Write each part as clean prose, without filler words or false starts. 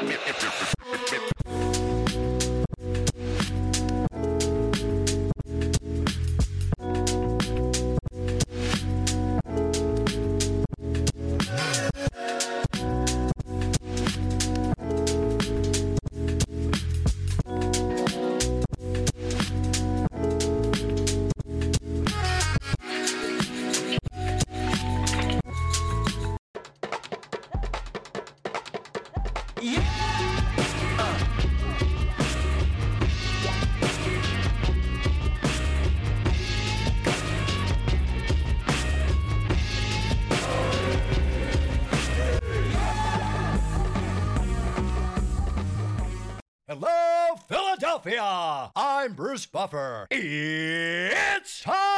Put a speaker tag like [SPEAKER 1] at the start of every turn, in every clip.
[SPEAKER 1] Hello, Philadelphia! I'm Bruce Buffer. It's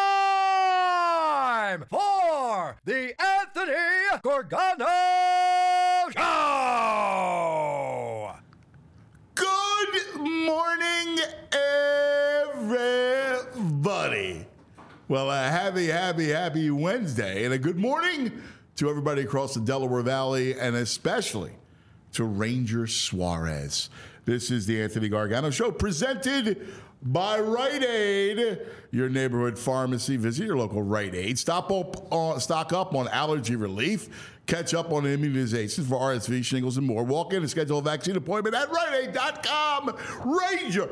[SPEAKER 1] time for the Anthony Gorgano Show!
[SPEAKER 2] Good morning, everybody. Well, a happy Wednesday, and a good morning to everybody across the Delaware Valley, and especially to Ranger Suarez. This is the Anthony Gargano Show, presented by Rite Aid, your neighborhood pharmacy. Visit your local Rite Aid. Stock up on allergy relief. Catch up on immunizations for RSV, shingles, and more. Walk in and schedule a vaccine appointment at RiteAid.com. Ranger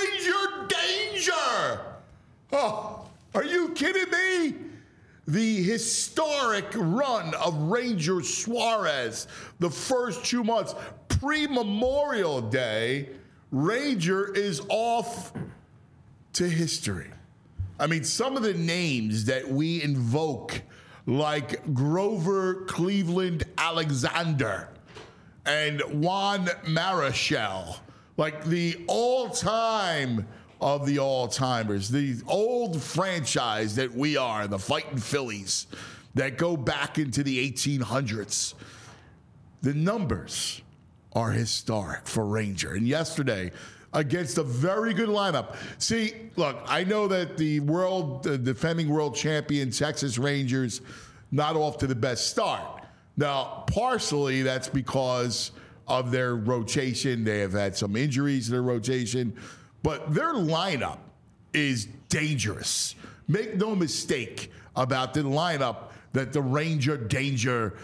[SPEAKER 2] Danger! Oh, are you kidding me? The historic run of Ranger Suarez, the first 2 months, pre-Memorial Day, Ranger is off to history. I mean, some of the names that we invoke, like Grover Cleveland Alexander and Juan Marichal, like the all-time of the all-timers, the old franchise that we are, the Fighting Phillies, that go back into the 1800s. The numbers are historic for Ranger. And yesterday, against a very good lineup. See, look, I know that the defending world champion Texas Rangers not off to the best start. Now, partially that's because of their rotation. They have had some injuries in their rotation. But their lineup is dangerous. Make no mistake about the lineup that the Ranger Danger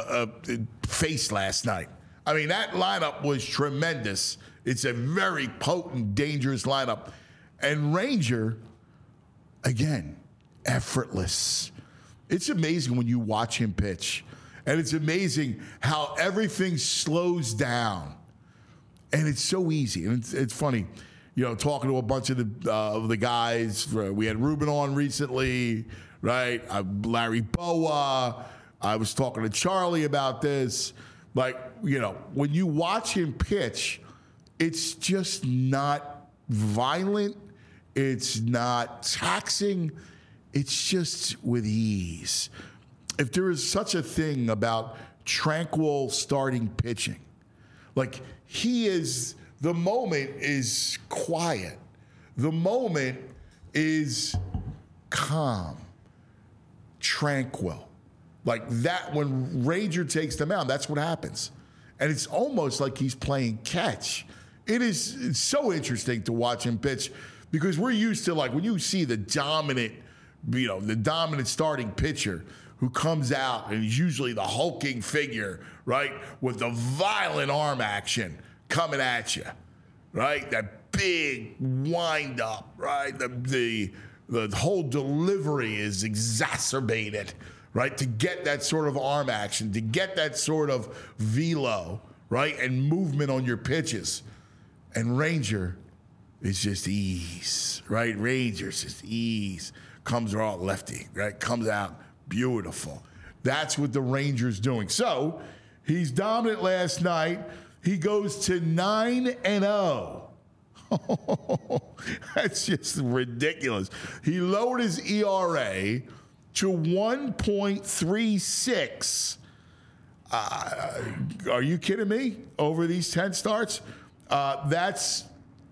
[SPEAKER 2] faced last night. I mean, that lineup was tremendous. It's a very potent, dangerous lineup. And Ranger, again, effortless. It's amazing when you watch him pitch. And it's amazing how everything slows down. And it's so easy. And it's funny. You know, talking to a bunch of the guys. We had Ruben on recently, right? Larry Boa. I was talking to Charlie about this. Like, you know, when you watch him pitch, it's just not violent. It's not taxing. It's just with ease. If there is such a thing about tranquil starting pitching, like he is... The moment is quiet. The moment is calm, tranquil. Like that, when Ranger takes the mound, that's what happens. And it's almost like he's playing catch. It's so interesting to watch him pitch because we're used to, like, when you see the dominant starting pitcher who comes out and is usually the hulking figure, right, with the violent arm action coming at you, right? That big wind up, right? The whole delivery is exacerbated, right? To get that sort of arm action, to get that sort of velo, right? And movement on your pitches. And Ranger is just ease, right? Ranger's just ease. Comes out lefty, right? Comes out beautiful. That's what the Ranger's doing. So he's dominant last night. He goes to 9-0. That's just ridiculous. He lowered his ERA to 1.36. Are you kidding me? Over these 10 starts? That's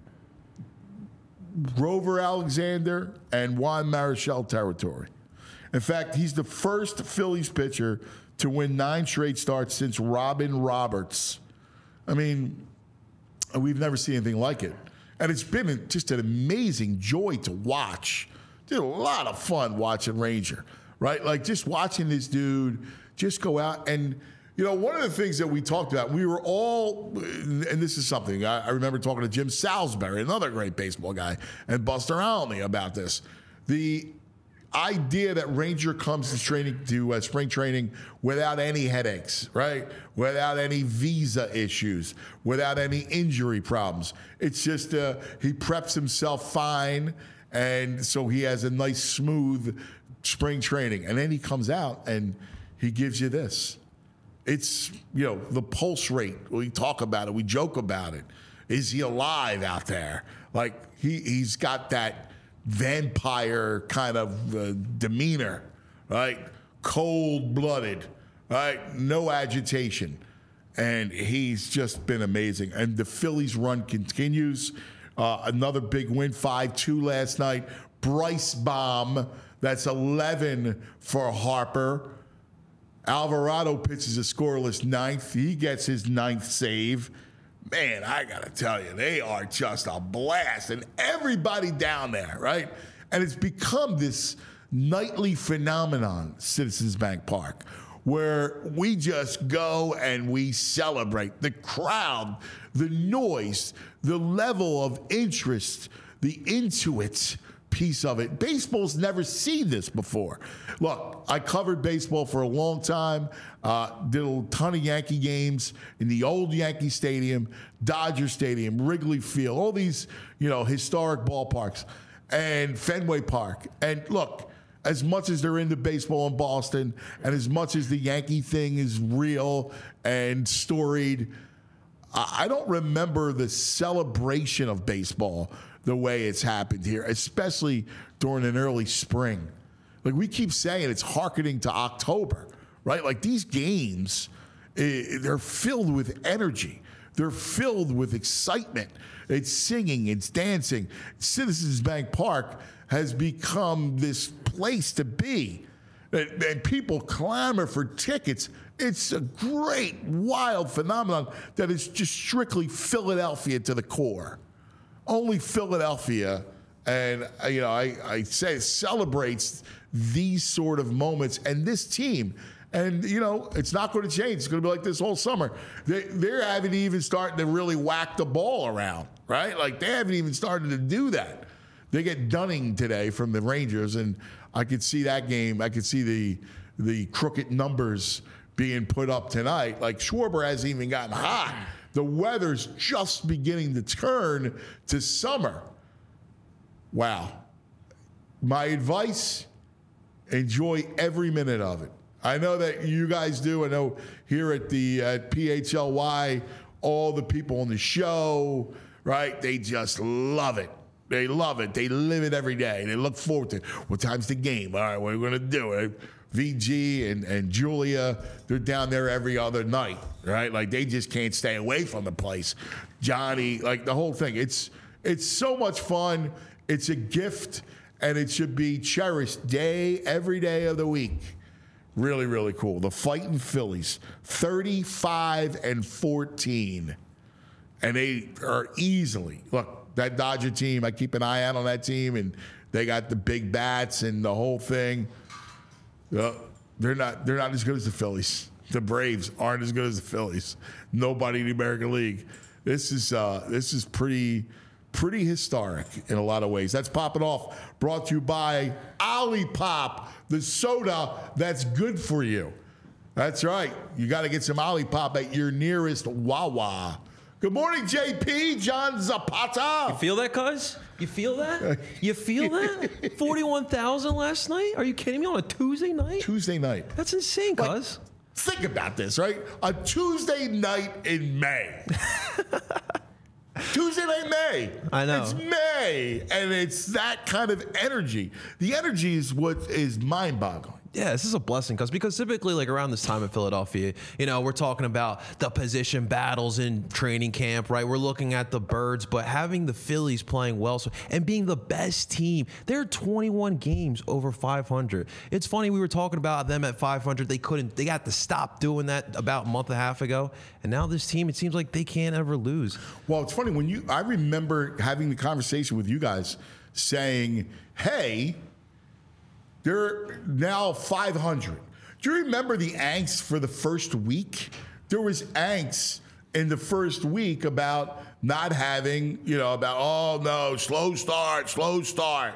[SPEAKER 2] Grover Alexander and Juan Marichal territory. In fact, he's the first Phillies pitcher to win 9 straight starts since Robin Roberts. I mean, we've never seen anything like it. And it's been just an amazing joy to watch. Did a lot of fun watching Ranger, right? Like just watching this dude just go out. And, you know, one of the things that we talked about, we were all, and this is something, I remember talking to Jim Salisbury, another great baseball guy, and Buster Olney about this. The idea that Ranger comes to spring training without any headaches, right? Without any visa issues, without any injury problems. It's just he preps himself fine, and so he has a nice, smooth spring training. And then he comes out and he gives you this. It's, you know, the pulse rate. We talk about it. We joke about it. Is he alive out there? Like, he's got that vampire kind of demeanor, right? Cold-blooded, right? No agitation. And he's just been amazing. And the Phillies run continues. Another big win, 5-2 last night. Bryce Baum, that's 11 for Harper. Alvarado pitches a scoreless ninth. He gets his ninth save. Man, I got to tell you, they are just a blast. And everybody down there, right? And it's become this nightly phenomenon, Citizens Bank Park, where we just go and we celebrate. The crowd, the noise, the level of interest, the Intuit piece of it. Baseball's never seen this before. Look, I covered baseball for a long time, did a ton of Yankee games in the old Yankee Stadium, Dodger Stadium, Wrigley Field, all these, you know, historic ballparks, and Fenway Park. And look, as much as they're into baseball in Boston, and as much as the Yankee thing is real and storied, I don't remember the celebration of baseball the way it's happened here, especially during an early spring. Like we keep saying, it's hearkening to October, right? Like these games, they're filled with energy. They're filled with excitement. It's singing, it's dancing. Citizens Bank Park has become this place to be. And people clamor for tickets. It's a great, wild phenomenon that is just strictly Philadelphia to the core. Only Philadelphia, and you know, I say celebrates these sort of moments and this team. And you know, it's not going to change. It's going to be like this whole summer. They haven't even started to really whack the ball around, right? Like they haven't even started to do that. They get Dunning today from the Rangers, and I could see that game. I could see the crooked numbers being put up tonight. Like Schwarber hasn't even gotten hot. The weather's just beginning to turn to summer. Wow. My advice, enjoy every minute of it. I know that you guys do. I know here at PHLY, all the people on the show, right, they just love it. They love it. They live it every day. They look forward to it. What time's the game? All right, what are we going to do? VG and Julia, they're down there every other night, right? Like they just can't stay away from the place. Johnny, like the whole thing. It's so much fun. It's a gift, and it should be cherished every day of the week. Really, really cool. The Fighting Phillies, 35-14, and they are easily look. That Dodger team, I keep an eye out on that team, and they got the big bats and the whole thing. They're not as good as the Phillies. The Braves aren't as good as the Phillies. Nobody in the American League. This is pretty historic in a lot of ways. That's Popping Off, brought to you by Olipop, the soda that's good for you. That's right. You got to get some Olipop at your nearest Wawa. Good morning, JP, John Zapata.
[SPEAKER 3] You feel that, cuz? You feel that? You feel that? 41,000 last night? Are you kidding me? On a Tuesday night?
[SPEAKER 2] Tuesday night.
[SPEAKER 3] That's insane, cuz.
[SPEAKER 2] Think about this, right? A Tuesday night in May. Tuesday night May.
[SPEAKER 3] I know.
[SPEAKER 2] It's May, and it's that kind of energy. The energy is what is mind-boggling.
[SPEAKER 3] Yeah, this is a blessing because typically like around this time in Philadelphia, we're talking about the position battles in training camp, right? We're looking at the birds, but having the Phillies playing well and being the best team, they're 21 games over 500. It's funny, we were talking about them at 500. They got to stop doing that about a month and a half ago. And now this team, it seems like they can't ever lose.
[SPEAKER 2] Well, it's funny I remember having the conversation with you guys saying, hey, they're now 500. Do you remember the angst for the first week? There was angst in the first week about not having, oh no, slow start.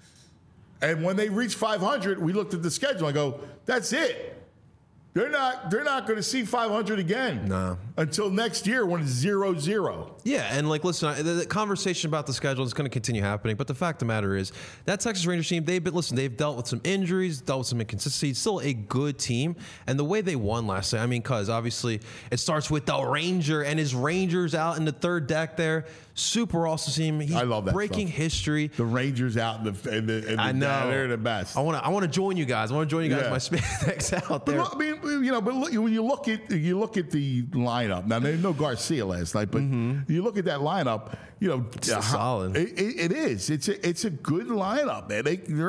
[SPEAKER 2] And when they reached 500, we looked at the schedule and go, that's it. They're not going to see 500 again.
[SPEAKER 3] No.
[SPEAKER 2] Until next year when it's 0-0.
[SPEAKER 3] Yeah, and listen, the conversation about the schedule is going to continue happening, but the fact of the matter is that Texas Rangers team, they've dealt with some injuries, dealt with some inconsistencies, still a good team, and the way they won last night, because obviously it starts with the Ranger and his Rangers out in the third deck there. Super awesome team. He's
[SPEAKER 2] I love that
[SPEAKER 3] breaking
[SPEAKER 2] stuff.
[SPEAKER 3] history.
[SPEAKER 2] The Rangers out in the
[SPEAKER 3] I know.
[SPEAKER 2] They're the best.
[SPEAKER 3] I want to join you guys. My spandex out there.
[SPEAKER 2] But when you look at the lineup now, there's no Garcia last night, but you look at that lineup,
[SPEAKER 3] It's solid.
[SPEAKER 2] It is. It's a good lineup, man.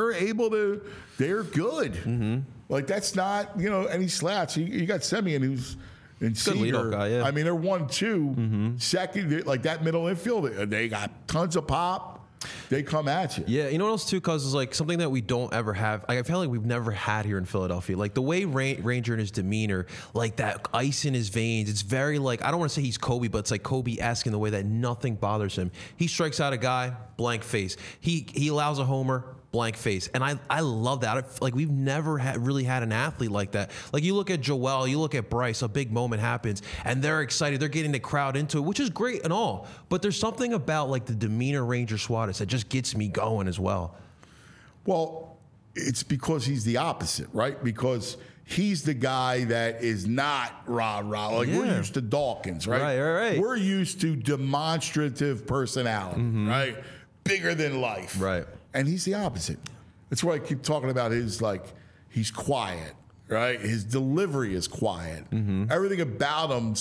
[SPEAKER 2] They're good. Like that's not any slouch. You got Semien who's. And
[SPEAKER 3] good leadoff guy, yeah.
[SPEAKER 2] They're 1-2. Second, like that middle infield, they got tons of pop. They come at you.
[SPEAKER 3] Yeah, you know what else too? Cause it's like something that we don't ever have. I feel like we've never had here in Philadelphia. Like the way Ranger and his demeanor, like that ice in his veins. It's very like I don't want to say he's Kobe, but it's like Kobe-esque in the way that nothing bothers him. He strikes out a guy, blank face. He allows a homer. Blank face. And I love that. Like we've never really had an athlete like that. Like you look at Joel, you look at Bryce, a big moment happens and they're excited. They're getting the crowd into it, which is great and all. But there's something about like the demeanor Ranger Suarez that just gets me going as well.
[SPEAKER 2] Well, it's because he's the opposite, right? Because he's the guy that is not rah-rah. Like we're used to Dawkins, right?
[SPEAKER 3] Right.
[SPEAKER 2] We're used to demonstrative personality, right? Bigger than life.
[SPEAKER 3] Right.
[SPEAKER 2] And he's the opposite. That's why I keep talking about he's quiet, right? His delivery is quiet. Everything about him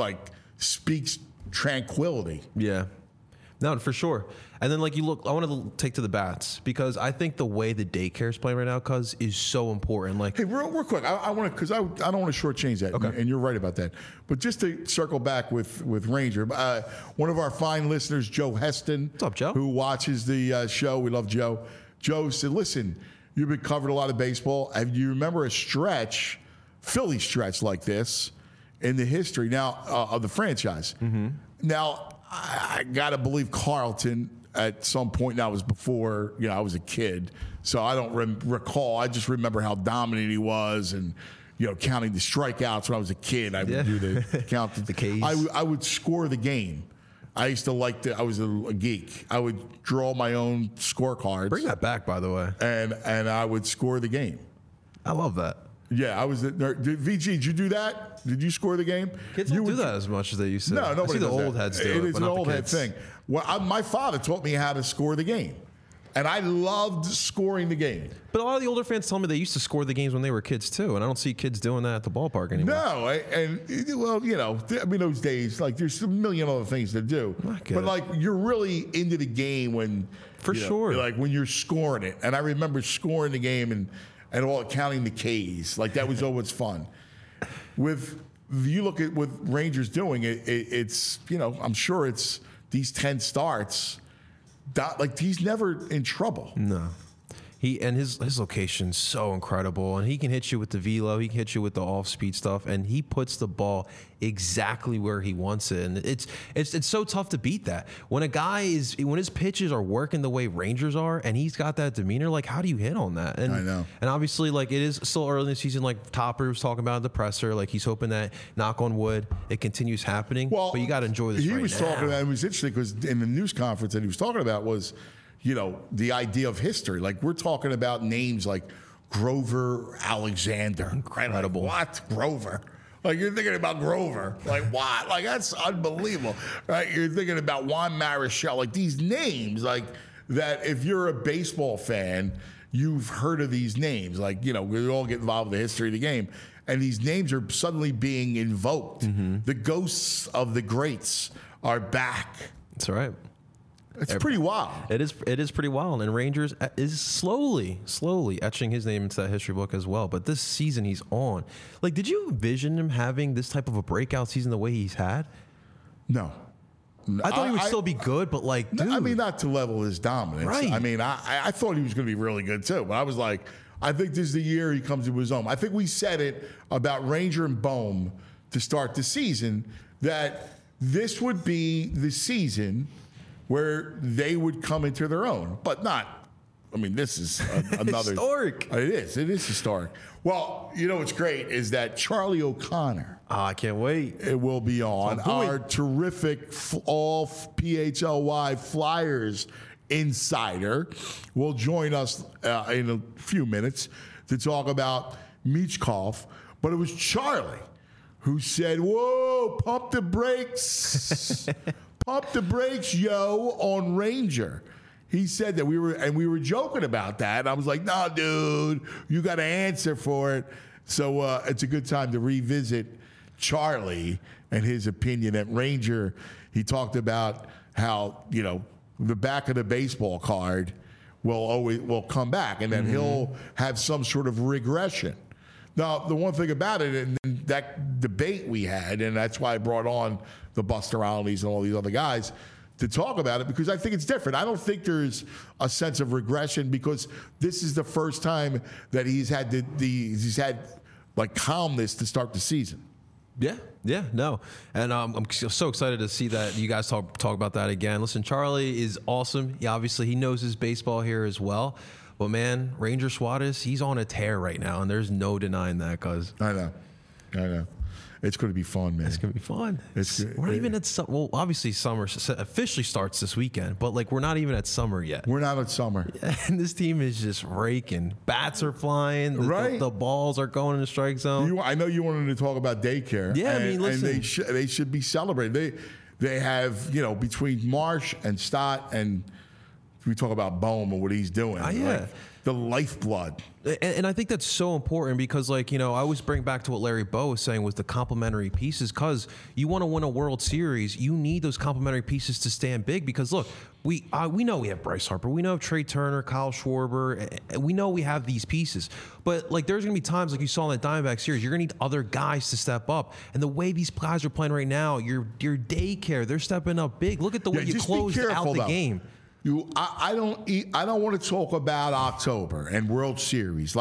[SPEAKER 2] speaks tranquility.
[SPEAKER 3] Yeah. No, for sure. And then like you look, I want to take to the bats because I think the way the daycare is playing right now, cuz is so important. Like,
[SPEAKER 2] hey, real quick, I want to because I don't want to shortchange that.
[SPEAKER 3] Okay.
[SPEAKER 2] And you're right about that. But just to circle back with Ranger, one of our fine listeners, Joe Heston,
[SPEAKER 3] what's up, Joe?
[SPEAKER 2] Who watches the show. We love Joe. Joe said, "Listen, you've been covered a lot of baseball. Do you remember a Philly stretch like this in the history now of the franchise?" Now, I got to believe Carlton at some point. Now it was before I was a kid, so I don't recall. I just remember how dominant he was, and counting the strikeouts when I was a kid. I would do the count the
[SPEAKER 3] Ks.
[SPEAKER 2] I would score the game. I used to I was a geek. I would draw my own scorecards.
[SPEAKER 3] Bring that back, by the way.
[SPEAKER 2] And I would score the game.
[SPEAKER 3] I love that.
[SPEAKER 2] Yeah, I was. VG, did you do that? Did you score the game?
[SPEAKER 3] Kids don't do that as much as they used to.
[SPEAKER 2] No, nobody
[SPEAKER 3] I see the
[SPEAKER 2] does
[SPEAKER 3] old
[SPEAKER 2] that.
[SPEAKER 3] heads do it.
[SPEAKER 2] It is
[SPEAKER 3] but
[SPEAKER 2] an
[SPEAKER 3] not
[SPEAKER 2] old
[SPEAKER 3] the
[SPEAKER 2] head
[SPEAKER 3] kids.
[SPEAKER 2] thing. Well, my father taught me how to score the game, and I loved scoring the game.
[SPEAKER 3] But a lot of the older fans tell me they used to score the games when they were kids too, and I don't see kids doing that at the ballpark anymore.
[SPEAKER 2] No, those days, like there's a million other things to do. But like you're really into the game when,
[SPEAKER 3] sure,
[SPEAKER 2] like when you're scoring it. And I remember scoring the game and all counting the Ks. Like that was always fun. You look at what Rangers doing, it's I'm sure it's these 10 starts. Like he's never in trouble.
[SPEAKER 3] No. His location's so incredible, and he can hit you with the velo, he can hit you with the off-speed stuff, and he puts the ball exactly where he wants it. And it's so tough to beat that. When his pitches are working the way Rangers are, and he's got that demeanor, like how do you hit on that? And,
[SPEAKER 2] I know.
[SPEAKER 3] And obviously, like it is still early in the season, like Topper was talking about in the presser, like he's hoping that, knock on wood, it continues happening.
[SPEAKER 2] Well,
[SPEAKER 3] but you got to enjoy this.
[SPEAKER 2] He was talking about. It was interesting because in the news conference that he was talking about was, the idea of history. Like we're talking about names like Grover Alexander.
[SPEAKER 3] Incredible.
[SPEAKER 2] Like, what? Grover? Like you're thinking about Grover. Like what? Like that's unbelievable. Right? You're thinking about Juan Marichal. Like these names, like that if you're a baseball fan, you've heard of these names. Like, we all get involved with the history of the game. And these names are suddenly being invoked. The ghosts of the greats are back.
[SPEAKER 3] That's right.
[SPEAKER 2] It's pretty wild.
[SPEAKER 3] It is pretty wild. And Rangers is slowly etching his name into that history book as well. But this season he's on. Like, did you envision him having this type of a breakout season the way he's had?
[SPEAKER 2] No.
[SPEAKER 3] I thought he would still be good, but like, dude.
[SPEAKER 2] I mean, not to level his dominance.
[SPEAKER 3] Right.
[SPEAKER 2] I mean, I thought he was going to be really good too. But I was like, I think this is the year he comes into his own. I think we said it about Ranger and Bohm to start the season, that this would be the season where they would come into their own, but not. I mean, this is another
[SPEAKER 3] historic.
[SPEAKER 2] It is historic. Well, what's great is that Charlie O'Connor.
[SPEAKER 3] I can't wait.
[SPEAKER 2] It will be on our terrific all PHLY Flyers insider. Will join us in a few minutes to talk about Michkov. But it was Charlie who said, "Whoa, pump the brakes." Pump the brakes, yo, on Ranger. He said that we were joking about that. And I was like, nah, dude, you got to answer for it. So it's a good time to revisit Charlie and his opinion at Ranger. He talked about how, the back of the baseball card will come back, and then he'll have some sort of regression. Now, the one thing about it, and that debate we had, and that's why I brought on the Buster Olneys and all these other guys to talk about it, because I think it's different. I don't think there's a sense of regression, because this is the first time that he's had he's had like calmness to start the season.
[SPEAKER 3] Yeah, no. And I'm so excited to see that you guys talk about that again. Listen, Charlie is awesome. Obviously, he knows his baseball here as well. But, man, Ranger Suarez, he's on a tear right now, and there's no denying that, cuz.
[SPEAKER 2] I know. It's going to be fun, man.
[SPEAKER 3] It's going to be fun. We're not even at summer. Well, obviously, summer officially starts this weekend, but, we're not even at summer yet.
[SPEAKER 2] We're not at summer.
[SPEAKER 3] And this team is just raking. Bats are flying. The balls are going in the strike zone.
[SPEAKER 2] I know you wanted to talk about daycare.
[SPEAKER 3] Yeah, listen.
[SPEAKER 2] And they should be celebrated. They have, between Marsh and Stott, and we talk about Bohm and what he's doing.
[SPEAKER 3] Yeah.
[SPEAKER 2] The lifeblood.
[SPEAKER 3] And I think that's so important because, I always bring back to what Larry Bow was saying with the complementary pieces, because you want to win a World Series, you need those complementary pieces to stand big. Because, look, we know we have Bryce Harper. We know Trey Turner, Kyle Schwarber. And we know we have these pieces. But, there's going to be times like you saw in that Diamondback series, you're going to need other guys to step up. And the way these guys are playing right now, your daycare, they're stepping up big. Look at the way you closed out the game.
[SPEAKER 2] I don't want to talk about October and World Series.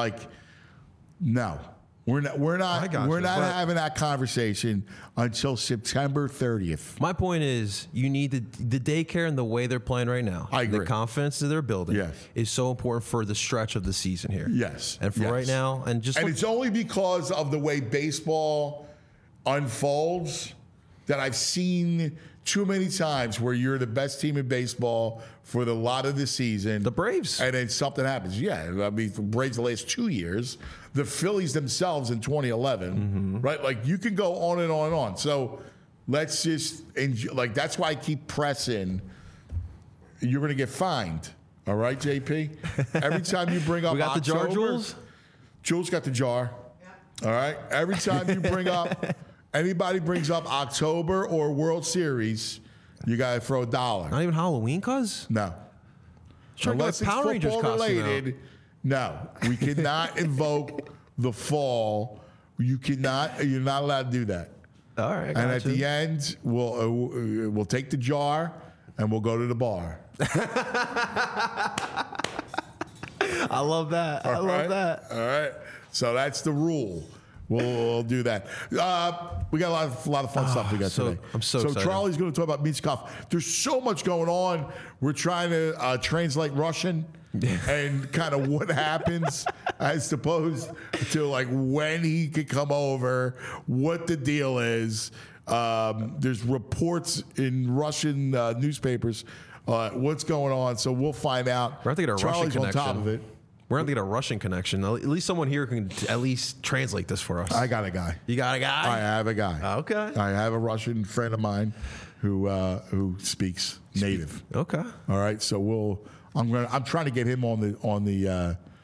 [SPEAKER 2] No, we're not having that conversation until September 30th.
[SPEAKER 3] My point is, you need the daycare and the way they're playing right now.
[SPEAKER 2] I agree.
[SPEAKER 3] The confidence that they're building is so important for the stretch of the season here.
[SPEAKER 2] Yes,
[SPEAKER 3] and for right now, and
[SPEAKER 2] it's only because of the way baseball unfolds that I've seen too many times where you're the best team in baseball for the lot of the season.
[SPEAKER 3] The Braves.
[SPEAKER 2] And then something happens. Yeah, I mean, the Braves the last 2 years. The Phillies themselves in 2011, right? You can go on and on and on. So let's just enjoy. That's why I keep pressing. You're going to get fined. All right, JP? Every time you bring up
[SPEAKER 3] we got
[SPEAKER 2] October,
[SPEAKER 3] the jar, Jules?
[SPEAKER 2] Jules got the jar. Yeah. All right? Every time you bring up... Anybody brings up October or World Series, you got to throw $1.
[SPEAKER 3] Not even Halloween, cuz?
[SPEAKER 2] No.
[SPEAKER 3] Unless it's Power Rangers
[SPEAKER 2] football related, no. We cannot invoke the fall. You're not allowed to do that.
[SPEAKER 3] All right,
[SPEAKER 2] and at the end, we'll take the jar and we'll go to the bar.
[SPEAKER 3] I love that. I love that.
[SPEAKER 2] All right. So that's the rule. We'll do that. We got a lot of fun stuff we got today.
[SPEAKER 3] I'm so excited.
[SPEAKER 2] Charlie's going to talk about Michkov. There's so much going on. We're trying to translate Russian and kind of what happens as opposed to when he could come over, what the deal is. There's reports in Russian newspapers what's going on. So we'll find out.
[SPEAKER 3] We're going to get a Russian connection.
[SPEAKER 2] Charlie's on top of it.
[SPEAKER 3] We're going to get a Russian connection. At least someone here can at least translate this for us.
[SPEAKER 2] I got a guy.
[SPEAKER 3] You got a guy?
[SPEAKER 2] I have a guy.
[SPEAKER 3] Okay.
[SPEAKER 2] I have a Russian friend of mine who speaks native.
[SPEAKER 3] Okay.
[SPEAKER 2] All right. So I'm trying to get him on the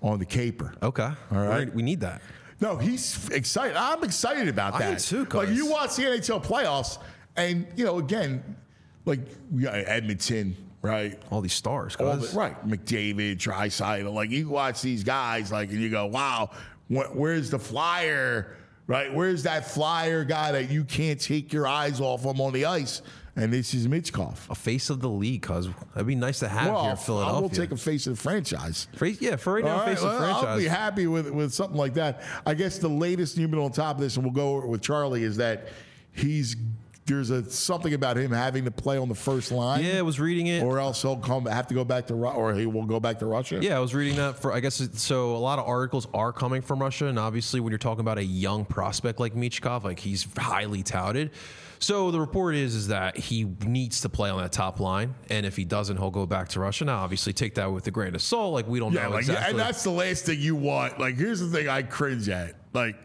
[SPEAKER 2] on the caper.
[SPEAKER 3] Okay.
[SPEAKER 2] All right.
[SPEAKER 3] We need that.
[SPEAKER 2] No, he's excited. I'm excited about that.
[SPEAKER 3] I am too,
[SPEAKER 2] Like,
[SPEAKER 3] cuz.
[SPEAKER 2] you watch the NHL playoffs, and, again, like, we got Edmonton, right?
[SPEAKER 3] All these stars,
[SPEAKER 2] All
[SPEAKER 3] cuz.
[SPEAKER 2] right. McDavid, Draisaitl. Like, you watch these guys, like, and you go, wow, where's the flyer, right? Where's that flyer guy that you can't take your eyes off him on the ice? And this is Michkov.
[SPEAKER 3] A face of the league, cuz. That'd be nice to have here in Philadelphia.
[SPEAKER 2] I will take a face of the franchise.
[SPEAKER 3] Yeah, for right now,
[SPEAKER 2] All
[SPEAKER 3] face
[SPEAKER 2] right,
[SPEAKER 3] of the franchise.
[SPEAKER 2] I'll be happy with something like that. I guess the latest news on top of this, and we'll go over it with Charlie, is that there's something about him having to play on the first line.
[SPEAKER 3] Yeah, I was reading it.
[SPEAKER 2] Or else he'll have to go back to or he will go back to Russia.
[SPEAKER 3] Yeah, I was reading that I guess so a lot of articles are coming from Russia, and obviously when you're talking about a young prospect like Michkov, like he's highly touted. So the report is that he needs to play on that top line, and if he doesn't, he'll go back to Russia. Now, obviously, take that with a grain of salt. Like, we don't know exactly.
[SPEAKER 2] And that's the last thing you want. Like, here's the thing I cringe at. Like,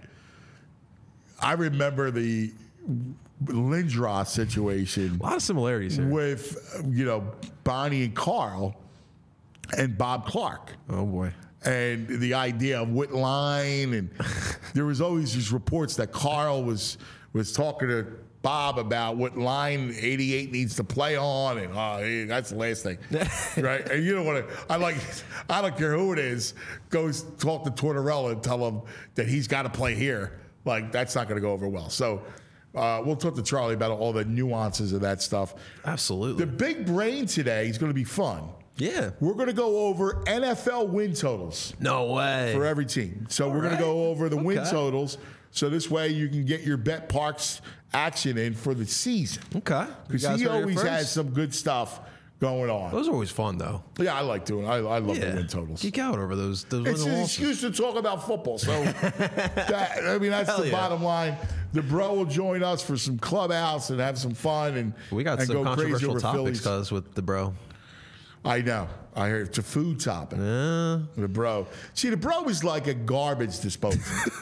[SPEAKER 2] I remember the Lindros situation.
[SPEAKER 3] A lot of similarities here.
[SPEAKER 2] With, Bonnie and Carl and Bob Clark.
[SPEAKER 3] Oh, boy.
[SPEAKER 2] And the idea of what line, and there was always these reports that Carl was talking to Bob about what line 88 needs to play on, and that's the last thing, right? And you don't want to. I don't care who it is. Goes talk to Tortorella and tell him that he's got to play here. Like, that's not going to go over well. So we'll talk to Charlie about all the nuances of that stuff.
[SPEAKER 3] Absolutely.
[SPEAKER 2] The big brain today is going to be fun.
[SPEAKER 3] Yeah.
[SPEAKER 2] We're going to go over NFL win totals.
[SPEAKER 3] No way.
[SPEAKER 2] For every team. So we're going to go over the win totals. So this way you can get your Bet Parks action in for the season.
[SPEAKER 3] Okay.
[SPEAKER 2] Because he always has some good stuff going on.
[SPEAKER 3] Those are always fun, though.
[SPEAKER 2] Yeah, I like doing it. I love the win totals.
[SPEAKER 3] Geek out over those
[SPEAKER 2] It's an excuse to talk about football. So, that's the bottom line. The bro will join us for some clubhouse and have some fun. And
[SPEAKER 3] we got
[SPEAKER 2] and
[SPEAKER 3] some
[SPEAKER 2] go
[SPEAKER 3] controversial
[SPEAKER 2] crazy
[SPEAKER 3] topics, cuz, with the bro.
[SPEAKER 2] I know. I heard it's a food topic. The bro. See, the bro is like a garbage disposal.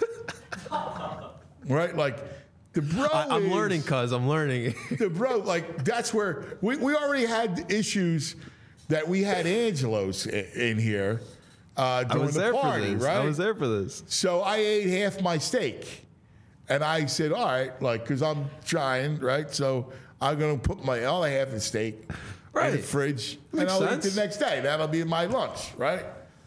[SPEAKER 2] Right? Like, the bro
[SPEAKER 3] I'm learning, cuz. I'm learning.
[SPEAKER 2] The bro, like, that's where we already had issues that we had Angelos in here during the party, right?
[SPEAKER 3] I was there for this.
[SPEAKER 2] So I ate half my steak. And I said, all right, like, because I'm trying, right? So I'm going to put my other half of the steak in the fridge, and I'll eat the next day. That'll be my lunch, right?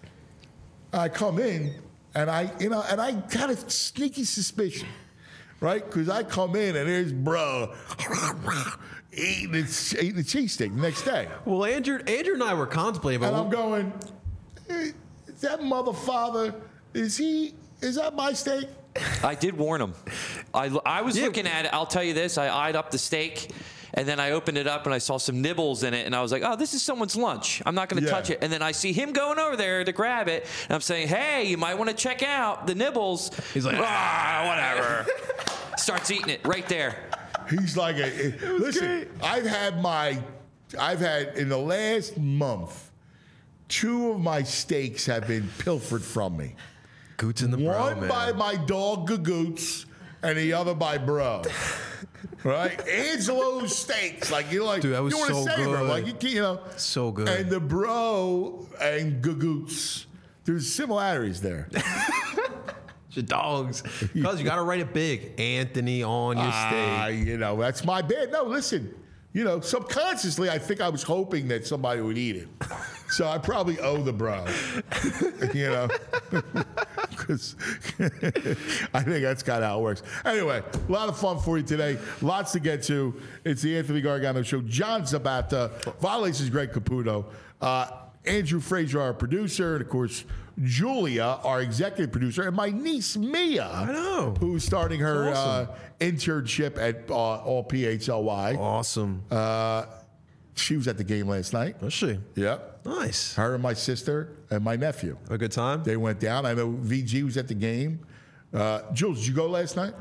[SPEAKER 2] I come in, and I got a sneaky suspicion, right? Because I come in, and there's bro eating the cheesesteak the next day.
[SPEAKER 3] Well, Andrew and I were contemplating,
[SPEAKER 2] and I'm going, hey, that motherfucker, is that my steak?
[SPEAKER 4] I did warn him. I was looking at it. I'll tell you this. I eyed up the steak, and then I opened it up, and I saw some nibbles in it, and I was like, oh, this is someone's lunch. I'm not going to touch it. And then I see him going over there to grab it, and I'm saying, hey, you might want to check out the nibbles.
[SPEAKER 3] He's like,
[SPEAKER 4] whatever. Starts eating it right there.
[SPEAKER 2] He's like, listen,
[SPEAKER 3] great.
[SPEAKER 2] I've had in the last month, 2 of my steaks have been pilfered from me.
[SPEAKER 3] Goots in the bro,
[SPEAKER 2] One
[SPEAKER 3] man.
[SPEAKER 2] by my dog Gagoots, and the other by bro. Right? Angelo's steaks. Like, you're like,
[SPEAKER 3] dude, that was
[SPEAKER 2] you want to
[SPEAKER 3] so
[SPEAKER 2] savor them.
[SPEAKER 3] good.
[SPEAKER 2] Like, you know.
[SPEAKER 3] So good.
[SPEAKER 2] And the bro and Gagoots, there's similarities there.
[SPEAKER 3] Your dogs. Because you got to write it big. Anthony on your steak.
[SPEAKER 2] You know, that's my bad. No, listen. You know, subconsciously, I think I was hoping that somebody would eat it. So I probably owe the bro. You know? Because I think that's kind of how it works. Anyway, a lot of fun for you today. Lots to get to. It's the Anthony Gargano Show. John Zabata. Violations Greg Caputo. Andrew Frazier, our producer. And, of course, Julia, our executive producer. And my niece, Mia.
[SPEAKER 3] I know.
[SPEAKER 2] Who's starting her
[SPEAKER 3] awesome.
[SPEAKER 2] internship at All PHLY.
[SPEAKER 3] Awesome.
[SPEAKER 2] She was at the game last night.
[SPEAKER 3] Was she?
[SPEAKER 2] Yep.
[SPEAKER 3] Nice.
[SPEAKER 2] Her and my sister and my nephew.
[SPEAKER 3] A good time?
[SPEAKER 2] They went down. I know VG was at the game. Jules, did you go last night?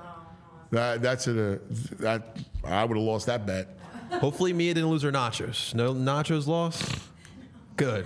[SPEAKER 2] That I would have lost that bet.
[SPEAKER 3] Hopefully Mia didn't lose her nachos. No nachos lost? Good.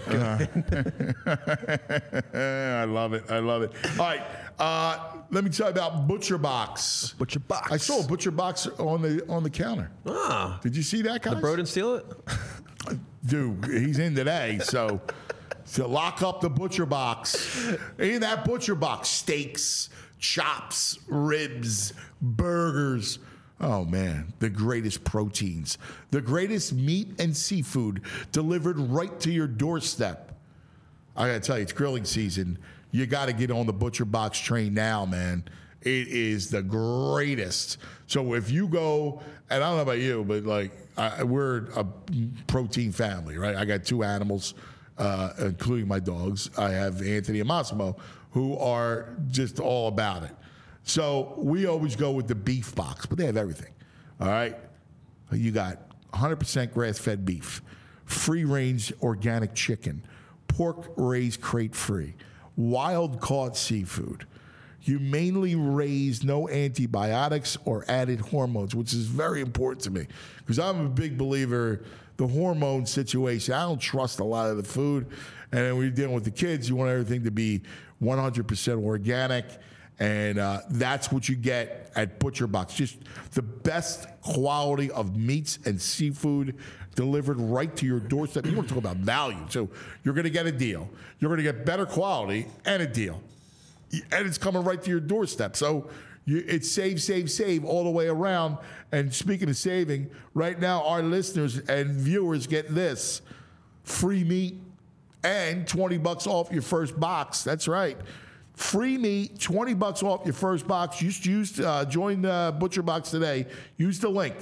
[SPEAKER 2] I love it. All right. Let me tell you about Butcher Box.
[SPEAKER 3] Butcher Box.
[SPEAKER 2] I saw a Butcher Box on the counter.
[SPEAKER 3] Ah.
[SPEAKER 2] Did you see that, guys?
[SPEAKER 3] The bro didn't steal it?
[SPEAKER 2] Dude, he's in today, so So lock up the butcher box. In that butcher box, steaks, chops, ribs, burgers. Oh, man, the greatest proteins, the greatest meat and seafood delivered right to your doorstep. I got to tell you, it's grilling season. You got to get on the butcher box train now, man. It is the greatest. So if you go, and I don't know about you, but like we're a protein family, right? I got 2 animals, including my dogs. I have Anthony and Massimo, who are just all about it. So we always go with the beef box, but they have everything. All right? You got 100% grass-fed beef, free-range organic chicken, pork raised crate-free, wild-caught seafood, humanely raised, no antibiotics or added hormones, which is very important to me because I'm a big believer the hormone situation. I don't trust a lot of the food. And then when you're dealing with the kids, you want everything to be 100% organic. And that's what you get at Butcher Box. Just the best quality of meats and seafood delivered right to your doorstep. You want to talk about value. So you're going to get a deal. You're going to get better quality and a deal. And it's coming right to your doorstep. So it's save all the way around. And speaking of saving, right now our listeners and viewers get this. Free meat and $20 off your first box. That's right. Free meat, $20 off your first box. Join Butcher Box today. Use the link,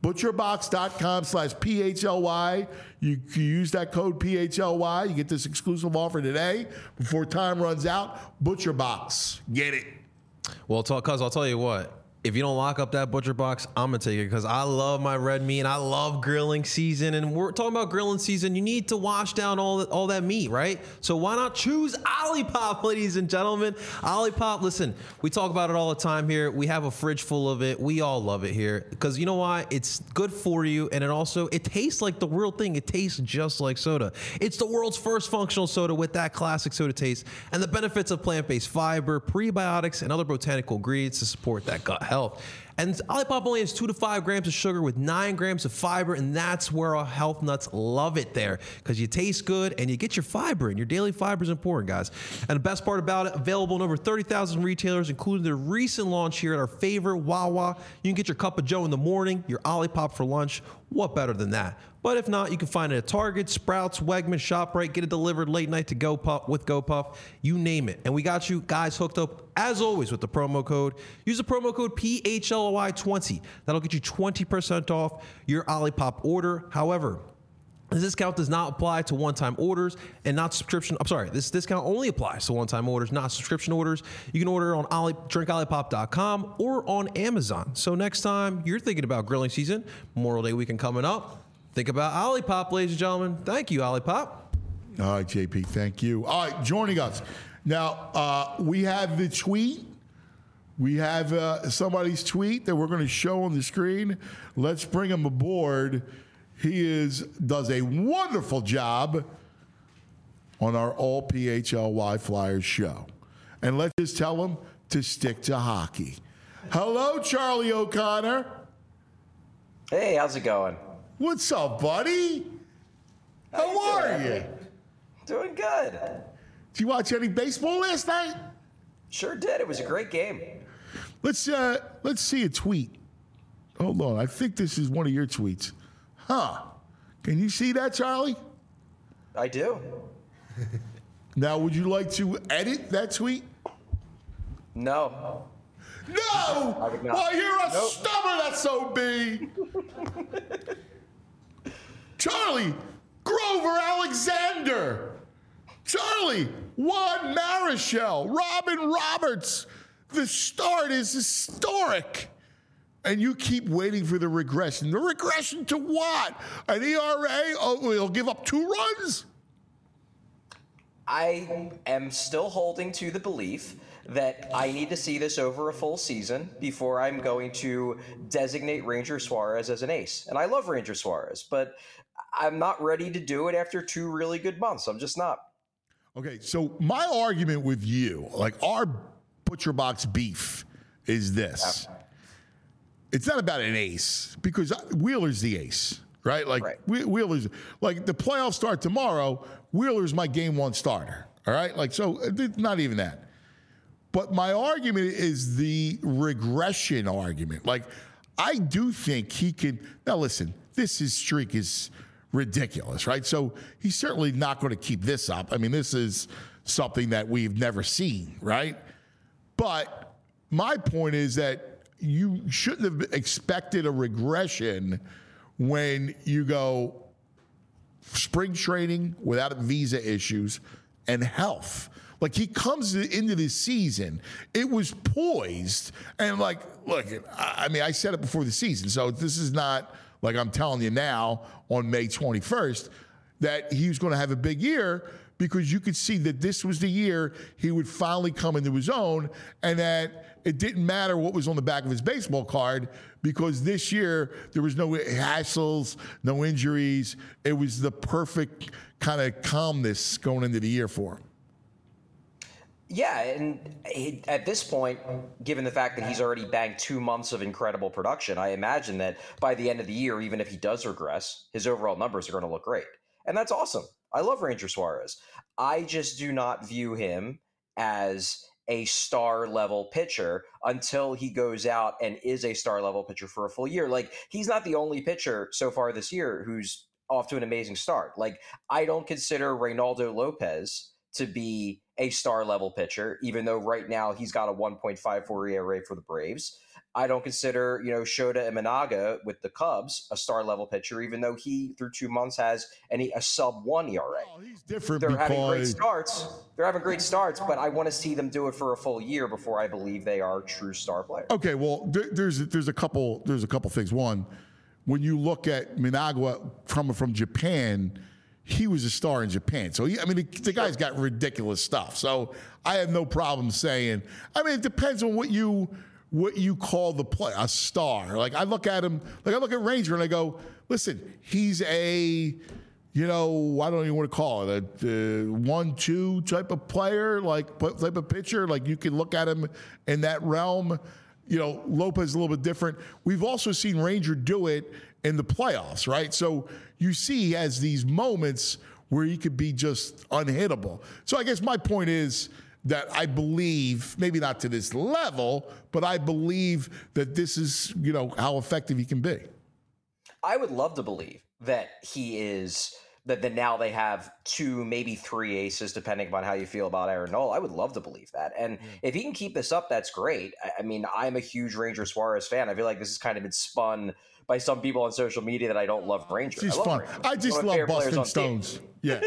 [SPEAKER 2] butcherbox.com/PHLY. You use that code PHLY. You get this exclusive offer today before time runs out. Butcher Box. Get it.
[SPEAKER 3] Well, cuz I'll tell you what. If you don't lock up that butcher box, I'm going to take it because I love my red meat and I love grilling season. And we're talking about grilling season. You need to wash down all that meat, right? So why not choose Olipop, ladies and gentlemen? Olipop, listen, we talk about it all the time here. We have a fridge full of it. We all love it here because you know why? It's good for you. And it tastes like the real thing. It tastes just like soda. It's the world's first functional soda with that classic soda taste and the benefits of plant-based fiber, prebiotics, and other botanical ingredients to support that gut health. And Olipop only has 2 to 5 grams of sugar with 9 grams of fiber, and that's where our health nuts love it there because you taste good and you get your fiber in. Your daily fiber is important, guys. And the best part about it, available in over 30,000 retailers, including their recent launch here at our favorite Wawa. You can get your cup of joe in the morning, your Olipop for lunch. What better than that? But if not, you can find it at Target, Sprouts, Wegmans, ShopRite. Get it delivered late night to GoPuff with GoPuff. You name it. And we got you guys hooked up, as always, with the promo code. Use the promo code PHLY20. That'll get you 20% off your Olipop order. However, this discount does not apply to one-time orders and not subscription. I'm sorry, this discount only applies to one-time orders, not subscription orders. You can order on drinkolipop.com or on Amazon. So next time you're thinking about grilling season, Memorial Day weekend coming up, think about Olipop, ladies and gentlemen. Thank you, Olipop.
[SPEAKER 2] All right, JP, thank you. All right, joining us. Now, we have the tweet. We have somebody's tweet that we're going to show on the screen. Let's bring him aboard. He does a wonderful job on our All PHLY Flyers show. And let's just tell him to stick to hockey. Hello, Charlie O'Connor.
[SPEAKER 5] Hey, how's it going?
[SPEAKER 2] What's up, buddy? How are you?
[SPEAKER 5] Doing good.
[SPEAKER 2] Did you watch any baseball last night?
[SPEAKER 5] Sure did. It was a great game.
[SPEAKER 2] Let's see a tweet. Hold on. I think this is one of your tweets. Huh. Can you see that, Charlie?
[SPEAKER 5] I do.
[SPEAKER 2] Now, would you like to edit that tweet?
[SPEAKER 5] No.
[SPEAKER 2] No!
[SPEAKER 5] I would not.
[SPEAKER 2] Well, you're a
[SPEAKER 5] Nope.
[SPEAKER 2] stubborn SOB. Charlie, Grover Alexander. Charlie, Juan Marichal, Robin Roberts. The start is historic. And you keep waiting for the regression. The regression to what? An ERA? Oh, he'll give up 2 runs?
[SPEAKER 5] I am still holding to the belief that I need to see this over a full season before I'm going to designate Ranger Suarez as an ace. And I love Ranger Suarez, but I'm not ready to do it after 2 really good months. I'm just not.
[SPEAKER 2] Okay, so my argument with you, like our Butcher Box beef, is this. It's not about an ace, because Wheeler's the ace. right? Like Wheeler's, like the playoffs start tomorrow. Wheeler's my game one starter. All right, like so, not even that. But my argument is the regression argument. Like I do think he can. Now listen, his streak is ridiculous, right? So he's certainly not going to keep this up. I mean, this is something that we've never seen, right? But my point is that you shouldn't have expected a regression when you go spring training without visa issues and health. Like he comes into this season, it was poised. And like, look, I mean, I said it before the season, so this is not like I'm telling you now on May 21st that he was going to have a big year, because you could see that this was the year he would finally come into his own, and that it didn't matter what was on the back of his baseball card, because this year there was no hassles, no injuries. It was the perfect kind of calmness going into the year for him.
[SPEAKER 5] Yeah, and at this point, given the fact that he's already banked 2 months of incredible production, I imagine that by the end of the year, even if he does regress, his overall numbers are going to look great. And that's awesome. I love Ranger Suarez. I just do not view him as a star-level pitcher until he goes out and is a star-level pitcher for a full year. Like, he's not the only pitcher so far this year who's off to an amazing start. Like, I don't consider Reynaldo Lopez to be a star-level pitcher, even though right now he's got a 1.54 ERA for the Braves. I don't consider, Shota Imanaga with the Cubs a star-level pitcher, even though he, through 2 months, has a sub-1 ERA.
[SPEAKER 2] Oh, he's different.
[SPEAKER 5] They're having great starts. But I want to see them do it for a full year before I believe they are true star players.
[SPEAKER 2] Okay, well, there's a couple things. One, when you look at Managua coming from Japan, he was a star in Japan. So, the guy's got ridiculous stuff. So I have no problem saying, it depends on what you call the play, a star. Like I look at him, like I look at Ranger and I go, listen, he's I don't even want to call it a 1-2 type of player, like type of pitcher. Like you can look at him in that realm. Lopez is a little bit different. We've also seen Ranger do it in the playoffs, right? So you see he has these moments where he could be just unhittable. So I guess my point is that I believe, maybe not to this level, but I believe that this is, how effective he can be.
[SPEAKER 5] I would love to believe that he is, that now they have 2, maybe 3 aces, depending upon how you feel about Aaron Nola. I would love to believe that. And if he can keep this up, that's great. I'm a huge Ranger Suarez fan. I feel like this has kind of been spun by some people on social media that I don't love Ranger.
[SPEAKER 2] He's fun.
[SPEAKER 5] Ranger.
[SPEAKER 2] I just love busting stones. Yeah.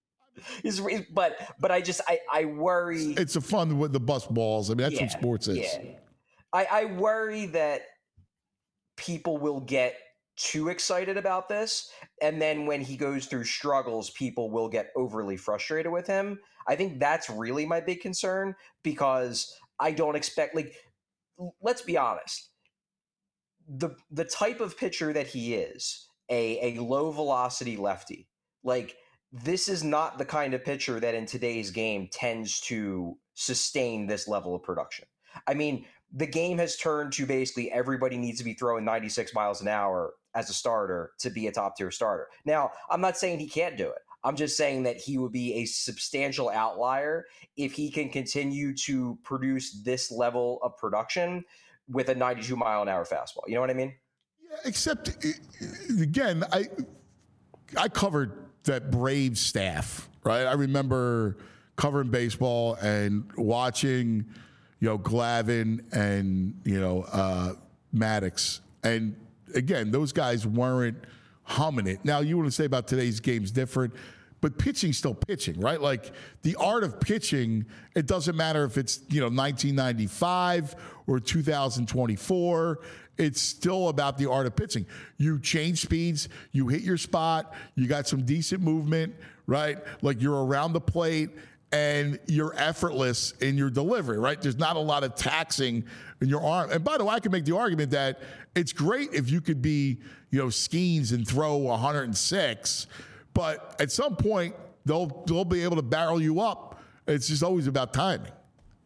[SPEAKER 5] But I worry.
[SPEAKER 2] It's a fun with the bust balls. That's what sports is.
[SPEAKER 5] Yeah. I worry that people will get too excited about this, and then when he goes through struggles, people will get overly frustrated with him. I think that's really my big concern, because I don't expect, let's be honest, the type of pitcher that he is, a low velocity lefty, this is not the kind of pitcher that in today's game tends to sustain this level of production. The game has turned to basically everybody needs to be throwing 96 miles an hour as a starter to be a top tier starter. Now, I'm not saying he can't do it. I'm just saying that he would be a substantial outlier if he can continue to produce this level of production with a 92 mile an hour fastball. You know what I mean?
[SPEAKER 2] Yeah, except, again, I covered that Braves staff, right? I remember covering baseball and watching, Glavine and, Maddox. And again, those guys weren't humming it. Now, you want to say about today's game's different, but pitching's still pitching, right? Like the art of pitching, it doesn't matter if it's, 1995 or 2024. It's still about the art of pitching. You change speeds, you hit your spot, you got some decent movement, right? Like you're around the plate and you're effortless in your delivery, right? There's not a lot of taxing in your arm. And by the way, I can make the argument that it's great if you could be, Skeens and throw 106, but at some point they'll be able to barrel you up. It's just always about timing.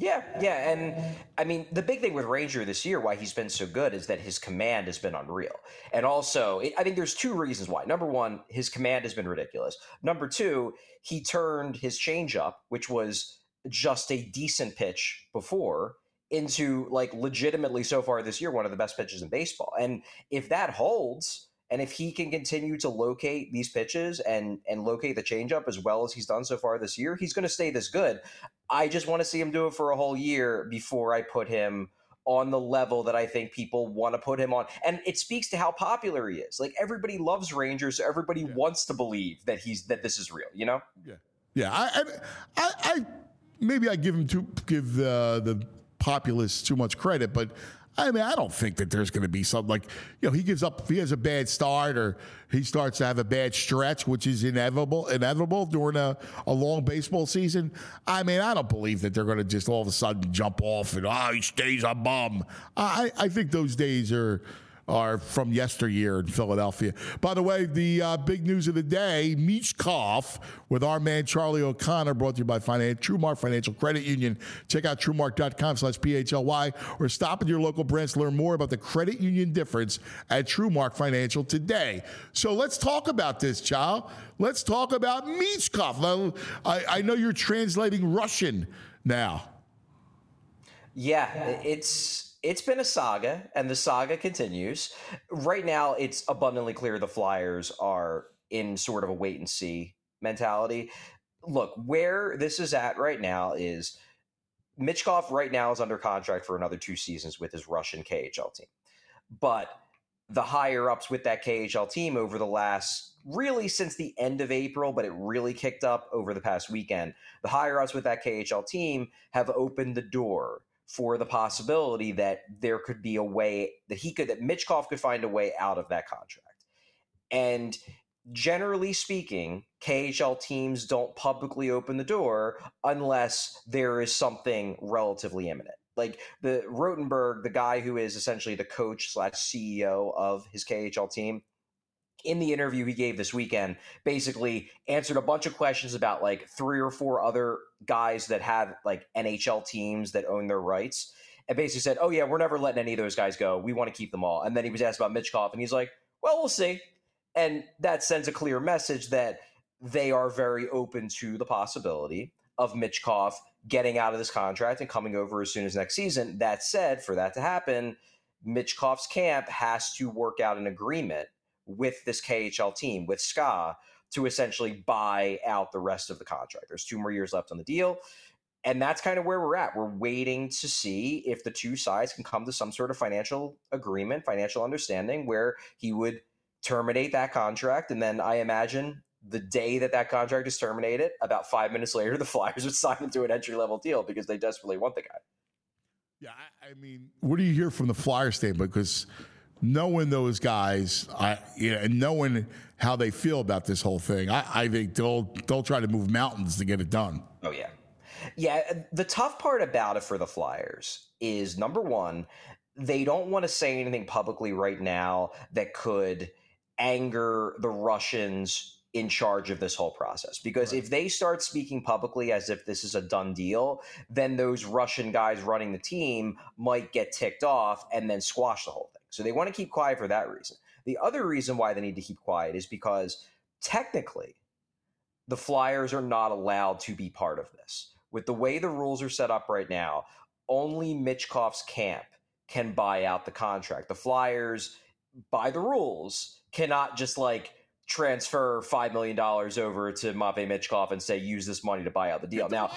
[SPEAKER 5] Yeah, and I mean the big thing with Ranger this year, why he's been so good, is that his command has been unreal, and also I think there's two reasons why. Number one, his command has been ridiculous. Number two, he turned his changeup, which was just a decent pitch before, into like legitimately so far this year one of the best pitches in baseball. And if that holds, and if he can continue to locate these pitches and locate the changeup as well as he's done so far this year, he's going to stay this good. I just want to see him do it for a whole year before I put him on the level that I think people want to put him on. And it speaks to how popular he is. Like, everybody loves Rangers, so everybody wants to believe that this is real, you know?
[SPEAKER 2] Yeah. I maybe I give the populace too much credit, but I mean, I don't think that there's going to be something like, he gives up, if he has a bad start or he starts to have a bad stretch, which is inevitable during a long baseball season. I mean, I don't believe that they're going to just all of a sudden jump off and, he stays a bum. I think those days are from yesteryear in Philadelphia. By the way, the big news of the day, Michkov with our man Charlie O'Connor, brought to you by TrueMark Financial Credit Union. Check out TrueMark.com/PHLY or stop at your local branch to learn more about the credit union difference at TrueMark Financial today. So let's talk about this, Chow. Let's talk about Michkov. I know you're translating Russian now.
[SPEAKER 5] Yeah, it's been a saga, and the saga continues. Right now, it's abundantly clear the Flyers are in sort of a wait-and-see mentality. Look, where this is at right now is Michkov right now is under contract for another 2 seasons with his Russian KHL team. But the higher-ups with that KHL team over the last, really since the end of April, but it really kicked up over the past weekend, the higher-ups with that KHL team have opened the door for the possibility that there could be a way that Michkov could find a way out of that contract. And generally speaking, KHL teams don't publicly open the door unless there is something relatively imminent. Like the Rotenberg, the guy who is essentially the coach / CEO of his KHL team, in the interview he gave this weekend, basically answered a bunch of questions about like 3 or 4 other guys that have like NHL teams that own their rights, and basically said, oh yeah, we're never letting any of those guys go. We want to keep them all. And then he was asked about Michkov, and he's like, well, we'll see. And that sends a clear message that they are very open to the possibility of Michkov getting out of this contract and coming over as soon as next season. That said, for that to happen, Michkov's camp has to work out an agreement with this KHL team, with SKA, to essentially buy out the rest of the contract. There's 2 more years left on the deal. And that's kind of where we're at. We're waiting to see if the two sides can come to some sort of financial agreement, financial understanding, where he would terminate that contract. And then I imagine the day that contract is terminated, about 5 minutes later, the Flyers would sign him to an entry-level deal because they desperately want the guy.
[SPEAKER 2] Yeah, I mean, what do you hear from the Flyers standpoint? Because knowing those guys, and knowing how they feel about this whole thing, I think they'll try to move mountains to get it done.
[SPEAKER 5] Oh yeah, yeah. The tough part about it for the Flyers is, number one, they don't want to say anything publicly right now that could anger the Russians in charge of this whole process. Because if they start speaking publicly as if this is a done deal, then those Russian guys running the team might get ticked off and then squash the whole thing. So they want to keep quiet for that reason. The other reason why they need to keep quiet is because technically the Flyers are not allowed to be part of this. With the way the rules are set up right now, only Michkov's camp can buy out the contract. The Flyers, by the rules, cannot just like transfer $5 million over to Matvei Michkov and say, use this money to buy out the deal. Now,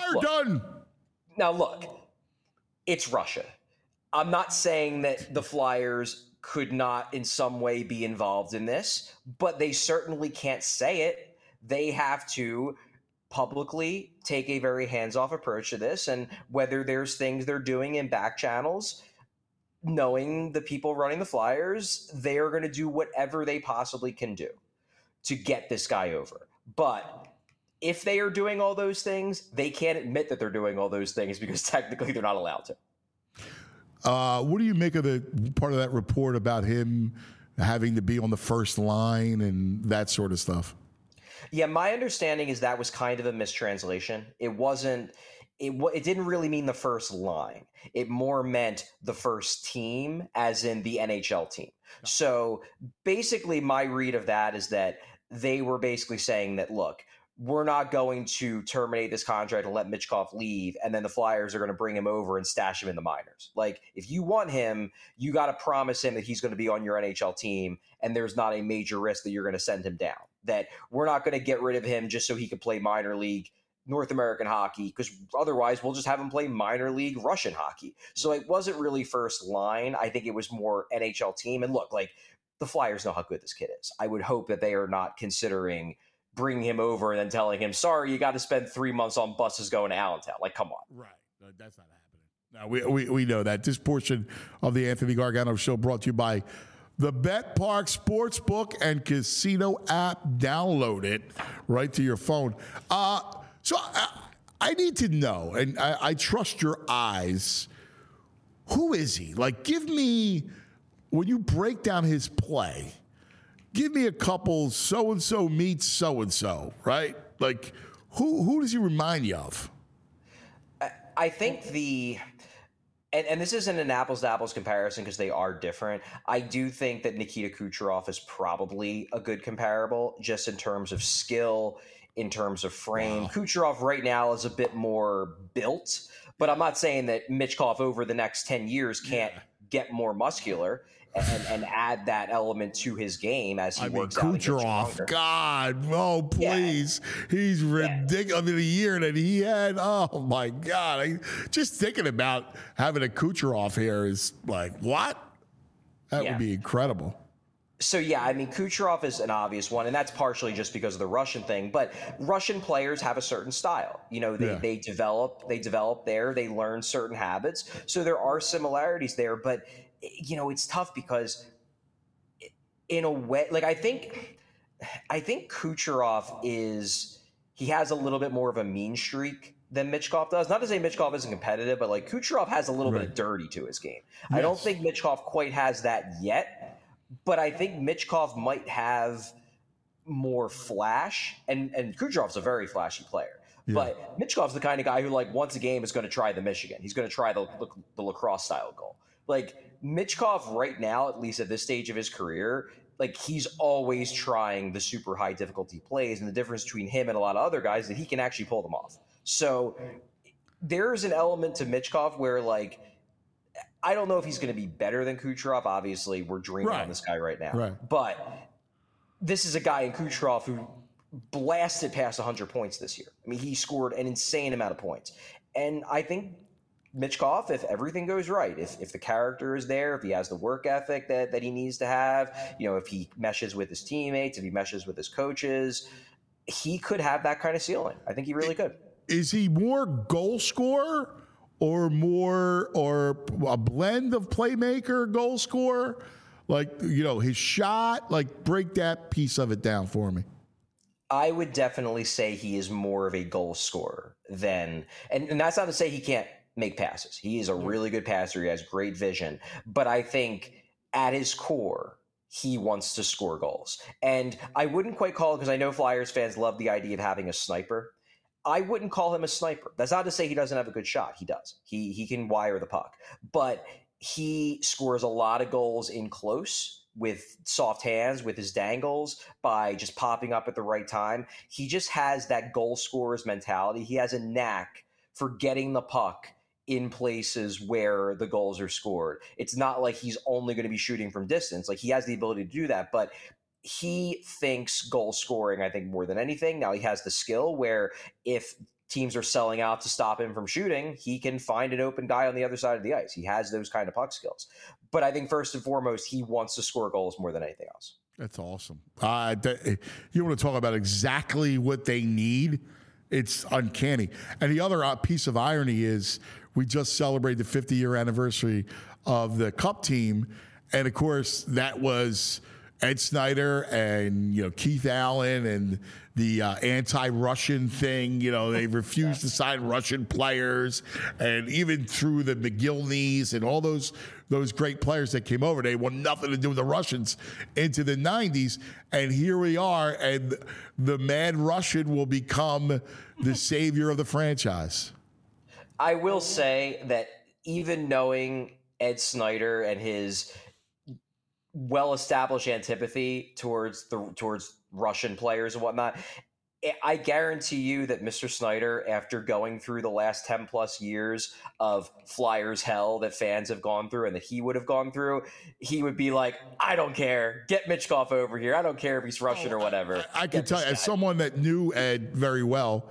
[SPEAKER 5] look, it's Russia. I'm not saying that the Flyers could not in some way be involved in this, but they certainly can't say it. They have to publicly take a very hands-off approach to this, and whether there's things they're doing in back channels, knowing the people running the Flyers, they are going to do whatever they possibly can do to get this guy over. But if they are doing all those things, they can't admit that they're doing all those things because technically they're not allowed to.
[SPEAKER 2] What do you make of the part of that report about him having to be on the first line and that sort of stuff?
[SPEAKER 5] Yeah, my understanding is that was kind of a mistranslation. It wasn't it didn't really mean the first line. It more meant the first team, as in the NHL team. So basically, my read of that is that they were basically saying that, look, we're not going to terminate this contract and let Michkov leave, and then the Flyers are going to bring him over and stash him in the minors. Like, if you want him, you got to promise him that he's going to be on your NHL team, and there's not a major risk that you're going to send him down. That we're not going to get rid of him just so he can play minor league North American hockey, because otherwise we'll just have him play minor league Russian hockey. So it wasn't really first line. I think it was more NHL team. And look, like, the Flyers know how good this kid is. I would hope that they are not considering bringing him over and then telling him, sorry, you got to spend 3 months on buses going to Allentown. Like, come on.
[SPEAKER 2] Right. That's not happening. Now, we know that. This portion of the Anthony Gargano Show brought to you by the Bet Park Sportsbook and Casino app. Download it right to your phone. So I need to know, and I trust your eyes, who is he? Like, give me, when you break down his play, give me a couple so-and-so meets so-and-so, right? Like, who does he remind you of?
[SPEAKER 5] I think and this isn't an apples-to-apples comparison because they are different. I do think that Nikita Kucherov is probably a good comparable just in terms of skill, in terms of frame. Wow. Kucherov right now is a bit more built, but I'm not saying that Michkov over the next 10 years can't get more muscular and add that element to his game as he works out.
[SPEAKER 2] Kucherov, God, oh, please. Yeah. He's ridiculous. Yeah. I mean, the year that he had, oh, my God. Just thinking about having a Kucherov here is like, what? That would be incredible.
[SPEAKER 5] So, yeah, I mean, Kucherov is an obvious one, and that's partially just because of the Russian thing. But Russian players have a certain style. You know, they develop there. They learn certain habits. So there are similarities there. But, you know, it's tough because in a way, like, I think Kucherov he has a little bit more of a mean streak than Michkov does. Not to say Michkov isn't competitive, but, like, Kucherov has a little bit of dirty to his game. Yes. I don't think Michkov quite has that yet. But I think Michkov might have more flash, and Kucherov's a very flashy player. Yeah. But Michkov's the kind of guy who, like, once a game is going to try the Michigan. He's going to try the lacrosse style goal. Like, Michkov right now, at least at this stage of his career, like, he's always trying the super high difficulty plays, and the difference between him and a lot of other guys is that he can actually pull them off. So there's an element to Michkov where, like, I don't know if he's going to be better than Kucherov. Obviously, we're dreaming on this guy right now. Right. But this is a guy in Kucherov who blasted past 100 points this year. I mean, he scored an insane amount of points. And I think Michkov, if everything goes right, if the character is there, if he has the work ethic that he needs to have, you know, if he meshes with his teammates, if he meshes with his coaches, he could have that kind of ceiling. I think he really could.
[SPEAKER 2] Is he more goal scorer? Or a blend of playmaker, goal scorer? Like, you know, his shot, like, break that piece of it down for me.
[SPEAKER 5] I would definitely say he is more of a goal scorer than, and that's not to say he can't make passes. He is a really good passer. He has great vision. But I think at his core, he wants to score goals. And I wouldn't quite call it, because I know Flyers fans love the idea of having a sniper. I wouldn't call him a sniper. That's not to say he doesn't have a good shot. He does. He can wire the puck. But he scores a lot of goals in close with soft hands, with his dangles, by just popping up at the right time. He just has that goal scorer's mentality. He has a knack for getting the puck in places where the goals are scored. It's not like he's only going to be shooting from distance. Like, he has the ability to do that, but he thinks goal scoring, I think, more than anything. Now, he has the skill where if teams are selling out to stop him from shooting, he can find an open guy on the other side of the ice. He has those kind of puck skills. But I think first and foremost, he wants to score goals more than anything else.
[SPEAKER 2] That's awesome. You want to talk about exactly what they need? It's uncanny. And the other piece of irony is we just celebrated the 50-year anniversary of the Cup team. And, of course, that was Ed Snyder and, you know, Keith Allen and the anti-Russian thing. You know, they refused to sign Russian players, and even through the McGillneys and all those great players that came over, they want nothing to do with the Russians into the 90s. And here we are, and the mad Russian will become the savior of the franchise.
[SPEAKER 5] I will say that even knowing Ed Snyder and his well-established antipathy towards Russian players and whatnot, I guarantee you that Mr. Snyder, after going through the last 10 plus years of Flyers hell that fans have gone through and that he would have gone through, he would be like, I don't care. Get Michkov over here. I don't care if he's Russian or whatever.
[SPEAKER 2] I can tell you, as someone that knew Ed very well,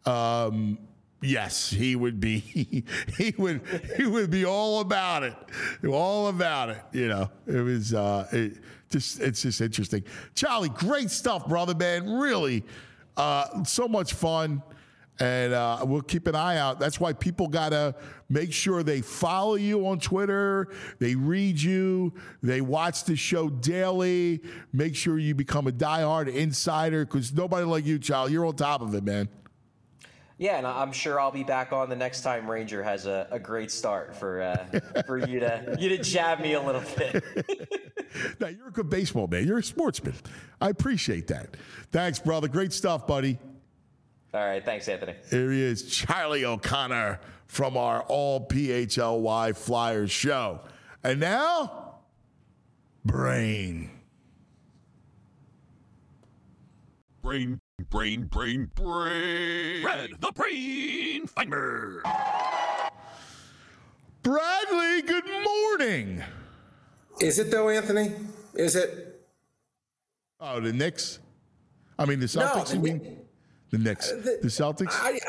[SPEAKER 2] yes, he would be he would be all about it. All about it. You know, it was it's just interesting. Charlie, great stuff, brother, man. Really. So much fun, and we'll keep an eye out. That's why people got to make sure they follow you on Twitter, they read you, they watch the show daily. Make sure you become a diehard insider, because nobody like you, Charlie. You're on top of it, man.
[SPEAKER 5] Yeah, and I'm sure I'll be back on the next time Ranger has a great start for you to jab me a little bit.
[SPEAKER 2] Now, you're a good baseball man. You're a sportsman. I appreciate that. Thanks, brother. Great stuff, buddy.
[SPEAKER 5] All right. Thanks, Anthony.
[SPEAKER 2] Here he is, Charlie O'Connor from our All PHLY Flyers show. And now, Brain.
[SPEAKER 1] Brain. Red, the Brain Finder.
[SPEAKER 2] Bradley, good morning.
[SPEAKER 6] Is it though, Anthony? Is it?
[SPEAKER 2] Oh, the Knicks? I mean, the Celtics,
[SPEAKER 6] no,
[SPEAKER 2] you mean? The Knicks. The Celtics?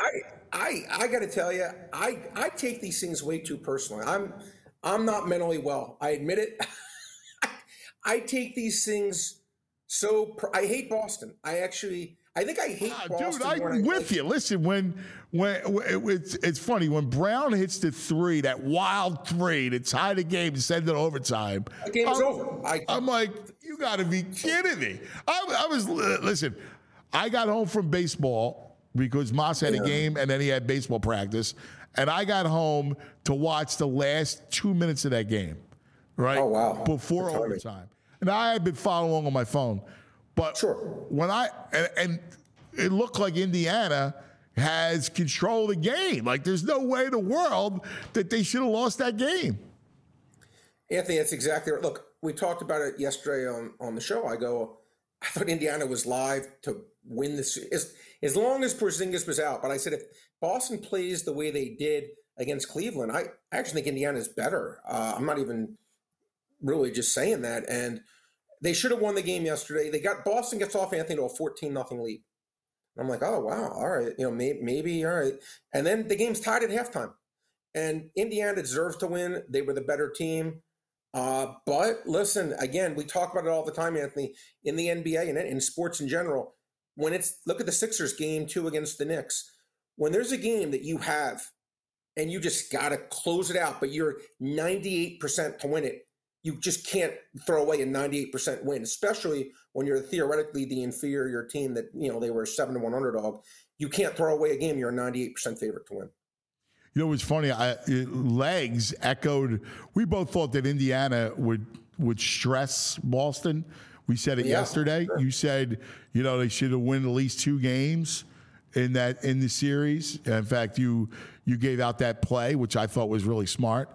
[SPEAKER 6] I got to tell you, I take these things way too personally. I'm not mentally well. I admit it. I take these things I hate Boston. I think I hate Boston.
[SPEAKER 2] Dude, I'm with you. Listen, when it's funny, when Brown hits the three, that wild three to tie the game and send it overtime.
[SPEAKER 6] The game is over.
[SPEAKER 2] I'm like, you got to be kidding me. Listen, I got home from baseball because Moss had a game and then he had baseball practice, and I got home to watch the last 2 minutes of that game, right?
[SPEAKER 6] Oh, wow.
[SPEAKER 2] Before overtime. And I had been following along on my phone. But
[SPEAKER 6] sure.
[SPEAKER 2] When and it looked like Indiana has control of the game. Like, there's no way in the world that they should have lost that game.
[SPEAKER 6] Anthony, that's exactly right. Look, we talked about it yesterday on the show. I thought Indiana was live to win this as long as Porzingis was out. But I said, if Boston plays the way they did against Cleveland, I actually think Indiana's better. I'm not even really just saying that. And they should have won the game yesterday. Boston gets off, Anthony, to a 14-0 lead. I'm like, oh, wow. All right. Maybe. All right. And then the game's tied at halftime. And Indiana deserves to win. They were the better team. But listen, again, we talk about it all the time, Anthony, in the NBA and in sports in general. Look at the Sixers game 2 against the Knicks. When there's a game that you have and you just got to close it out, but you're 98% to win it, you just can't throw away a 98% win, especially when you're theoretically the inferior team that, they were a 7-1 underdog. You can't throw away a game you're a 98% favorite to win.
[SPEAKER 2] You know what's funny? Legs echoed. We both thought that Indiana would stress Boston. We said it yesterday. Sure. You said, they should have won at least 2 games in the series. In fact, you gave out that play, which I thought was really smart.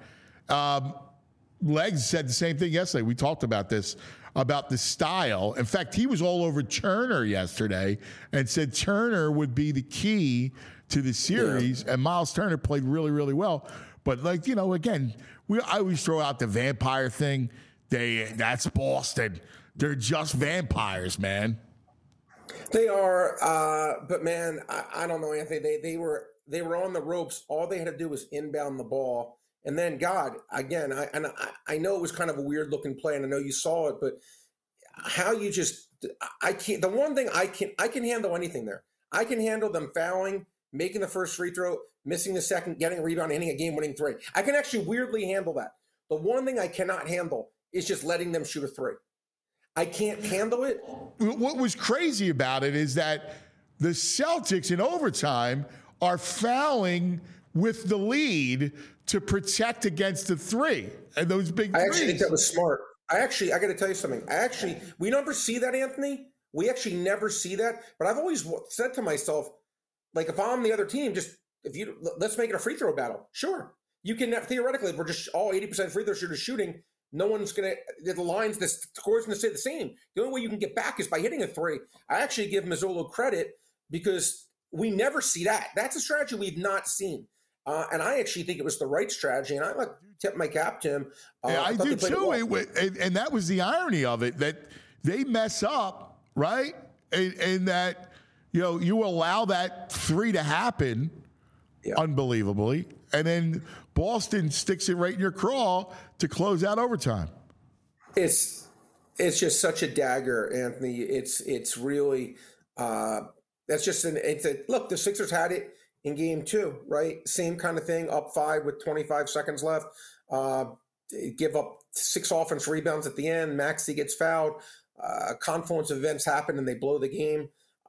[SPEAKER 2] Legs said the same thing yesterday. We talked about this, about the style. In fact, he was all over Turner yesterday and said Turner would be the key to the series, and Miles Turner played really, really well. But, again, I always throw out the vampire thing. That's Boston. They're just vampires, man.
[SPEAKER 6] They are, but man, I don't know, Anthony. They were on the ropes. All they had to do was inbound the ball. And then, God, again, I know it was kind of a weird looking play, and I know you saw it, but how you I can't. The one thing I can handle anything there. I can handle them fouling, making the first free throw, missing the second, getting a rebound, hitting a game-winning 3. I can actually weirdly handle that. The one thing I cannot handle is just letting them shoot a 3. I can't handle it.
[SPEAKER 2] What was crazy about it is that the Celtics in overtime are fouling with the lead to protect against the 3 and those big threes.
[SPEAKER 6] I actually think that was smart. I got to tell you something. We never see that, Anthony. We actually never see that. But I've always said to myself, like, if I'm the other team, just let's make it a free throw battle. Sure. You can theoretically, if we're just all 80% free throw shooters shooting, no one's going to, the lines, the score's going to stay the same. The only way you can get back is by hitting a three. I actually give Mazzolo credit because we never see that. That's a strategy we've not seen. And I actually think it was the right strategy. And I like tip my cap to him.
[SPEAKER 2] I do too. And that was the irony of it, that they mess up, right? And that, you allow that three to happen unbelievably. And then Boston sticks it right in your craw to close out overtime.
[SPEAKER 6] It's just such a dagger, Anthony. It's really that's just look. The Sixers had it in game 2, right? Same kind of thing. Up 5 with 25 seconds left. Give up 6 offense rebounds at the end. Maxey gets fouled. Confluence of events happen and they blow the game.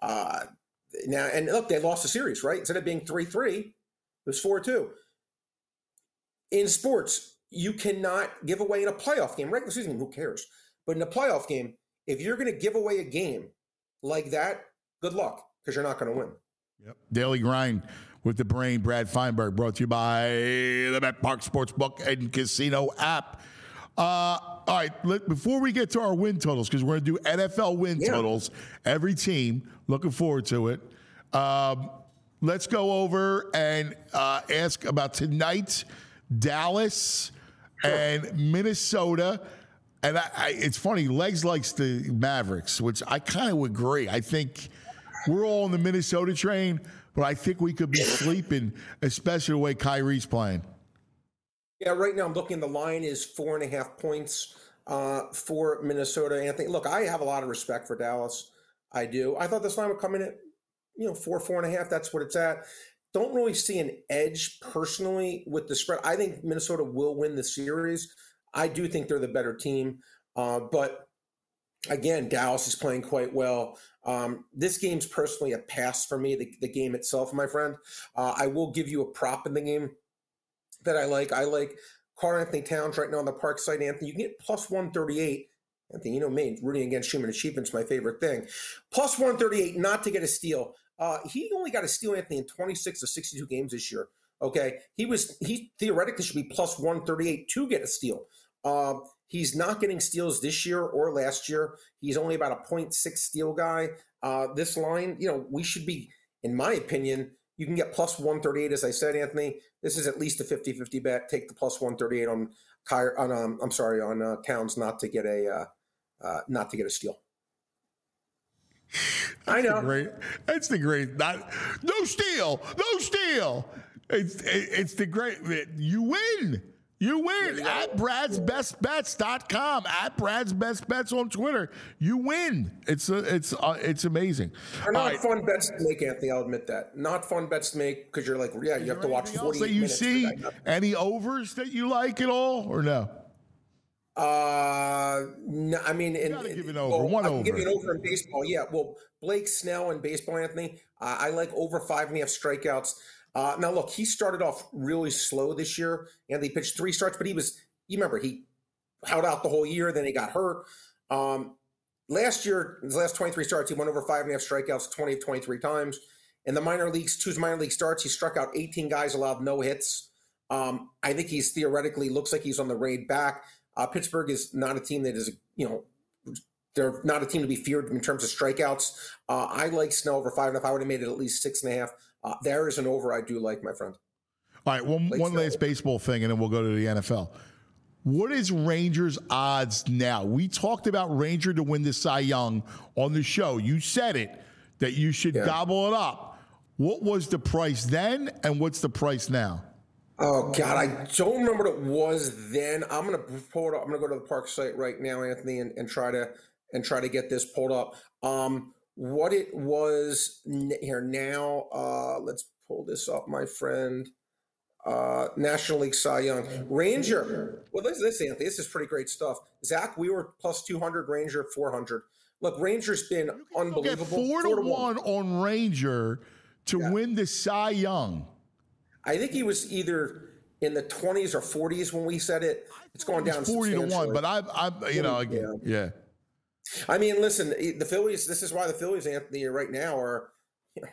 [SPEAKER 6] Now and look, they lost the series, right? Instead of being 3-3, it was 4-2. In sports, you cannot give away in a playoff game. Regular season, who cares? But in a playoff game, if you're going to give away a game like that, good luck, because you're not going to win.
[SPEAKER 2] Yep. Daily Grind with the Brain, Brad Feinberg, brought to you by the BetPark Sportsbook and Casino app. All right, before we get to our win totals, because we're going to do NFL win totals, every team, looking forward to it. Let's go over and ask about tonight. Dallas and Minnesota. And it's funny, Legs likes the Mavericks, which I kind of agree. I think we're all on the Minnesota train, but I think we could be sleeping, especially the way Kyrie's playing.
[SPEAKER 6] Yeah, right now I'm looking, the line is 4.5 points for Minnesota. Anthony, look, I have a lot of respect for Dallas. I do. I thought this line would come in at, 4.5. That's what it's at. Don't really see an edge personally with the spread. I think Minnesota will win the series. I do think they're the better team. But again, Dallas is playing quite well. This game's personally a pass for me, the game itself, my friend. I will give you a prop in the game that I like. I like Karl-Anthony Towns right now on the Park site, Anthony. You can get plus 138. Anthony, you know me, rooting against human achievement is my favorite thing. Plus 138 not to get a steal. He only got a steal, Anthony, in 26 of 62 games this year. Okay, he theoretically should be plus 138 to get a steal. He's not getting steals this year or last year. He's only about a 0.6 steal guy. This line, we should be, in my opinion, you can get plus 138, as I said, Anthony. This is at least a 50-50 bet. Take the plus 138 on Towns not to get a steal. I know.
[SPEAKER 2] That's the great. No steal. It's the great. You win. At Brad'sBestBets.com. At Brad's Best Bets on Twitter. You win. It's amazing.
[SPEAKER 6] They're not fun bets to make, Anthony. I'll admit that. Not fun bets to make because you're like, you have to watch 48 minutes.
[SPEAKER 2] You see any overs that you like at all or no?
[SPEAKER 6] No, I mean,
[SPEAKER 2] give it over. One over.
[SPEAKER 6] Give you an over in baseball. Yeah. Well, Blake Snell in baseball, Anthony. I like over 5.5 strikeouts. Now look, he started off really slow this year, and he pitched 3 starts, but he held out the whole year. Then he got hurt. Last year, his last 23 starts, he went over 5.5 strikeouts 20 of 23 times. In the minor leagues, 2 minor league starts, he struck out 18 guys, allowed no hits. I think he's theoretically looks like he's on the raid back. Pittsburgh is not a team that is, they're not a team to be feared in terms of strikeouts. I like Snell over 5.5. I would have made it at least 6.5. There is an over I do like, my friend.
[SPEAKER 2] All right, one last baseball thing, and then we'll go to the NFL. What is Rangers' odds now? We talked about Ranger to win the Cy Young on the show. You said it, that you should gobble it up. What was the price then, and what's the price now?
[SPEAKER 6] Oh, God, I don't remember what it was then. I'm going to pull it up. I'm going to go to the Park site right now, Anthony, and try to get this pulled up. What it was here now, let's pull this up, my friend. National League Cy Young. Ranger. Well, this, Anthony, this is pretty great stuff. Zach Wheeler plus 200, Ranger 400. Look, Ranger's been unbelievable.
[SPEAKER 2] 4-1 on Ranger to win the Cy Young.
[SPEAKER 6] I think he was either in the 20s or 40s when we said it. It's going down
[SPEAKER 2] 40-1, but I'm I
[SPEAKER 6] mean, listen, the Phillies. This is why the Phillies, Anthony, right now are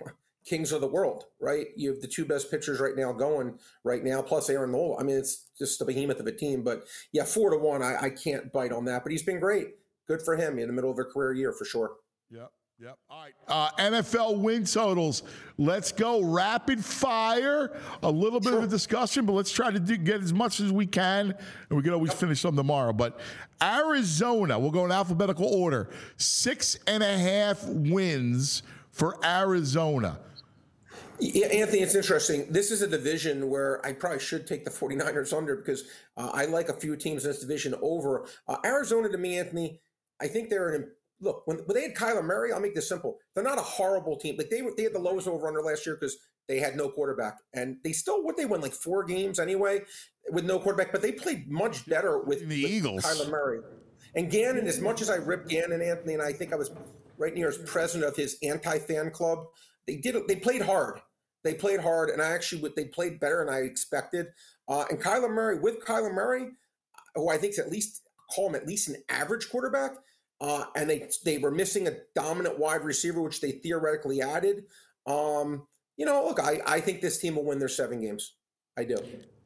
[SPEAKER 6] kings of the world, right? You have the two best pitchers right now going right now, plus Aaron Nola. I mean, it's just a behemoth of a team. But yeah, 4-1, I can't bite on that. But he's been great. Good for him in the middle of a career year for sure.
[SPEAKER 2] Yep. All right. NFL win totals. Let's go rapid fire. A little bit of a discussion, but let's try to get as much as we can, and we can always finish some tomorrow. But Arizona, we'll go in alphabetical order. 6.5 wins for Arizona.
[SPEAKER 6] Yeah, Anthony, it's interesting. This is a division where I probably should take the 49ers under because I like a few teams in this division over. Arizona, to me, Anthony, I think they're an look, when they had Kyler Murray, I'll make this simple. They're not a horrible team. Like they had the lowest over-under last year because they had no quarterback. And they still, they won like 4 games anyway with no quarterback, but they played much better with
[SPEAKER 2] Eagles.
[SPEAKER 6] Kyler Murray. And Gannon, as much as I ripped Gannon, Anthony, and I think I was right near as president of his anti-fan club, they played hard. They played hard, and they played better than I expected. And Kyler Murray, who I think is at least an average quarterback, and they were missing a dominant wide receiver, which they theoretically added. Look, I think this team will win their 7 games. I do.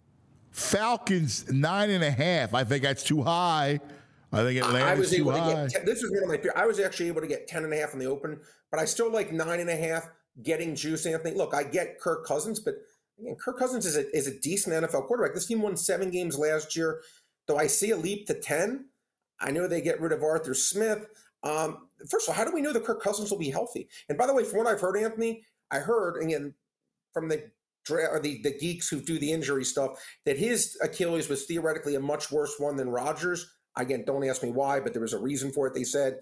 [SPEAKER 2] Falcons 9.5. I think that's too high. I think Atlanta's too high.
[SPEAKER 6] This is one of my. I was actually able to get 10.5 in the open, but I still like 9.5. Getting juice, Anthony. Look, I get Kirk Cousins, but again, Kirk Cousins is a decent NFL quarterback. This team won 7 games last year. Though I see a leap to 10. I know they get rid of Arthur Smith. First of all, how do we know that Kirk Cousins will be healthy? And by the way, from what I've heard, Anthony, I heard again from the geeks who do the injury stuff that his Achilles was theoretically a much worse one than Rodgers. Again, don't ask me why, but there was a reason for it. They said.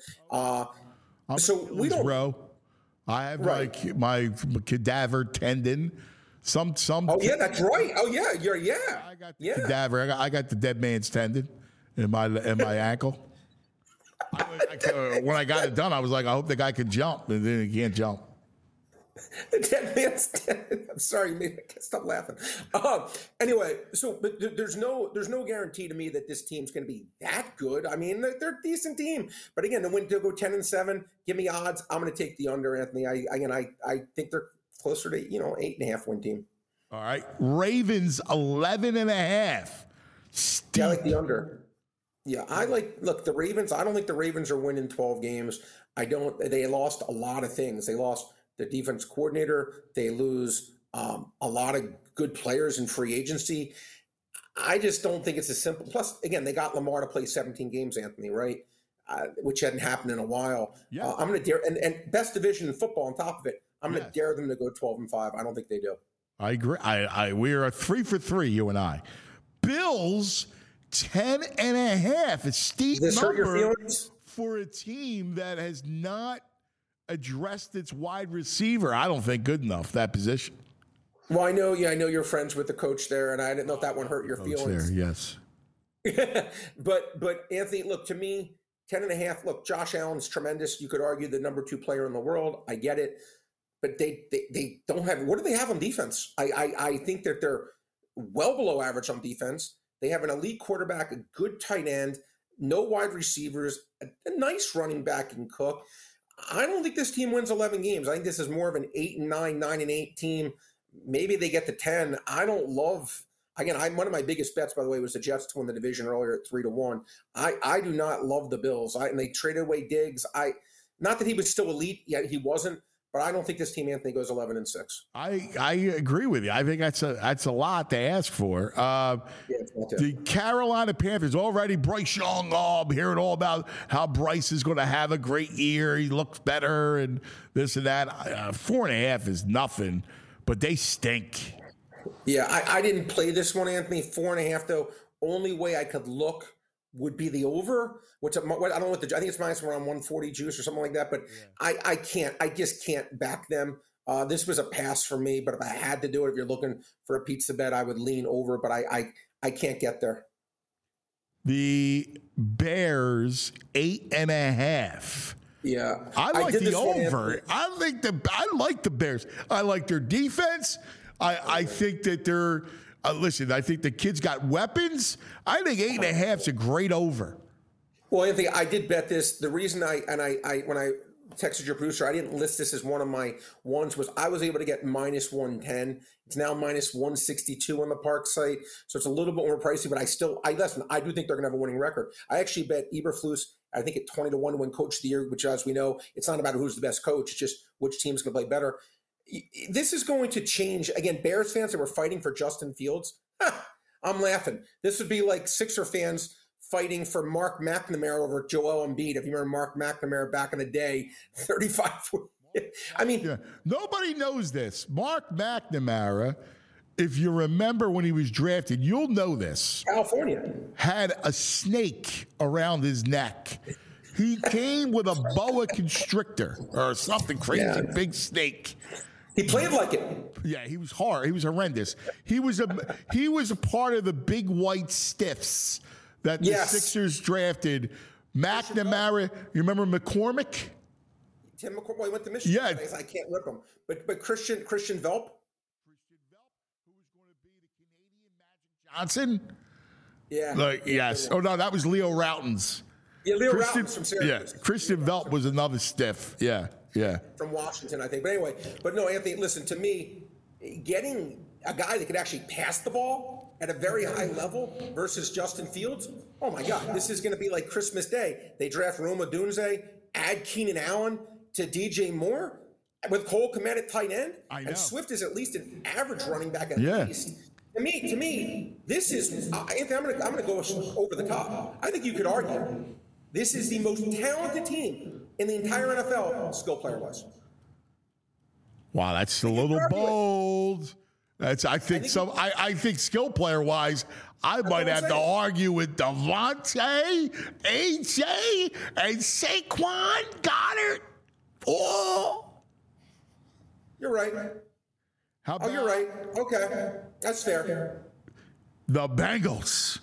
[SPEAKER 6] So we don't.
[SPEAKER 2] Bro. I have my cadaver tendon. Some.
[SPEAKER 6] Oh yeah, that's right. Oh yeah,
[SPEAKER 2] I got the cadaver. I got the dead man's tendon in my ankle. When I got it done, I was like, I hope the guy can jump, and then he can't jump.
[SPEAKER 6] The dead man's tendon. I'm sorry, man. I can't stop laughing. Anyway, but there's no guarantee to me that this team's going to be that good. I mean, they're a decent team, but again, to go 10-7, give me odds. I'm going to take the under, Anthony. I think they're closer to 8.5 win team.
[SPEAKER 2] All right, Ravens 11.5.
[SPEAKER 6] Yeah, I like the under. Yeah, look, the Ravens. I don't think the Ravens are winning 12 games. They lost a lot of things. They lost the defense coordinator. They lose a lot of good players in free agency. I just don't think it's as simple. Plus, again, they got Lamar to play 17 games, Anthony, right? Which hadn't happened in a while. Yeah. I'm going to dare, and best division in football on top of it, I'm going to dare them to go 12-5. I don't think they do.
[SPEAKER 2] I agree. We are 3 for 3, you and I. Bills 10.5. A steep number for a team that has not addressed its wide receiver. I don't think good enough that position.
[SPEAKER 6] Well, I know you're friends with the coach there, and I didn't know if that one hurt your feelings.
[SPEAKER 2] There, yes.
[SPEAKER 6] but Anthony, look, to me, 10.5. Look, Josh Allen's tremendous. You could argue the number 2 player in the world. I get it, but they don't have. What do they have on defense? I think that they're well below average on defense. They have an elite quarterback, a good tight end, no wide receivers, a nice running back in Cook. I don't think this team wins 11 games. I think this is more of an 8-9, 9-8 team. Maybe they get to 10. I don't love. Again, one of my biggest bets, by the way, was the Jets to win the division earlier at 3-1. I do not love the Bills. And they traded away Diggs. Not that he was still elite, yet he wasn't. But I don't think this team, Anthony, goes 11-6.
[SPEAKER 2] I agree with you. I think that's a lot to ask for. The Carolina Panthers already Bryce Young. I'm hearing all about how Bryce is going to have a great year. He looks better and this and that. 4.5 is nothing, but they stink.
[SPEAKER 6] Yeah, I didn't play this one, Anthony. 4.5 though. Only way I could look would be the over. I don't know what I think it's minus around 140 juice or something like that. But yeah. I just can't back them. This was a pass for me. But if I had to do it, if you're looking for a pizza bet, I would lean over. But I can't get there.
[SPEAKER 2] The Bears 8.5.
[SPEAKER 6] Yeah,
[SPEAKER 2] I like the over. I like the Bears. I like their defense. I think that they're. Listen, I think the kid's got weapons. I think 8.5 is a great over.
[SPEAKER 6] Well, Anthony, I did bet this. The reason when I texted your producer. I didn't list this as one of my ones. Was I was able to get minus 110. It's now minus 162 on the Park site, so it's a little bit more pricey. But listen. I do think they're going to have a winning record. I actually bet Eberflus, I think at 20 to 1 to win Coach of the Year, which, as we know, it's not about who's the best coach. It's just which team's going to play better. This is going to change. Again, Bears fans that were fighting for Justin Fields, I'm laughing. This would be like Sixer fans fighting for Mark McNamara over Joel Embiid. If you remember Mark McNamara back in the day, 35. I mean,
[SPEAKER 2] yeah. Nobody knows this. Mark McNamara, if you remember when he was drafted, you'll know this.
[SPEAKER 6] California
[SPEAKER 2] had a snake around his neck. He came with a boa constrictor or something crazy, big snake.
[SPEAKER 6] He played like it.
[SPEAKER 2] Yeah, he was hard. He was horrendous. He was a part of the big white stiffs that the Sixers drafted. McNamara, you remember McCormick?
[SPEAKER 6] Tim McCormick, well, he went to Michigan.
[SPEAKER 2] Yeah.
[SPEAKER 6] I can't rip him. But Christian Velp?
[SPEAKER 2] Christian Velp, who was going to be the Canadian Magic Johnson?
[SPEAKER 6] Yeah.
[SPEAKER 2] Yes. Oh, no, that was Leo Routens.
[SPEAKER 6] Yeah, Leo Routens from Syracuse.
[SPEAKER 2] Yeah, Christian Velp was another stiff. Yeah.
[SPEAKER 6] From Washington, I think. But anyway, no, Anthony, listen, to me, getting a guy that could actually pass the ball at a very high level versus Justin Fields, oh my God, this is going to be like Christmas Day. They draft Roma Dunze, add Keenan Allen to DJ Moore with Cole Kmet at tight end, and Swift is at least an average running back at least. To me, this is. Anthony, I'm going to go over the top. I think you could argue this is the most talented team in the entire NFL, skill player-wise.
[SPEAKER 2] Wow, that's a little bold. I think skill player-wise, I might have to argue with Devontae, AJ, and Saquon Goddard. Oh,
[SPEAKER 6] you're right. You're right. Okay, that's fair.
[SPEAKER 2] The Bengals,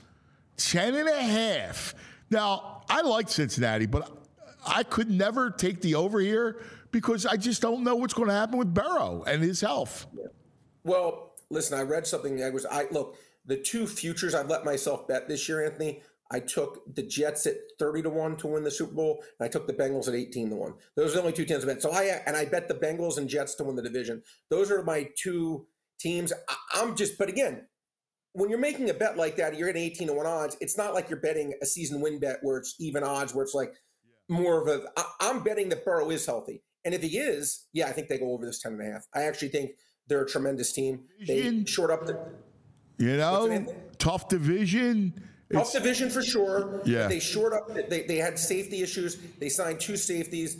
[SPEAKER 2] 10.5. Now, I like Cincinnati, but I could never take the over here because I just don't know what's going to happen with Burrow and his health.
[SPEAKER 6] Well, listen, I read something. Look, the two futures I've let myself bet this year, Anthony. I took the Jets at 30 to 1 to win the Super Bowl, and I took the Bengals at 18 to 1. Those are the only two teams I bet. So I bet the Bengals and Jets to win the division. Those are my two teams. But again, when you're making a bet like that, you're getting 18 to 1 odds. It's not like you're betting a season win bet where it's even odds, where it's like more of I'm betting that Burrow is healthy. And if he is, I think they go over this 10.5. I actually think they're a tremendous team. They short up
[SPEAKER 2] tough division.
[SPEAKER 6] Tough division for sure.
[SPEAKER 2] Yeah.
[SPEAKER 6] They short up. They had safety issues. They signed 2 safeties.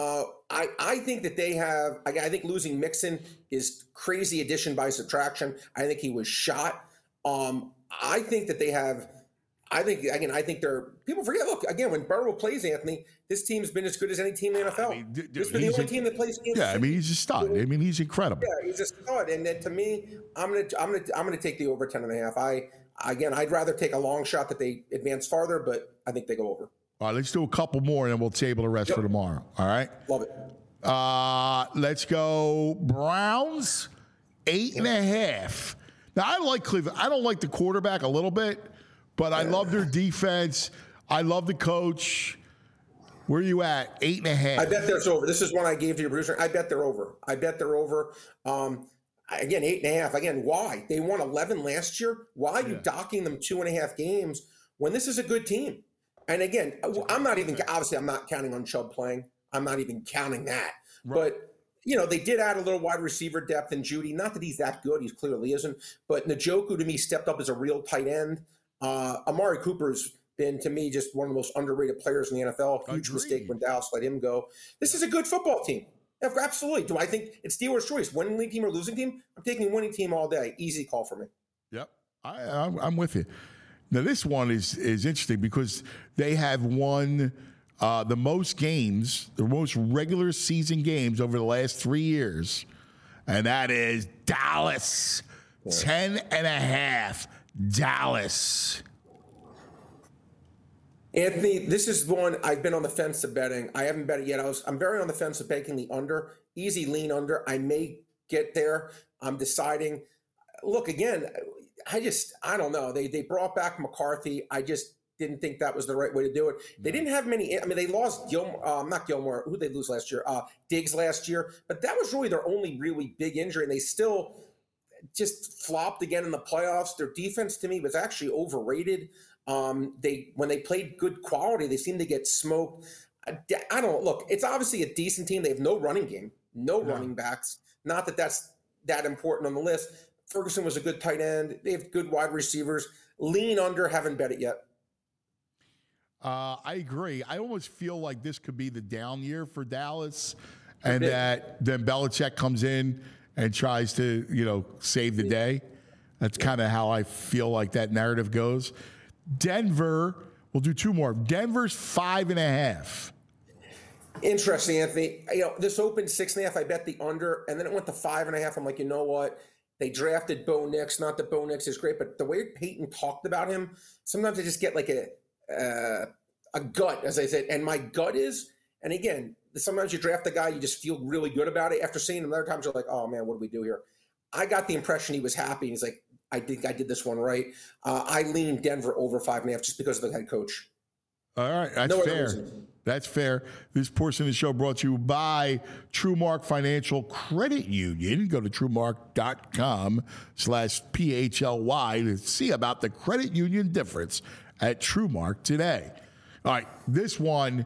[SPEAKER 6] I think that they have. I think losing Mixon is crazy addition by subtraction. I think he was shot. I think that they have. I think they're. People forget. Look, again, when Burrow plays, Anthony, this team's been as good as any team in the NFL. This has been the only team that plays.
[SPEAKER 2] He's a stud. He's incredible.
[SPEAKER 6] Yeah, he's a stud. And then to me, I'm gonna take the over 10.5. I'd rather take a long shot that they advance farther, but I think they go over.
[SPEAKER 2] All right, let's do a couple more, and then we'll table the rest for tomorrow. All right?
[SPEAKER 6] Love it.
[SPEAKER 2] Let's go Browns, 8.5. Now, I like Cleveland. I don't like the quarterback a little bit, but I love their defense. I love the coach. Where are you at? 8.5.
[SPEAKER 6] I bet there's over. This is one I gave to your producer. I bet they're over. Again, 8.5. Again, why? They won 11 last year. Why are you docking them 2.5 games when this is a good team? And again, I'm not counting on Chubb playing. I'm not even counting that. Right. But, they did add a little wide receiver depth in Judy. Not that he's that good. He clearly isn't. But Njoku, to me, stepped up as a real tight end. Amari Cooper's been, to me, just one of the most underrated players in the NFL. Huge mistake when Dallas let him go. This is a good football team. Absolutely. Do I think it's Steelers' choice? Winning team or losing team? I'm taking winning team all day. Easy call for me.
[SPEAKER 2] Yep. I'm with you. Now, this one is interesting because they have won the most games, the most regular season games over the last 3 years, and that is Dallas. 10.5. Dallas.
[SPEAKER 6] Anthony, this is one I've been on the fence of betting. I haven't bet it yet. I'm very on the fence of banking the under. Easy lean under. I may get there. I'm deciding. Look, again, I don't know. They brought back McCarthy. didn't think that was the right way to do it. They didn't have many. I mean, they lost not Gilmore. Who did they lose last year? Diggs last year. But that was really their only really big injury, and they still just flopped again in the playoffs. Their defense, to me, was actually overrated. When they played good quality, they seemed to get smoked. I don't know. Look, it's obviously a decent team. They have no running game, no running backs. Not that that's that important on the list. Ferguson was a good tight end. They have good wide receivers. Lean under, haven't bet it yet.
[SPEAKER 2] I agree. I almost feel like this could be the down year for Dallas, and that then Belichick comes in and tries to, save the day. That's kind of how I feel like that narrative goes. Denver, we'll do two more. Denver's 5.5.
[SPEAKER 6] Interesting, Anthony. This opened 6.5. I bet the under, and then it went to 5.5. I'm like, you know what? They drafted Bo Nix. Not that Bo Nix is great, but the way Peyton talked about him, sometimes I just get like a gut, as I said. And my gut is, and again, sometimes you draft a guy, you just feel really good about it after seeing him. Other times you're like, oh man, what do we do here? I got the impression he was happy. He's like, I think I did this one right. I lean Denver over 5.5 just because of the head coach.
[SPEAKER 2] All right, that's fair. That's fair. This portion of the show brought to you by TrueMark Financial Credit Union. Go to TrueMark.com/PHLY to see about the credit union difference at TrueMark today. All right, this one,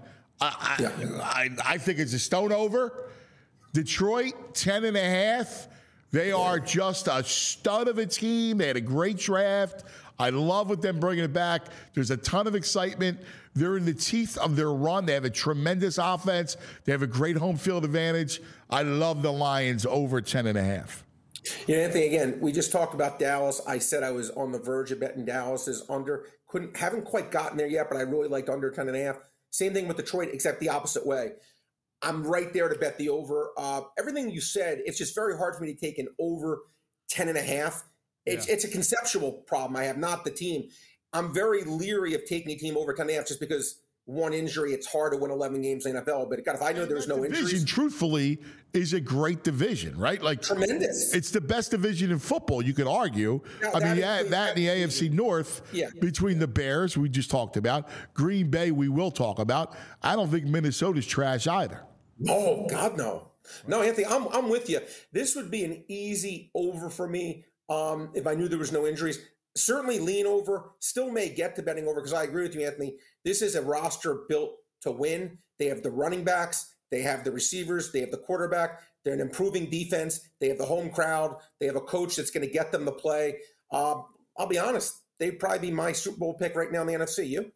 [SPEAKER 2] I think it's a stone over. Detroit, 10.5. They are just a stud of a team. They had a great draft. I love with them bringing it back. There's a ton of excitement. They're in the teeth of their run. They have a tremendous offense. They have a great home field advantage. I love the Lions over 10.5.
[SPEAKER 6] Anthony, again, we just talked about Dallas. I said I was on the verge of betting Dallas is under. Haven't quite gotten there yet, but I really liked under 10.5. Same thing with Detroit, except the opposite way. I'm right there to bet the over. Everything you said, it's just very hard for me to take an over 10.5. It's a conceptual problem I have, not the team. I'm very leery of taking a team over 10.5 just because one injury, it's hard to win 11 games in the NFL. But God, if I know there's no injuries.
[SPEAKER 2] Division, truthfully, is a great division, right? Like
[SPEAKER 6] tremendous.
[SPEAKER 2] It's the best division in football, you could argue. That and the AFC North between the Bears, we just talked about, Green Bay, we will talk about. I don't think Minnesota's trash either.
[SPEAKER 6] Oh, God, no. No, Anthony, I'm with you. This would be an easy over for me if I knew there was no injuries. Certainly lean over, still may get to betting over because I agree with you, Anthony. This is a roster built to win. They have the running backs, they have the receivers, they have the quarterback, they're an improving defense, they have the home crowd, they have a coach that's going to get them to play. I'll be honest, they'd probably be my Super Bowl pick right now in the NFC. You?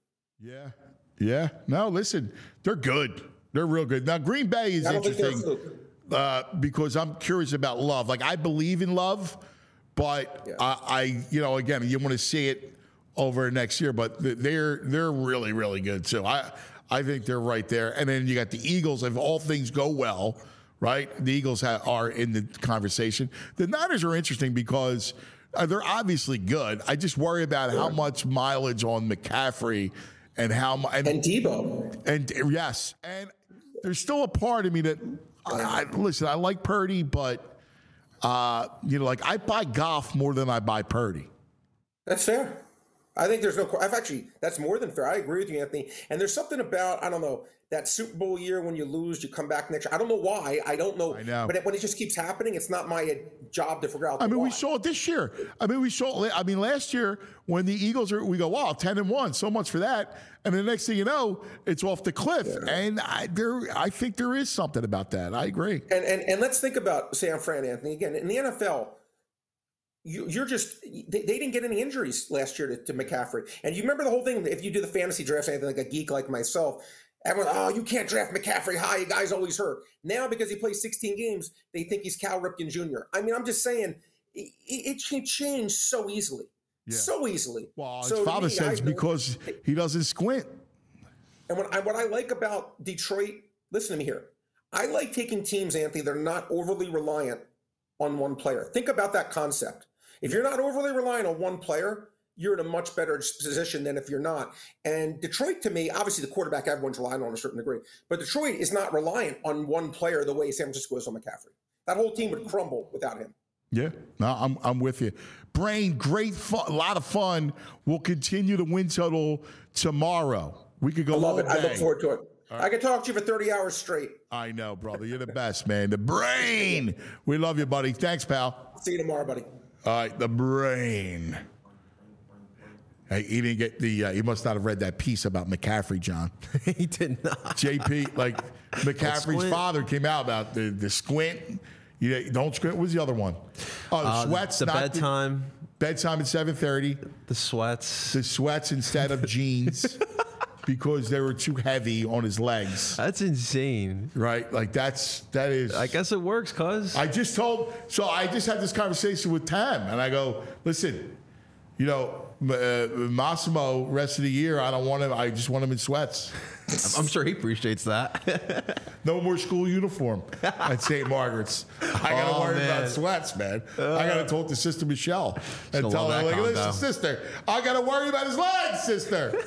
[SPEAKER 2] Yeah. No, listen, they're good. They're real good. Now, Green Bay is interesting because I'm curious about Love. Like, I believe in Love. But again, you want to see it over next year. But they're really, really good too. I think they're right there. And then you got the Eagles. If all things go well, right? The Eagles are in the conversation. The Niners are interesting because they're obviously good. I just worry about how much mileage on McCaffrey and and
[SPEAKER 6] Debo.
[SPEAKER 2] And yes, and there's still a part of me that listen. I like Purdy, but. I buy Goff more than I buy Purdy.
[SPEAKER 6] That's fair. I think that's more than fair. I agree with you, Anthony. And there's something about, I don't know, that Super Bowl year when you lose, you come back next year. I don't know why. I don't know.
[SPEAKER 2] I know.
[SPEAKER 6] But when it just keeps happening, it's not my job to figure out.
[SPEAKER 2] We saw it this year. Last year when the Eagles we go, wow, 10-1, so much for that. And the next thing you know, it's off the cliff. Yeah. And I think there is something about that. I agree.
[SPEAKER 6] And let's think about San Fran, Anthony. Again, in the NFL, they didn't get any injuries last year to McCaffrey. And you remember the whole thing, if you do the fantasy drafts, anything like a geek like myself, everyone, you can't draft McCaffrey high, the guy's always hurt. Now, because he plays 16 games, they think he's Cal Ripken Jr. I'm just saying, it can change so easily. Yeah. So easily.
[SPEAKER 2] Well, his father says because he doesn't squint.
[SPEAKER 6] And what I like about Detroit, listen to me here. I like taking teams, Anthony, that are not overly reliant on one player. Think about that concept. If you're not overly reliant on one player, you're in a much better position than if you're not. And Detroit, to me, obviously the quarterback everyone's relying on a certain degree, but Detroit is not reliant on one player the way San Francisco is on McCaffrey. That whole team would crumble without him.
[SPEAKER 2] Yeah, no, I'm with you. Brain, great fun, a lot of fun. We'll continue the win total tomorrow. We could go
[SPEAKER 6] I love
[SPEAKER 2] all
[SPEAKER 6] it. I look
[SPEAKER 2] day.
[SPEAKER 6] forward to it. I could talk to you for 30 hours straight.
[SPEAKER 2] I know, brother. You're the best, man. The Brain. We love you, buddy. Thanks, pal.
[SPEAKER 6] See you tomorrow, buddy.
[SPEAKER 2] All right, the Brain. Hey, he didn't get the. He must not have read that piece about McCaffrey, John.
[SPEAKER 3] He did not.
[SPEAKER 2] JP, like McCaffrey's father came out about the squint. You don't squint. What was the other one? Oh, the sweats.
[SPEAKER 3] The bedtime.
[SPEAKER 2] Bedtime at 7:30.
[SPEAKER 3] The sweats.
[SPEAKER 2] The sweats instead of jeans because they were too heavy on his legs.
[SPEAKER 3] That's insane.
[SPEAKER 2] Right? Like that is.
[SPEAKER 3] I guess it works, cuz.
[SPEAKER 2] I just had this conversation with Tam, and I go, listen, Massimo, rest of the year, I don't want him. I just want him in sweats.
[SPEAKER 3] I'm sure he appreciates that.
[SPEAKER 2] No more school uniform at St. Margaret's. I got to worry about sweats, man. I got to talk to Sister Michelle and tell her, like, listen, sister, I got to worry about his legs, sister.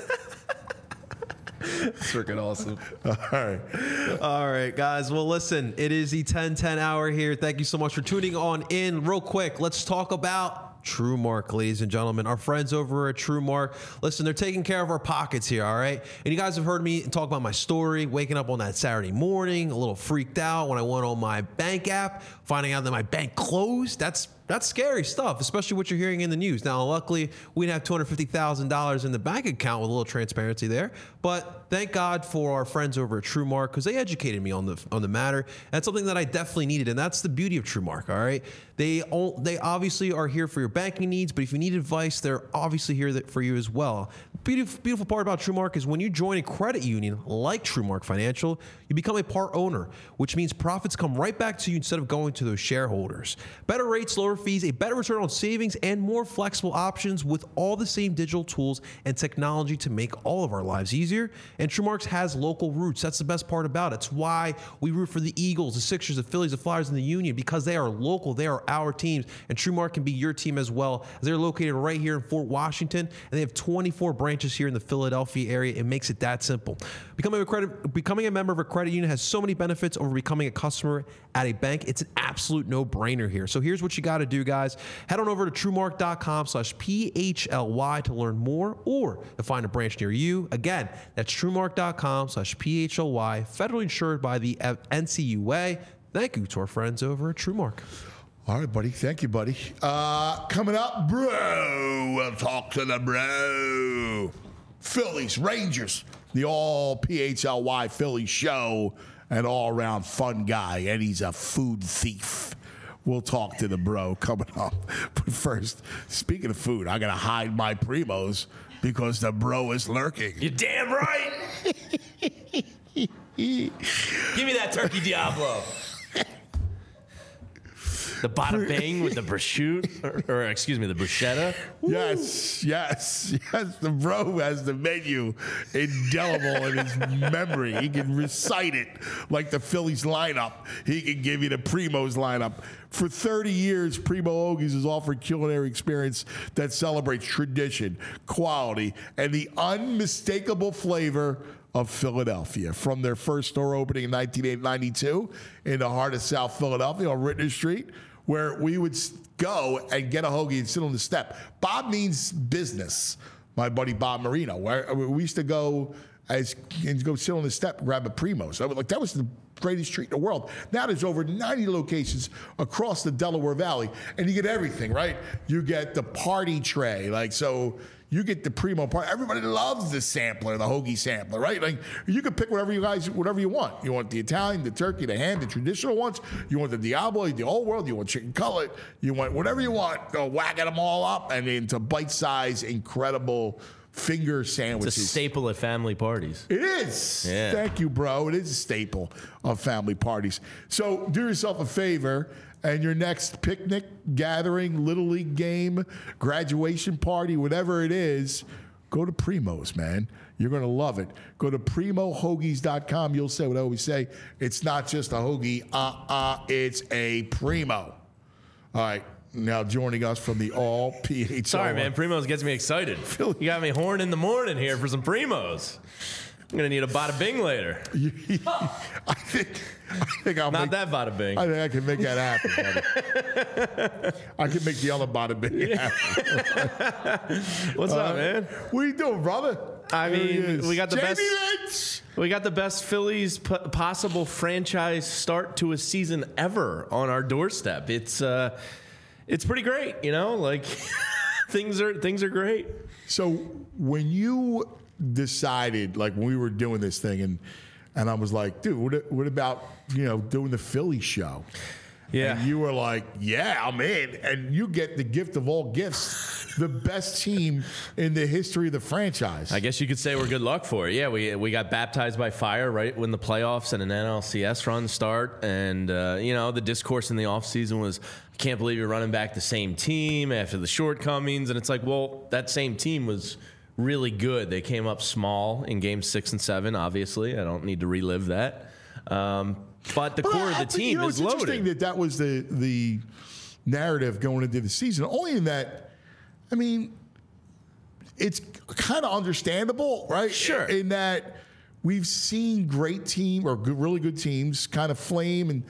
[SPEAKER 3] It's freaking awesome.
[SPEAKER 2] All
[SPEAKER 3] right, guys. Well, listen, it is the 10-10 hour here. Thank you so much for tuning on in. Real quick, let's talk about TrueMark, ladies and gentlemen. Our friends over at TrueMark, listen, they're taking care of our pockets here, all right? And you guys have heard me talk about my story, waking up on that Saturday morning, a little freaked out when I went on my bank app, finding out that my bank closed. That's scary stuff, especially what you're hearing in the news. Now, luckily, we didn't have $250,000 in the bank account with a little transparency there. But thank God for our friends over at TrueMark because they educated me on the matter. That's something that I definitely needed, and that's the beauty of TrueMark, all right? They obviously are here for your banking needs, but if you need advice, they're obviously here for you as well. Beautiful part about TrueMark is when you join a credit union like TrueMark Financial, you become a part owner, which means profits come right back to you instead of going to those shareholders. Better rates, lower fees, a better return on savings, and more flexible options with all the same digital tools and technology to make all of our lives easier. And TrueMark has local roots. That's the best part about it. It's why we root for the Eagles, the Sixers, the Phillies, the Flyers, and the Union, because they are local. They are our teams, and TrueMark can be your team as well. They're located right here in Fort Washington, and they have 24 branches here in the Philadelphia area. It makes it that simple. Becoming a member of a credit union has so many benefits over becoming a customer at a bank. It's an absolute no-brainer here. So here's what you got to do, guys. Head on over to TrueMark.com/PHLY to learn more or to find a branch near you. Again, that's TrueMark.com/PHLY, federally insured by the NCUA. Thank you to our friends over at TrueMark.
[SPEAKER 2] All right, buddy. Thank you, buddy. Coming up, bro. We'll talk to the bro. Phillies, Rangers, the all PHLY Philly show, an all-around fun guy, and he's a food thief. We'll talk to the bro coming up. But first, speaking of food, I got to hide my Primos because the bro is lurking.
[SPEAKER 7] You're damn right. Give me that turkey Diablo. The bada bing with the prosciutto, or excuse me, the bruschetta.
[SPEAKER 2] Yes. The bro has the menu indelible in his memory. He can recite it like the Phillies lineup. He can give you the Primo's lineup. For 30 years, Primo Hoagies has offered culinary experience that celebrates tradition, quality, and the unmistakable flavor of Philadelphia. From their first store opening in 1992 in the heart of South Philadelphia on Rittner Street, where we would go and get a hoagie and sit on the step. Bob means business, my buddy Bob Marino. Where we used to go and go sit on the step and grab a Primo. So that was the greatest treat in the world. Now there's over 90 locations across the Delaware Valley, and you get everything, right? You get the party tray, you get the Primo part. Everybody loves the sampler, the hoagie sampler, right? Like you can pick whatever you want. You want the Italian, the turkey, the ham, the traditional ones. You want the Diablo, the old world. You want chicken cutlet. You want whatever you want. Go whacking them all up and into bite-sized, incredible finger sandwiches.
[SPEAKER 7] It's a staple at family parties.
[SPEAKER 2] It is.
[SPEAKER 7] Yeah.
[SPEAKER 2] Thank you, bro. It is a staple of family parties. So do yourself a favor. And your next picnic, gathering, Little League game, graduation party, whatever it is, go to Primo's, man. You're going to love it. Go to PrimoHoagies.com. You'll say what I always say. It's not just a hoagie. It's a Primo. All right. Now joining us from the all PHL.
[SPEAKER 7] Sorry, man. Primos gets me excited. You got me horn in the morning here for some Primos. I'm gonna need a bada bing later.
[SPEAKER 2] I think I'll
[SPEAKER 7] Not
[SPEAKER 2] make
[SPEAKER 7] that bada bing.
[SPEAKER 2] I think I can make that happen, buddy. I can make the other bada bing happen.
[SPEAKER 7] What's up, man?
[SPEAKER 2] What are you doing, brother?
[SPEAKER 7] I
[SPEAKER 2] There he
[SPEAKER 7] mean,
[SPEAKER 2] is.
[SPEAKER 7] we got the
[SPEAKER 2] Jamie
[SPEAKER 7] best-
[SPEAKER 2] Lynch!
[SPEAKER 7] We got the best Phillies possible franchise start to a season ever on our doorstep. It's pretty great, you know. Like things are great.
[SPEAKER 2] So when you decided, like when we were doing this thing, and I was like, dude, what about doing the Philly show?
[SPEAKER 7] Yeah.
[SPEAKER 2] And you were like, yeah, I'm in. And you get the gift of all gifts, the best team in the history of the franchise.
[SPEAKER 7] I guess you could say we're good luck for it. Yeah, we got baptized by fire right when the playoffs and an NLCS run start. And, the discourse in the offseason was, I can't believe you're running back the same team after the shortcomings. And it's like, well, that same team was really good. They came up small in games 6 and 7, obviously. I don't need to relive that. But the core of the team is loaded.
[SPEAKER 2] It's interesting that was the narrative going into the season. Only in that, I mean, it's kind of understandable, right?
[SPEAKER 7] Sure.
[SPEAKER 2] In that we've seen great team or really good teams kind of flame and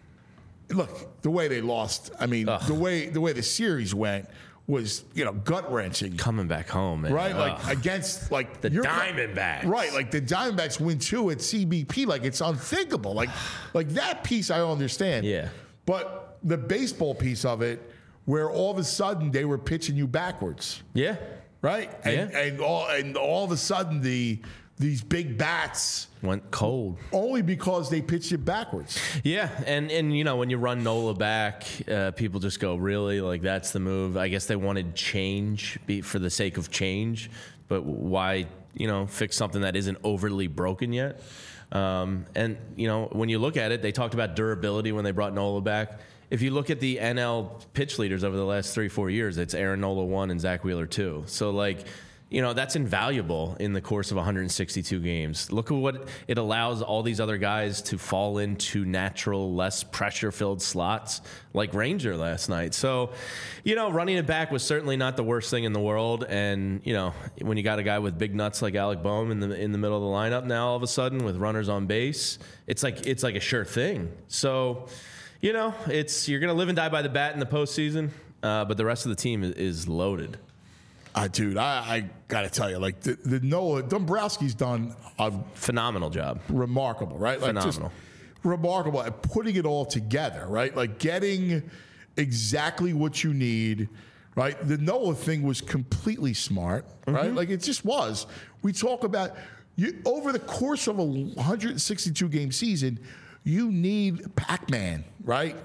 [SPEAKER 2] look the way they lost. I mean, the way the series went was gut wrenching.
[SPEAKER 7] Coming back home, man.
[SPEAKER 2] Right, like against like
[SPEAKER 7] the Diamondbacks.
[SPEAKER 2] Right, like the Diamondbacks win 2 at CBP, like it's unthinkable. Like that piece I understand.
[SPEAKER 7] Yeah.
[SPEAKER 2] But the baseball piece of it, where all of a sudden they were pitching you backwards.
[SPEAKER 7] Yeah.
[SPEAKER 2] Right? And all of a sudden these big bats
[SPEAKER 7] went cold
[SPEAKER 2] only because they pitched it backwards.
[SPEAKER 7] Yeah, and when you run Nola back, people just go, really? Like that's the move? I guess they wanted change for the sake of change, but why fix something that isn't overly broken yet? And when you look at it, they talked about durability when they brought Nola back. If you look at the NL pitch leaders over the last 3-4 years, it's Aaron Nola 1 and Zach Wheeler 2. So that's invaluable in the course of 162 games. Look at what it allows all these other guys to fall into natural, less pressure-filled slots like Ranger last night. So, running it back was certainly not the worst thing in the world. And, when you got a guy with big nuts like Alec Boehm in the middle of the lineup now all of a sudden with runners on base, it's like a sure thing. So, you're going to live and die by the bat in the postseason, but the rest of the team is loaded.
[SPEAKER 2] Dude, I got to tell you, like the Noah Dombrowski's done a
[SPEAKER 7] phenomenal job,
[SPEAKER 2] remarkable, right? Like
[SPEAKER 7] phenomenal,
[SPEAKER 2] just remarkable at putting it all together, right? Like getting exactly what you need, right? The Noah thing was completely smart, right? Like it just was. We talk about over the course of a 162 game season, you need Pac-Man, right?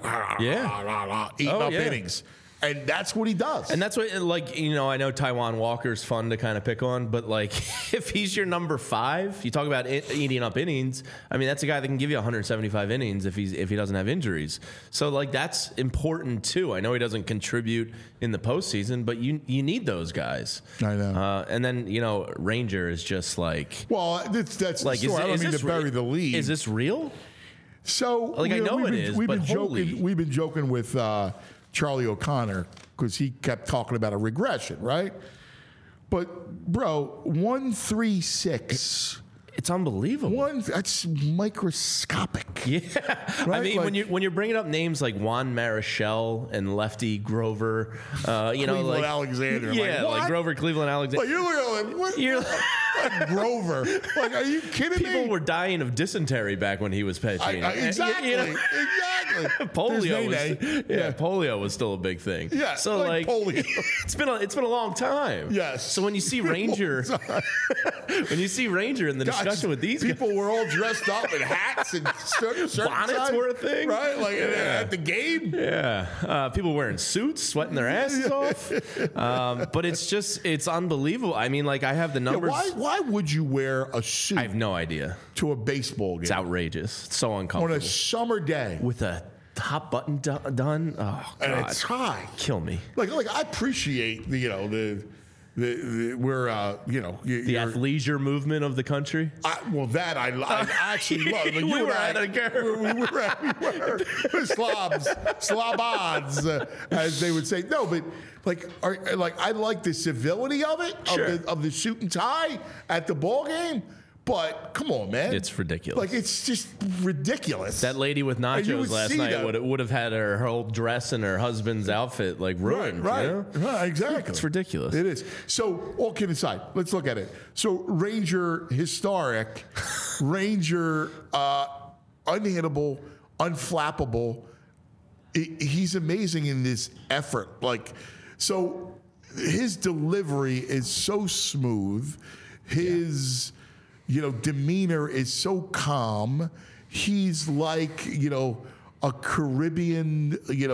[SPEAKER 7] Yeah,
[SPEAKER 2] eating up innings. And that's what he does.
[SPEAKER 7] And that's what, I know Taijuan Walker's fun to kind of pick on, but, if he's your number 5, you talk about eating up innings, I mean, that's a guy that can give you 175 innings if he doesn't have injuries. So, that's important, too. I know he doesn't contribute in the postseason, but you need those guys.
[SPEAKER 2] I know.
[SPEAKER 7] And then, Ranger is just
[SPEAKER 2] Well, that's the story. I don't mean to bury the lead.
[SPEAKER 7] Is this real?
[SPEAKER 2] So,
[SPEAKER 7] I know it is, but holy.
[SPEAKER 2] We've been joking with Charlie O'Connor because he kept talking about a regression, right? But, bro, 136.
[SPEAKER 7] It's unbelievable.
[SPEAKER 2] That's microscopic.
[SPEAKER 7] Yeah.
[SPEAKER 2] Right?
[SPEAKER 7] I mean, when you're bringing up names like Juan Marichal and Lefty Grover,
[SPEAKER 2] Cleveland Alexander.
[SPEAKER 7] Yeah,
[SPEAKER 2] like
[SPEAKER 7] Grover Cleveland Alexander.
[SPEAKER 2] Like, you look at him. You're like Grover. Like, are you kidding me?
[SPEAKER 7] People were dying of dysentery back when he was pitching.
[SPEAKER 2] Exactly. Exactly.
[SPEAKER 7] Polio was still a big thing.
[SPEAKER 2] Yeah.
[SPEAKER 7] So
[SPEAKER 2] polio.
[SPEAKER 7] it's been a long time.
[SPEAKER 2] Yes.
[SPEAKER 7] So when you see Ranger, in the discussion with these
[SPEAKER 2] people
[SPEAKER 7] guys,
[SPEAKER 2] were all dressed up in hats and
[SPEAKER 7] bonnets were a thing,
[SPEAKER 2] right? Like at the game.
[SPEAKER 7] Yeah. People wearing suits, sweating their asses off. But it's unbelievable. I mean, I have the numbers.
[SPEAKER 2] Why would you wear a suit?
[SPEAKER 7] I have no idea.
[SPEAKER 2] To a baseball game.
[SPEAKER 7] It's outrageous. It's so uncomfortable.
[SPEAKER 2] On a summer day.
[SPEAKER 7] With a top button done. Oh, God.
[SPEAKER 2] And it's high.
[SPEAKER 7] Kill me.
[SPEAKER 2] Like I appreciate the
[SPEAKER 7] athleisure movement of the country.
[SPEAKER 2] I actually love. Like
[SPEAKER 7] we were at a
[SPEAKER 2] slobs, as they would say. No, but I like the civility of it,
[SPEAKER 7] sure.
[SPEAKER 2] of the suit and tie at the ball game. But come on, man.
[SPEAKER 7] It's ridiculous.
[SPEAKER 2] Like, it's just ridiculous.
[SPEAKER 7] That lady with
[SPEAKER 2] And you
[SPEAKER 7] nachos
[SPEAKER 2] would
[SPEAKER 7] last
[SPEAKER 2] see
[SPEAKER 7] night
[SPEAKER 2] that.
[SPEAKER 7] would have had her whole dress and her husband's outfit like ruined.
[SPEAKER 2] Right,
[SPEAKER 7] you know?
[SPEAKER 2] right, exactly.
[SPEAKER 7] It's ridiculous.
[SPEAKER 2] It is. So, all kidding aside, let's look at it. So, Ranger historic, Ranger unhittable, unflappable. He's amazing in this effort. Like, so his delivery is so smooth. His, demeanor is so calm. He's like, a Caribbean,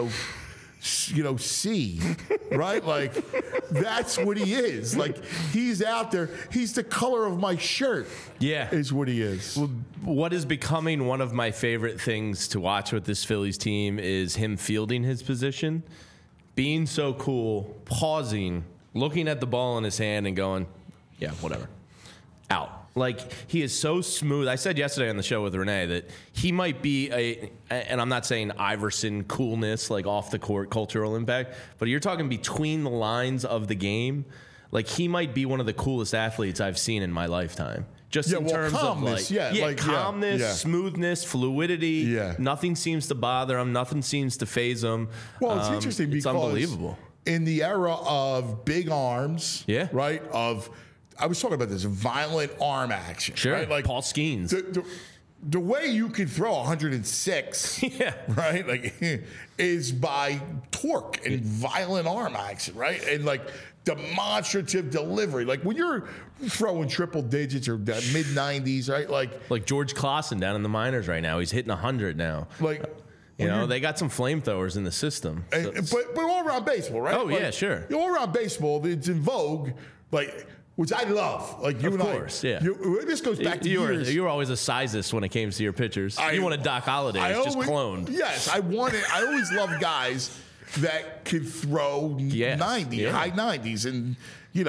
[SPEAKER 2] sea, right? Like, that's what he is. Like, he's out there. He's the color of my shirt.
[SPEAKER 7] Yeah.
[SPEAKER 2] Is what he is.
[SPEAKER 7] What is becoming one of my favorite things to watch with this Phillies team is him fielding his position, being so cool, pausing, looking at the ball in his hand and going, yeah, whatever, out. Like, he is so smooth. I said yesterday on the show with Renee that he might be and I'm not saying Iverson coolness, like off the court cultural impact, but you're talking between the lines of the game. Like, he might be one of the coolest athletes I've seen in my lifetime. Just in terms
[SPEAKER 2] calmness,
[SPEAKER 7] of calmness, smoothness, fluidity.
[SPEAKER 2] Yeah.
[SPEAKER 7] Nothing seems to bother him. Nothing seems to faze him.
[SPEAKER 2] Well, it's interesting because
[SPEAKER 7] it's unbelievable.
[SPEAKER 2] In the era of big arms, right? I was talking about this violent arm action.
[SPEAKER 7] Sure,
[SPEAKER 2] right? Like
[SPEAKER 7] Paul Skeens.
[SPEAKER 2] The way you can throw 106, right? Like, is by torque and violent arm action, right? And like demonstrative delivery. Like, when you're throwing triple digits or mid 90s, right? Like
[SPEAKER 7] George Clausen down in the minors right now. He's hitting 100 now.
[SPEAKER 2] Like,
[SPEAKER 7] they got some flamethrowers in the system.
[SPEAKER 2] But all around baseball, right?
[SPEAKER 7] Oh,
[SPEAKER 2] like,
[SPEAKER 7] yeah, sure.
[SPEAKER 2] All around baseball, it's in vogue, like, which I love. Like, you
[SPEAKER 7] of
[SPEAKER 2] and
[SPEAKER 7] course,
[SPEAKER 2] I.
[SPEAKER 7] Yeah.
[SPEAKER 2] This goes back to years.
[SPEAKER 7] You were always a sizist when it came to your pitchers. You wanted Doc Holliday, just cloned.
[SPEAKER 2] Yes, I always loved guys that could throw 90, high 90s, and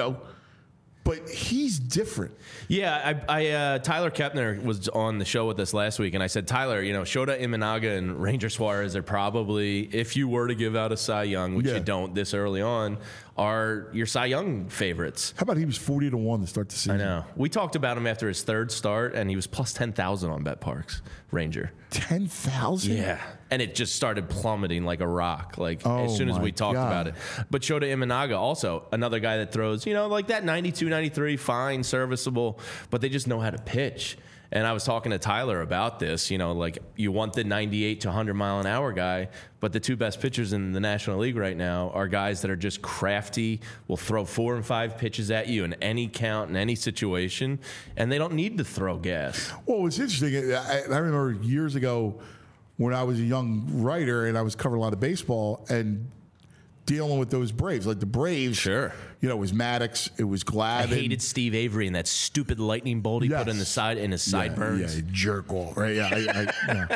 [SPEAKER 2] but he's different.
[SPEAKER 7] Yeah, I Tyler Kepner was on the show with us last week, and I said, Tyler, Shota Imanaga and Ranger Suarez are probably, if you were to give out a Cy Young, which you don't this early on, are your Cy Young favorites.
[SPEAKER 2] How about he was 40-1 to start the season?
[SPEAKER 7] I know. We talked about him after his third start, and he was plus 10,000 on BetParks, Ranger.
[SPEAKER 2] 10,000?
[SPEAKER 7] Yeah. And it just started plummeting like a rock, as soon as we talked about it. But Shota Imanaga, also another guy that throws, like that 92, 93, fine, serviceable, but they just know how to pitch. And I was talking to Tyler about this, you want the 98 to 100 mile an hour guy, but the two best pitchers in the National League right now are guys that are just crafty, will throw 4 and 5 pitches at you in any count, in any situation, and they don't need to throw gas.
[SPEAKER 2] Well, it's interesting. I remember years ago when I was a young writer and I was covering a lot of baseball and dealing with those Braves. Like, the Braves,
[SPEAKER 7] sure.
[SPEAKER 2] It was Maddox, it was Glavine.
[SPEAKER 7] I hated Steve Avery and that stupid lightning bolt he put in the side in his sideburns.
[SPEAKER 2] Yeah, jerk off, right? Yeah.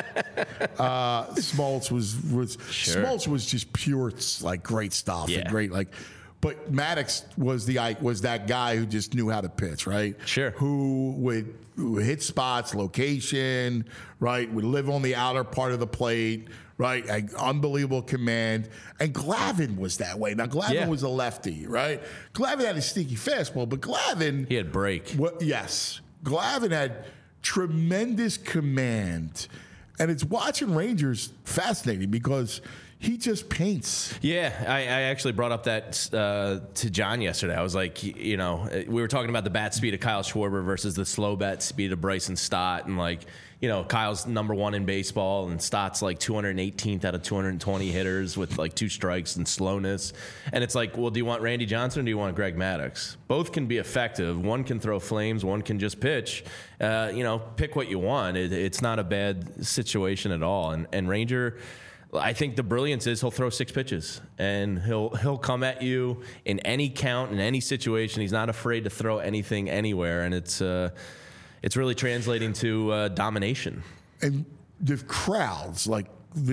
[SPEAKER 2] Smoltz was
[SPEAKER 7] sure.
[SPEAKER 2] Smoltz was just pure, like, great stuff.
[SPEAKER 7] Yeah.
[SPEAKER 2] And great, like. But Maddox was that guy who just knew how to pitch, right?
[SPEAKER 7] Sure.
[SPEAKER 2] Who would hit spots, location, right? Would live on the outer part of the plate, right? Unbelievable command. And Glavine was that way. Now, Glavine was a lefty, right? Glavine had a sneaky fastball, but Glavine...
[SPEAKER 7] He had break.
[SPEAKER 2] Yes. Glavine had tremendous command. And it's watching Rangers fascinating because... he just paints.
[SPEAKER 7] Yeah, I actually brought up that to John yesterday. I was like, we were talking about the bat speed of Kyle Schwarber versus the slow bat speed of Bryson Stott. And, Kyle's number 1 in baseball, and Stott's like 218th out of 220 hitters with like 2 strikes and slowness. And it's like, well, do you want Randy Johnson or do you want Greg Maddux? Both can be effective. One can throw flames. One can just pitch. Pick what you want. It's not a bad situation at all. And Ranger... I think the brilliance is he'll throw 6 pitches and he'll come at you in any count, in any situation. He's not afraid to throw anything anywhere, and it's really translating to domination.
[SPEAKER 2] And the crowds, are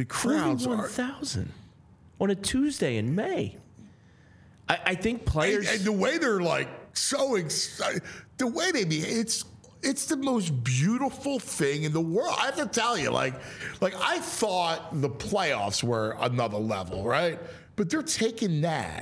[SPEAKER 7] 41,000 on a Tuesday in May. I think players
[SPEAKER 2] and the way they're so excited, the way they behave, it's the most beautiful thing in the world. I have to tell you, I thought the playoffs were another level, right? But they're taking that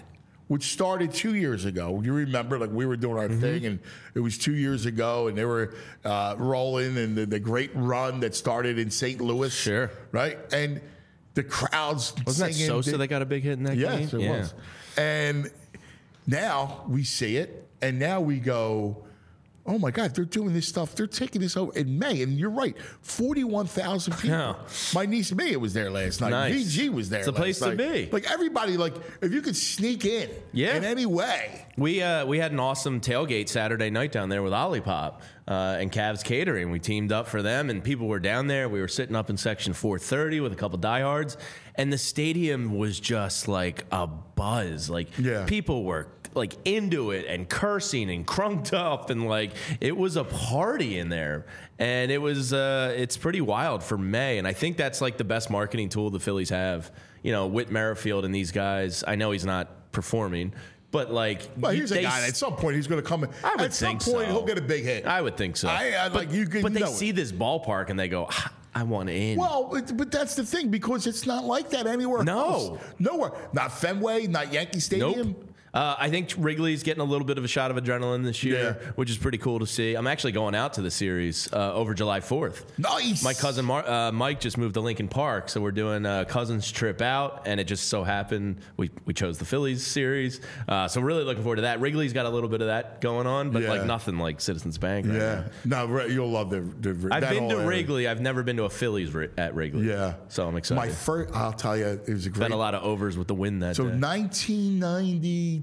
[SPEAKER 2] which started 2 years ago. You remember, like we were doing our thing, and it was 2 years ago, and they were rolling, and the great run that started in St. Louis.
[SPEAKER 7] Sure.
[SPEAKER 2] Right? And the crowds
[SPEAKER 7] Wasn't that
[SPEAKER 2] singing.
[SPEAKER 7] Sosa that got a big hit in that game?
[SPEAKER 2] Yes, it was. And now we see it, and now we go, oh my God, they're doing this stuff. They're taking this over in May. And you're right, 41,000 people.
[SPEAKER 7] Yeah.
[SPEAKER 2] My niece Mia was there last night.
[SPEAKER 7] Nice.
[SPEAKER 2] VG was there
[SPEAKER 7] It's a
[SPEAKER 2] last
[SPEAKER 7] place to
[SPEAKER 2] night.
[SPEAKER 7] be.
[SPEAKER 2] Like everybody, like if you could sneak in in any way.
[SPEAKER 7] We had an awesome tailgate Saturday night down there with Olipop and Cavs Catering. We teamed up for them, and people were down there. We were sitting up in section 430 with a couple diehards, and the stadium was just like a buzz. Like people were like into it and cursing and crunked up, and like it was a party in there. And it was it's pretty wild for May, and I think that's like the best marketing tool the Phillies have. You know, Whit Merrifield and these guys. I know he's not performing, but like,
[SPEAKER 2] well, here's a guy. At some point, he's going to come in.
[SPEAKER 7] I would
[SPEAKER 2] at some
[SPEAKER 7] think
[SPEAKER 2] point,
[SPEAKER 7] so.
[SPEAKER 2] he'll get a big hit.
[SPEAKER 7] I would think so.
[SPEAKER 2] But
[SPEAKER 7] they see this ballpark and they go, I want in.
[SPEAKER 2] Well, but that's the thing, because it's not like that anywhere else. Nowhere. Not Fenway, not Yankee Stadium.
[SPEAKER 7] Nope. I think Wrigley's getting a little bit of a shot of adrenaline this year, which is pretty cool to see. I'm actually going out to the series over July 4th.
[SPEAKER 2] Nice.
[SPEAKER 7] My cousin Mike just moved to Lincoln Park, so we're doing a cousin's trip out, and it just so happened we chose the Phillies series. So we're really looking forward to that. Wrigley's got a little bit of that going on, but like nothing like Citizens Bank right now.
[SPEAKER 2] No, you'll love the
[SPEAKER 7] I've been to Wrigley. I've never been to a Phillies at Wrigley.
[SPEAKER 2] Yeah.
[SPEAKER 7] So I'm excited.
[SPEAKER 2] I'll tell you, it was a great.
[SPEAKER 7] Had a lot of overs with the win that day.
[SPEAKER 2] 1992,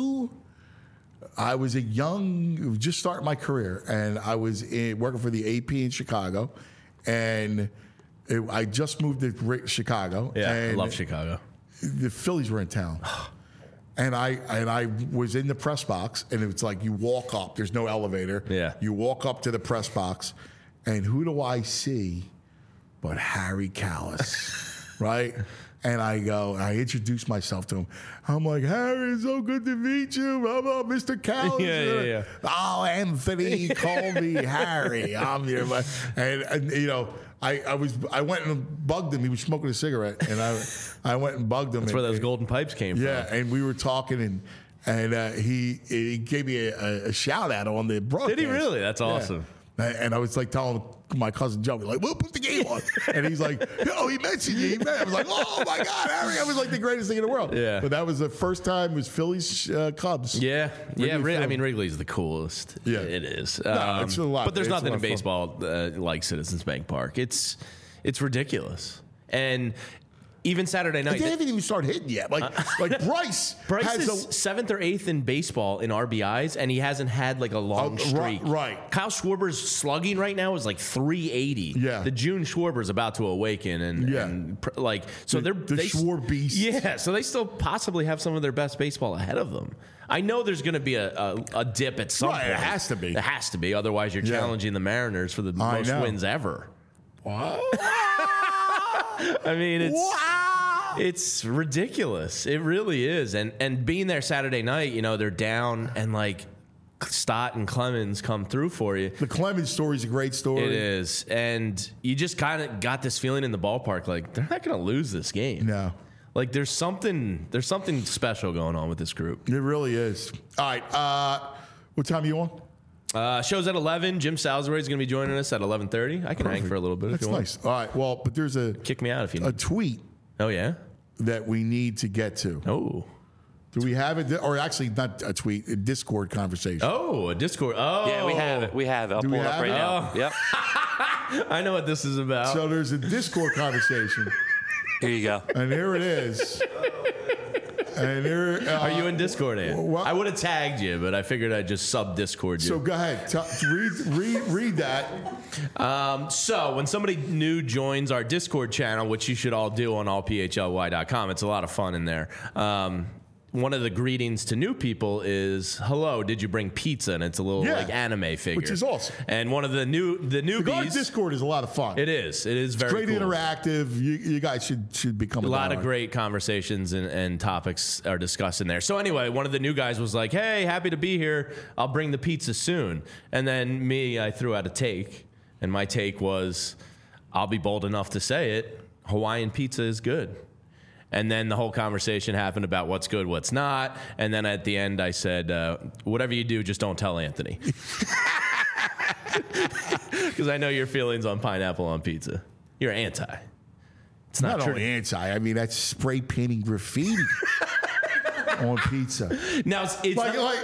[SPEAKER 2] I was just starting my career, and I was working for the AP in Chicago, and I just moved to Chicago.
[SPEAKER 7] Yeah,
[SPEAKER 2] and
[SPEAKER 7] I love Chicago.
[SPEAKER 2] The Phillies were in town. And I was in the press box, and it's like you walk up. There's no elevator.
[SPEAKER 7] Yeah.
[SPEAKER 2] You walk up to the press box, and who do I see but Harry Kalas, right? And I introduce myself to him. I'm like, Harry, it's so good to meet you. Blah, blah, Mr. Kalas.
[SPEAKER 7] Yeah.
[SPEAKER 2] Oh, Anthony, call me Harry. I'm here. And you know, I went and bugged him. He was smoking a cigarette, and I went and bugged him.
[SPEAKER 7] That's where those golden pipes came from.
[SPEAKER 2] Yeah, and we were talking, and he gave me a shout out on the broadcast.
[SPEAKER 7] Did he really? That's awesome.
[SPEAKER 2] Yeah. And I was like telling my cousin Joe, like, we'll put the game on. And he's like, yo, he mentioned you. I was like, oh my God, Harry. I was like the greatest thing in the world.
[SPEAKER 7] Yeah.
[SPEAKER 2] But that was the first time it was Phillies Cubs.
[SPEAKER 7] Yeah.
[SPEAKER 2] Wrigley
[SPEAKER 7] I mean, Wrigley's the coolest.
[SPEAKER 2] Yeah.
[SPEAKER 7] It is.
[SPEAKER 2] It's a lot.
[SPEAKER 7] But there's
[SPEAKER 2] It's
[SPEAKER 7] nothing
[SPEAKER 2] a
[SPEAKER 7] in
[SPEAKER 2] lot of
[SPEAKER 7] baseball like Citizens Bank Park. It's ridiculous. And even Saturday night.
[SPEAKER 2] They haven't even started hitting yet. Like Bryce.
[SPEAKER 7] Bryce
[SPEAKER 2] has
[SPEAKER 7] is 7th or 8th in baseball in RBIs, and he hasn't had like a long streak.
[SPEAKER 2] Right.
[SPEAKER 7] Kyle Schwarber's slugging right now is like 380.
[SPEAKER 2] Yeah.
[SPEAKER 7] The June Schwarber's about to awaken, and like so
[SPEAKER 2] the
[SPEAKER 7] they
[SPEAKER 2] Schwar beast.
[SPEAKER 7] Yeah, so they still possibly have some of their best baseball ahead of them. I know there's going to be a dip at some point.
[SPEAKER 2] It has to be.
[SPEAKER 7] It has to be. Otherwise, you're challenging the Mariners for the most wins ever.
[SPEAKER 2] Wow.
[SPEAKER 7] I mean, it's ridiculous. It really is. And being there Saturday night, you know, they're down, and like Stott and Clemens come through for you.
[SPEAKER 2] The Clemens story is a great story.
[SPEAKER 7] It is. And you just kind of got this feeling in the ballpark, like they're not going to lose this game.
[SPEAKER 2] No.
[SPEAKER 7] Like there's something special going on with this group.
[SPEAKER 2] It really is. All right. What time are you on?
[SPEAKER 7] Show's at 11. Jim Salisbury is going to be joining us at 11:30. I can hang for a little bit
[SPEAKER 2] That's
[SPEAKER 7] if you
[SPEAKER 2] nice. All right. Well, but there's
[SPEAKER 7] Kick me out if you
[SPEAKER 2] a
[SPEAKER 7] need.
[SPEAKER 2] tweet
[SPEAKER 7] Oh, yeah?
[SPEAKER 2] that we need to get to.
[SPEAKER 7] Oh.
[SPEAKER 2] Do we have it? Or actually, not a tweet, a Discord conversation.
[SPEAKER 7] Oh, a Discord. Oh.
[SPEAKER 4] Yeah, we have it. We have it. I'll
[SPEAKER 2] Do
[SPEAKER 4] pull
[SPEAKER 2] we
[SPEAKER 4] it up
[SPEAKER 2] have
[SPEAKER 4] right
[SPEAKER 2] it?
[SPEAKER 4] now. Yep.
[SPEAKER 7] I know what this is about.
[SPEAKER 2] So there's a Discord conversation,
[SPEAKER 4] Here you go.
[SPEAKER 2] and here it is. And there,
[SPEAKER 7] Are you in Discord, Ann?
[SPEAKER 2] well-
[SPEAKER 7] I would have tagged you, but I figured I'd just sub-Discord you.
[SPEAKER 2] So go ahead. Read that.
[SPEAKER 7] So when somebody new joins our Discord channel, which you should all do on allphly.com, it's a lot of fun in there. One of the greetings to new people is, hello, did you bring pizza? And it's a little like anime figure.
[SPEAKER 2] Which is awesome.
[SPEAKER 7] And one of the
[SPEAKER 2] Our
[SPEAKER 7] newbies.
[SPEAKER 2] Discord is a lot of fun.
[SPEAKER 7] It is. It is very
[SPEAKER 2] Great
[SPEAKER 7] cool.
[SPEAKER 2] interactive. You guys should become
[SPEAKER 7] A lot of
[SPEAKER 2] diehard.
[SPEAKER 7] great conversations and topics are discussed in there. So anyway, one of the new guys was like, hey, happy to be here. I'll bring the pizza soon. And then I threw out a take. And my take was, I'll be bold enough to say it, Hawaiian pizza is good. And then the whole conversation happened about what's good, what's not. And then at the end, I said, whatever you do, just don't tell Anthony. Because I know your feelings on pineapple on pizza. You're anti. It's not true.
[SPEAKER 2] only anti. I mean, that's spray painting graffiti on pizza.
[SPEAKER 7] Now, it's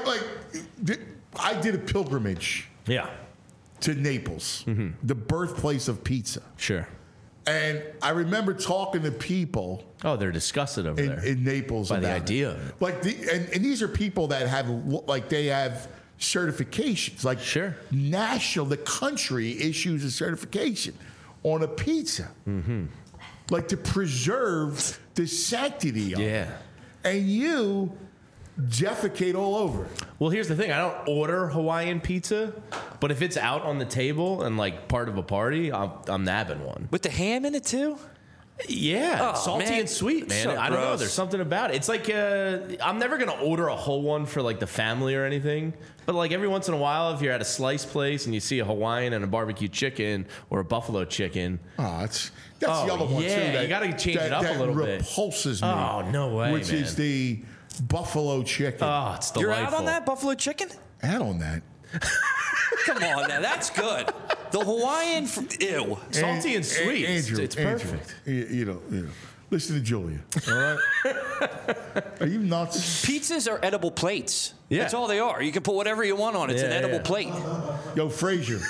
[SPEAKER 2] I did a pilgrimage
[SPEAKER 7] yeah,
[SPEAKER 2] to Naples, the birthplace of pizza.
[SPEAKER 7] sure.
[SPEAKER 2] And I remember talking to people
[SPEAKER 7] Oh, they're disgusted over there.
[SPEAKER 2] in Naples
[SPEAKER 7] by the
[SPEAKER 2] about
[SPEAKER 7] idea
[SPEAKER 2] it.
[SPEAKER 7] of it.
[SPEAKER 2] Like and these are people that have they have certifications. Like
[SPEAKER 7] Sure.
[SPEAKER 2] the country issues a certification on a pizza. Like to preserve the sanctity of it.
[SPEAKER 7] Yeah.
[SPEAKER 2] And you defecate all over it.
[SPEAKER 7] Well, here's the thing. I don't order Hawaiian pizza, but if it's out on the table and like part of a party, I'm nabbing one.
[SPEAKER 4] With the ham in it too?
[SPEAKER 7] Yeah,
[SPEAKER 4] Oh,
[SPEAKER 7] salty
[SPEAKER 4] man.
[SPEAKER 7] and sweet, man.
[SPEAKER 4] So
[SPEAKER 7] I don't know.
[SPEAKER 4] gross.
[SPEAKER 7] There's something about it. It's like I'm never gonna order a whole one for like the family or anything. But like every once in a while, if you're at a slice place and you see a Hawaiian and a barbecue chicken or a buffalo chicken,
[SPEAKER 2] Oh, that's
[SPEAKER 7] Oh,
[SPEAKER 2] the other one
[SPEAKER 7] yeah,
[SPEAKER 2] too. That,
[SPEAKER 7] you gotta change it up a little bit.
[SPEAKER 2] repulses me.
[SPEAKER 7] Oh, no way,
[SPEAKER 2] Which is
[SPEAKER 7] man.
[SPEAKER 2] the buffalo chicken.
[SPEAKER 7] oh, it's delightful.
[SPEAKER 4] You're out on that buffalo chicken?
[SPEAKER 2] Add on that.
[SPEAKER 4] Come on now, that's good. The Hawaiian, ew.
[SPEAKER 7] Salty and sweet.
[SPEAKER 2] Andrew,
[SPEAKER 7] It's
[SPEAKER 2] Andrew,
[SPEAKER 7] perfect.
[SPEAKER 2] you know. Listen to Julia. All right. Are you nuts?
[SPEAKER 4] Pizzas are edible plates.
[SPEAKER 7] Yeah.
[SPEAKER 4] That's all they are. You can put whatever you want on it. It's an
[SPEAKER 7] Yeah,
[SPEAKER 4] edible
[SPEAKER 7] yeah.
[SPEAKER 4] plate.
[SPEAKER 2] Yo, Frazier.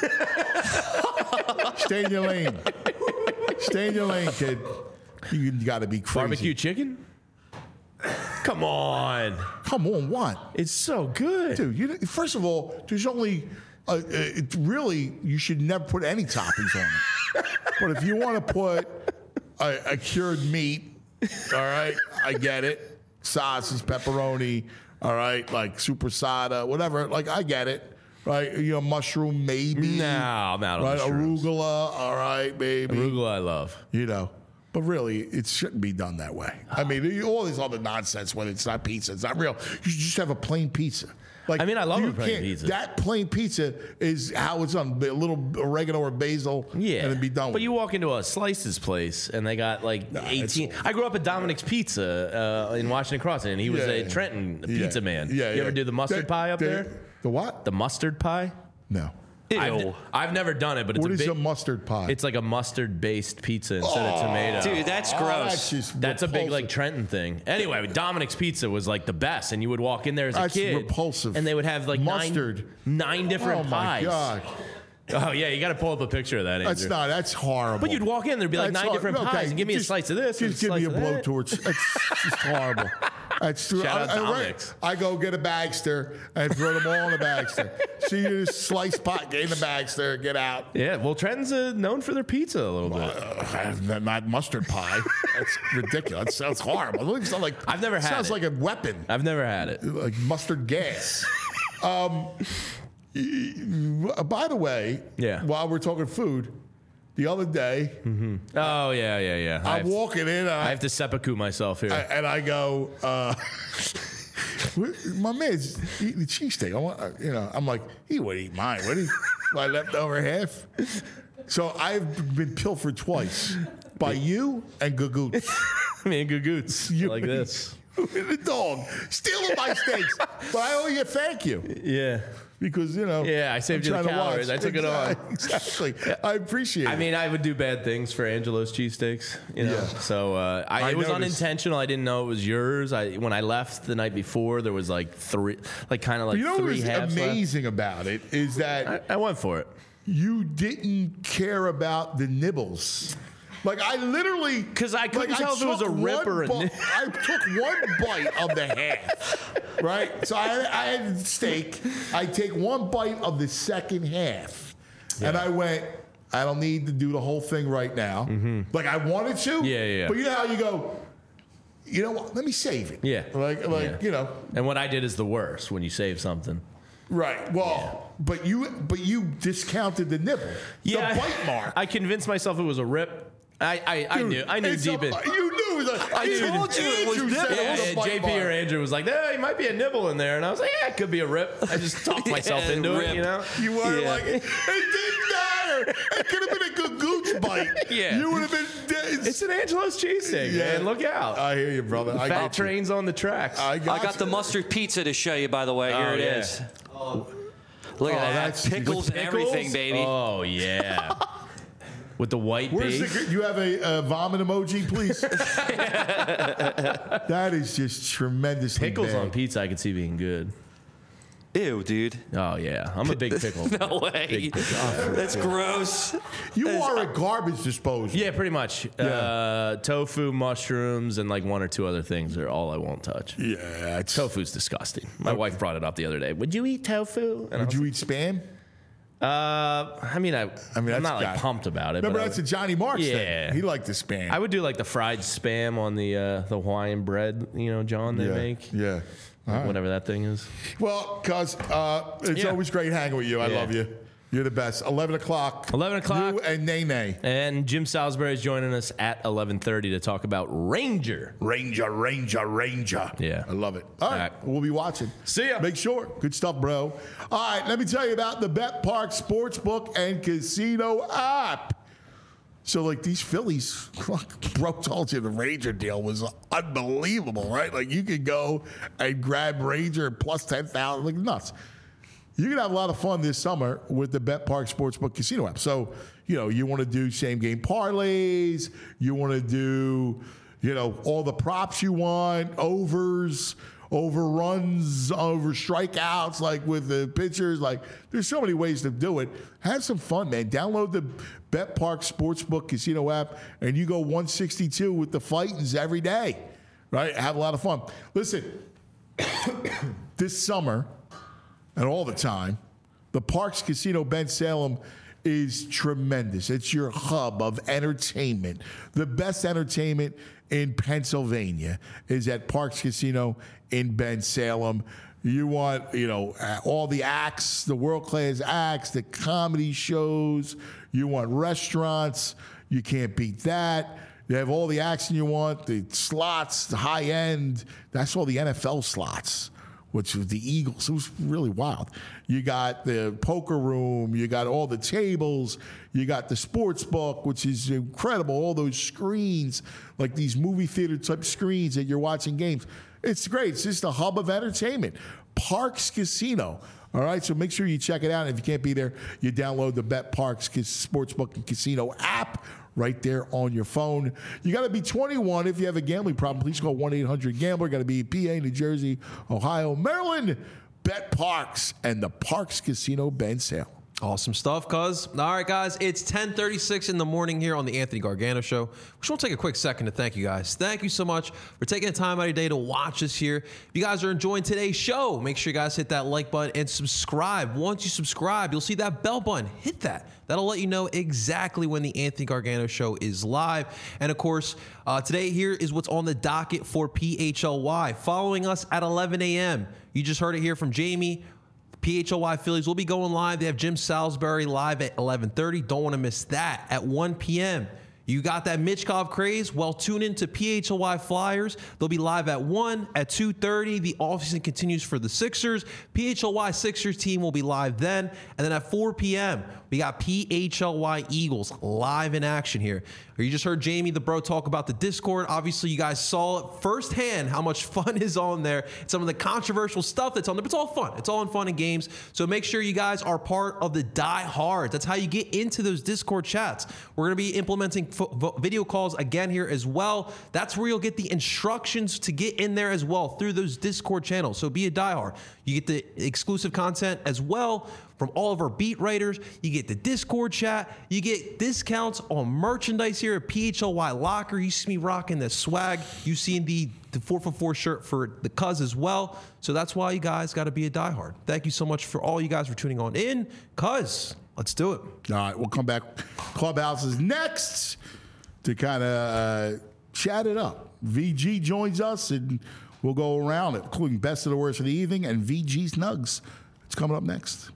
[SPEAKER 2] Stay in your lane. Stay in your lane, kid. You got to be crazy.
[SPEAKER 7] Barbecue chicken? Come on.
[SPEAKER 2] Come on, what?
[SPEAKER 7] It's so good.
[SPEAKER 2] Dude, first of all, there's only, it really, you should never put any toppings on it. But if you want to put a cured meat, all right, I get it. Sausage, pepperoni, all right, like supersada, whatever, like I get it. Right, mushroom maybe.
[SPEAKER 7] No, I'm out on
[SPEAKER 2] right,
[SPEAKER 7] the shrooms.
[SPEAKER 2] arugula, all right, maybe.
[SPEAKER 7] Arugula I love.
[SPEAKER 2] But really, it shouldn't be done that way. I mean, all this other nonsense when it's not pizza, it's not real. You should just have a plain pizza. Like,
[SPEAKER 7] I mean, I love
[SPEAKER 2] you
[SPEAKER 7] a plain
[SPEAKER 2] can't-
[SPEAKER 7] pizza.
[SPEAKER 2] That plain pizza is how it's done. A little oregano or basil,
[SPEAKER 7] Yeah.
[SPEAKER 2] and then be done with
[SPEAKER 7] But
[SPEAKER 2] it.
[SPEAKER 7] you walk into a Slices place and they got like 18. I grew up at Dominic's Pizza in Washington Crossing, and he was a Trenton pizza man.
[SPEAKER 2] Yeah,
[SPEAKER 7] You ever do the mustard pie up there?
[SPEAKER 2] The what?
[SPEAKER 7] The mustard pie?
[SPEAKER 2] No.
[SPEAKER 4] Ew.
[SPEAKER 7] I've never done it, but it's
[SPEAKER 2] What
[SPEAKER 7] a
[SPEAKER 2] is
[SPEAKER 7] big,
[SPEAKER 2] a mustard pie?
[SPEAKER 7] It's like a mustard-based pizza instead of tomato.
[SPEAKER 4] Dude, that's gross.
[SPEAKER 7] That's a big
[SPEAKER 2] repulsive.
[SPEAKER 7] like Trenton thing. Anyway, Dominic's Pizza was like the best, and you would walk in there as a
[SPEAKER 2] That's
[SPEAKER 7] kid,
[SPEAKER 2] repulsive.
[SPEAKER 7] and they would have like
[SPEAKER 2] Mustard.
[SPEAKER 7] nine different
[SPEAKER 2] Oh my
[SPEAKER 7] pies.
[SPEAKER 2] God.
[SPEAKER 7] Oh yeah, you got to pull up a picture of that. Andrew.
[SPEAKER 2] That's horrible.
[SPEAKER 7] But you'd walk in, there'd be like
[SPEAKER 2] That's
[SPEAKER 7] 9 different
[SPEAKER 2] okay,
[SPEAKER 7] pies, and give me a slice of this. and
[SPEAKER 2] Just give
[SPEAKER 7] slice
[SPEAKER 2] me a
[SPEAKER 7] of that.
[SPEAKER 2] blowtorch. That's just horrible. That's true.
[SPEAKER 7] Shout out Dominic's.
[SPEAKER 2] I go get a Bagster and throw them all in the Bagster. See you slice pot, get in the Bagster, get out.
[SPEAKER 7] Yeah, well, Trenton's known for their pizza a little bit.
[SPEAKER 2] Not mustard pie. That's ridiculous. That sounds horrible. It doesn't sound like,
[SPEAKER 7] I've never had
[SPEAKER 2] sounds
[SPEAKER 7] it.
[SPEAKER 2] like a weapon,
[SPEAKER 7] I've never had it.
[SPEAKER 2] like mustard gas. By the way,
[SPEAKER 7] Yeah.
[SPEAKER 2] while we're talking food, the other day,
[SPEAKER 7] Oh yeah.
[SPEAKER 2] I'm walking in.
[SPEAKER 7] I have to seppuku myself here.
[SPEAKER 2] And I go, my man's eating the cheesesteak. I'm like, he would eat mine, would he? My leftover half. So I've been pilfered twice by you and Gagoots.
[SPEAKER 7] Me and Gagoots
[SPEAKER 2] You
[SPEAKER 7] like this.
[SPEAKER 2] The dog stealing my steaks, but I owe you a thank you
[SPEAKER 7] Yeah.
[SPEAKER 2] because
[SPEAKER 7] Yeah, I saved
[SPEAKER 2] I'm
[SPEAKER 7] you the
[SPEAKER 2] trying to
[SPEAKER 7] calories.
[SPEAKER 2] watch.
[SPEAKER 7] I took it on.
[SPEAKER 2] Exactly. I appreciate it.
[SPEAKER 7] I mean, I would do bad things for Angelo's cheesesteaks, you know.
[SPEAKER 2] Yeah.
[SPEAKER 7] So
[SPEAKER 2] I
[SPEAKER 7] it was
[SPEAKER 2] noticed.
[SPEAKER 7] unintentional. I didn't know it was yours. When I left the night before, there was like three
[SPEAKER 2] you know what
[SPEAKER 7] three
[SPEAKER 2] was
[SPEAKER 7] halves left.
[SPEAKER 2] amazing about it is that
[SPEAKER 7] I went for it.
[SPEAKER 2] you didn't care about the nibbles. Like I literally,
[SPEAKER 7] 'Cause I couldn't tell if it was a
[SPEAKER 2] took
[SPEAKER 7] rip or a
[SPEAKER 2] one
[SPEAKER 7] nib.
[SPEAKER 2] I took one bite of the half, right? So I had steak. I take one bite of the second half, and I went, I don't need to do the whole thing right now. Like I wanted to.
[SPEAKER 7] Yeah.
[SPEAKER 2] But you know how you go, you know what? Let me save it.
[SPEAKER 7] Yeah. Yeah.
[SPEAKER 2] You know.
[SPEAKER 7] And what I did is the worst when you save something.
[SPEAKER 2] Right. Well, but you discounted the nibble. The bite mark.
[SPEAKER 7] I convinced myself it was a rip. I knew
[SPEAKER 2] It's
[SPEAKER 7] deep in.
[SPEAKER 2] You knew that.
[SPEAKER 4] I told you it was
[SPEAKER 2] Andrew said
[SPEAKER 4] nibbles.
[SPEAKER 2] it was a
[SPEAKER 7] Yeah,
[SPEAKER 2] bite
[SPEAKER 7] JP or
[SPEAKER 2] mark.
[SPEAKER 7] Andrew was like, "There might be a nibble in there," and I was like, "Yeah, it could be a rip." I just talked myself
[SPEAKER 4] Yeah,
[SPEAKER 7] into
[SPEAKER 4] rip.
[SPEAKER 7] it, you know.
[SPEAKER 2] You were
[SPEAKER 4] Yeah.
[SPEAKER 2] like, it didn't matter. It could have been a Gagoots bite.
[SPEAKER 7] Yeah.
[SPEAKER 2] You would have been.
[SPEAKER 7] It's an Angelo's cheesesteak, man. Look out.
[SPEAKER 2] I hear you, brother. I
[SPEAKER 7] Fat
[SPEAKER 2] got you.
[SPEAKER 7] trains on the tracks.
[SPEAKER 2] I
[SPEAKER 4] I got
[SPEAKER 2] you.
[SPEAKER 4] the mustard pizza to show you, by the way. Here it
[SPEAKER 7] yeah.
[SPEAKER 4] is. Look at that.
[SPEAKER 2] that's-
[SPEAKER 4] Pickles
[SPEAKER 2] with
[SPEAKER 4] and everything, baby.
[SPEAKER 7] Oh, yeah. With the white
[SPEAKER 2] Where's
[SPEAKER 7] base.
[SPEAKER 2] you have a vomit emoji, please? That is just tremendously
[SPEAKER 7] Pickles
[SPEAKER 2] bad.
[SPEAKER 7] on pizza, I could see being good.
[SPEAKER 4] Ew, dude.
[SPEAKER 7] Oh, yeah. I'm a big pickle.
[SPEAKER 4] No way. That's gross.
[SPEAKER 2] You are a garbage disposal.
[SPEAKER 7] Yeah, pretty much. Tofu, mushrooms, and like one or two other things are all I won't touch.
[SPEAKER 2] Yeah. It's,
[SPEAKER 7] Tofu's disgusting. My wife brought it up the other day. Would you eat tofu? And I
[SPEAKER 2] would
[SPEAKER 7] was
[SPEAKER 2] you eat Spam?
[SPEAKER 7] I mean, I'm
[SPEAKER 2] that's
[SPEAKER 7] not like
[SPEAKER 2] got-
[SPEAKER 7] pumped about it.
[SPEAKER 2] Remember,
[SPEAKER 7] but
[SPEAKER 2] that's a Johnny Marks
[SPEAKER 7] Yeah.
[SPEAKER 2] thing. He liked the Spam.
[SPEAKER 7] I would do like the fried Spam on the Hawaiian bread, John, they make.
[SPEAKER 2] Yeah. All right.
[SPEAKER 7] Whatever that thing is.
[SPEAKER 2] Well, cuz it's
[SPEAKER 7] Yeah.
[SPEAKER 2] always great hanging with you. I
[SPEAKER 7] Yeah.
[SPEAKER 2] love you. You're the best. 11 o'clock.
[SPEAKER 7] 11 o'clock.
[SPEAKER 2] You and Nene.
[SPEAKER 7] And Jim Salisbury is joining us at 11:30 to talk about Ranger.
[SPEAKER 2] Ranger.
[SPEAKER 7] Yeah.
[SPEAKER 2] I love it. All right.
[SPEAKER 7] right.
[SPEAKER 2] We'll be watching.
[SPEAKER 7] See ya.
[SPEAKER 2] Make sure. Good stuff, bro. All right. Let me tell you about the Bet Park Sportsbook and Casino app. So, like, these Phillies, bro told you the Ranger deal was unbelievable, right? Like, you could go and grab Ranger plus 10,000, like nuts. You can have a lot of fun this summer with the Bet Park Sportsbook Casino app. So, you want to do same game parlays, you want to do, all the props you want, overs, overruns, over strikeouts, like with the pitchers. Like, there's so many ways to do it. Have some fun, man. Download the Bet Park Sportsbook Casino app, and you go 162 with the Fightins every day, right? Have a lot of fun. Listen, this summer and all the time, the Parks Casino Ben Salem is tremendous. It's your hub of entertainment. The best entertainment in Pennsylvania is at Parks Casino in Ben Salem. You want, all the acts, the world-class acts, the comedy shows. You want restaurants. You can't beat that. You have all the action you want, the slots, the high end. That's all the NFL slots, which was the Eagles. It was really wild. You got the poker room. You got all the tables. You got the sports book, which is incredible. All those screens, like these movie theater type screens that you're watching games. It's great. It's just a hub of entertainment. Parks Casino. All right, so make sure you check it out. And if you can't be there, you download the Bet Parks Sportsbook and Casino app right there on your phone. You got to be 21. If you have a gambling problem, please call 1-800-GAMBLER. Got to be PA, New Jersey, Ohio, Maryland. Bet Parks and the Parks Casino Ben Salem.
[SPEAKER 3] Awesome stuff, cuz. All right, guys, it's 10:36 in the morning here on the Anthony Gargano Show. We just want to take a quick second to thank you guys. Thank you so much for taking the time out of your day to watch us here. If you guys are enjoying today's show, make sure you guys hit that like button and subscribe. Once you subscribe, you'll see that bell button. Hit that. That'll let you know exactly when the Anthony Gargano Show is live. And, of course, today here is what's on the docket for PHLY. Following us at 11 a.m., you just heard it here from Jamie. PHLY Phillies will be going live. They have Jim Salisbury live at 11:30. Don't want to miss that. At 1 p.m., you got that Mitchkov craze? Well, tune in to PHLY Flyers. They'll be live at 1. At 2:30, the offseason continues for the Sixers. PHLY Sixers team will be live then. And then at 4 p.m., we got PHLY Eagles live in action here. You just heard Jamie, the bro, talk about the Discord. Obviously, you guys saw it firsthand how much fun is on there. Some of the controversial stuff that's on there, but it's all fun. It's all in fun and games. So make sure you guys are part of the Die Hard. That's how you get into those Discord chats. We're going to be implementing video calls again here as well. That's where you'll get the instructions to get in there as well through those Discord channels. So be a Die Hard. You get the exclusive content as well from all of our beat writers. You get the Discord chat. You get discounts on merchandise here at PHLY Locker. You see me rocking the swag. You see the 4for4 shirt for the cuz as well. So that's why you guys got to be a diehard. Thank you so much for all you guys for tuning on in. Cuz, let's do it.
[SPEAKER 2] All right, we'll come back. Clubhouse is next to kind of chat it up. VG joins us, and we'll go around it, including best of the worst of the evening and VG's Nugs. It's coming up next.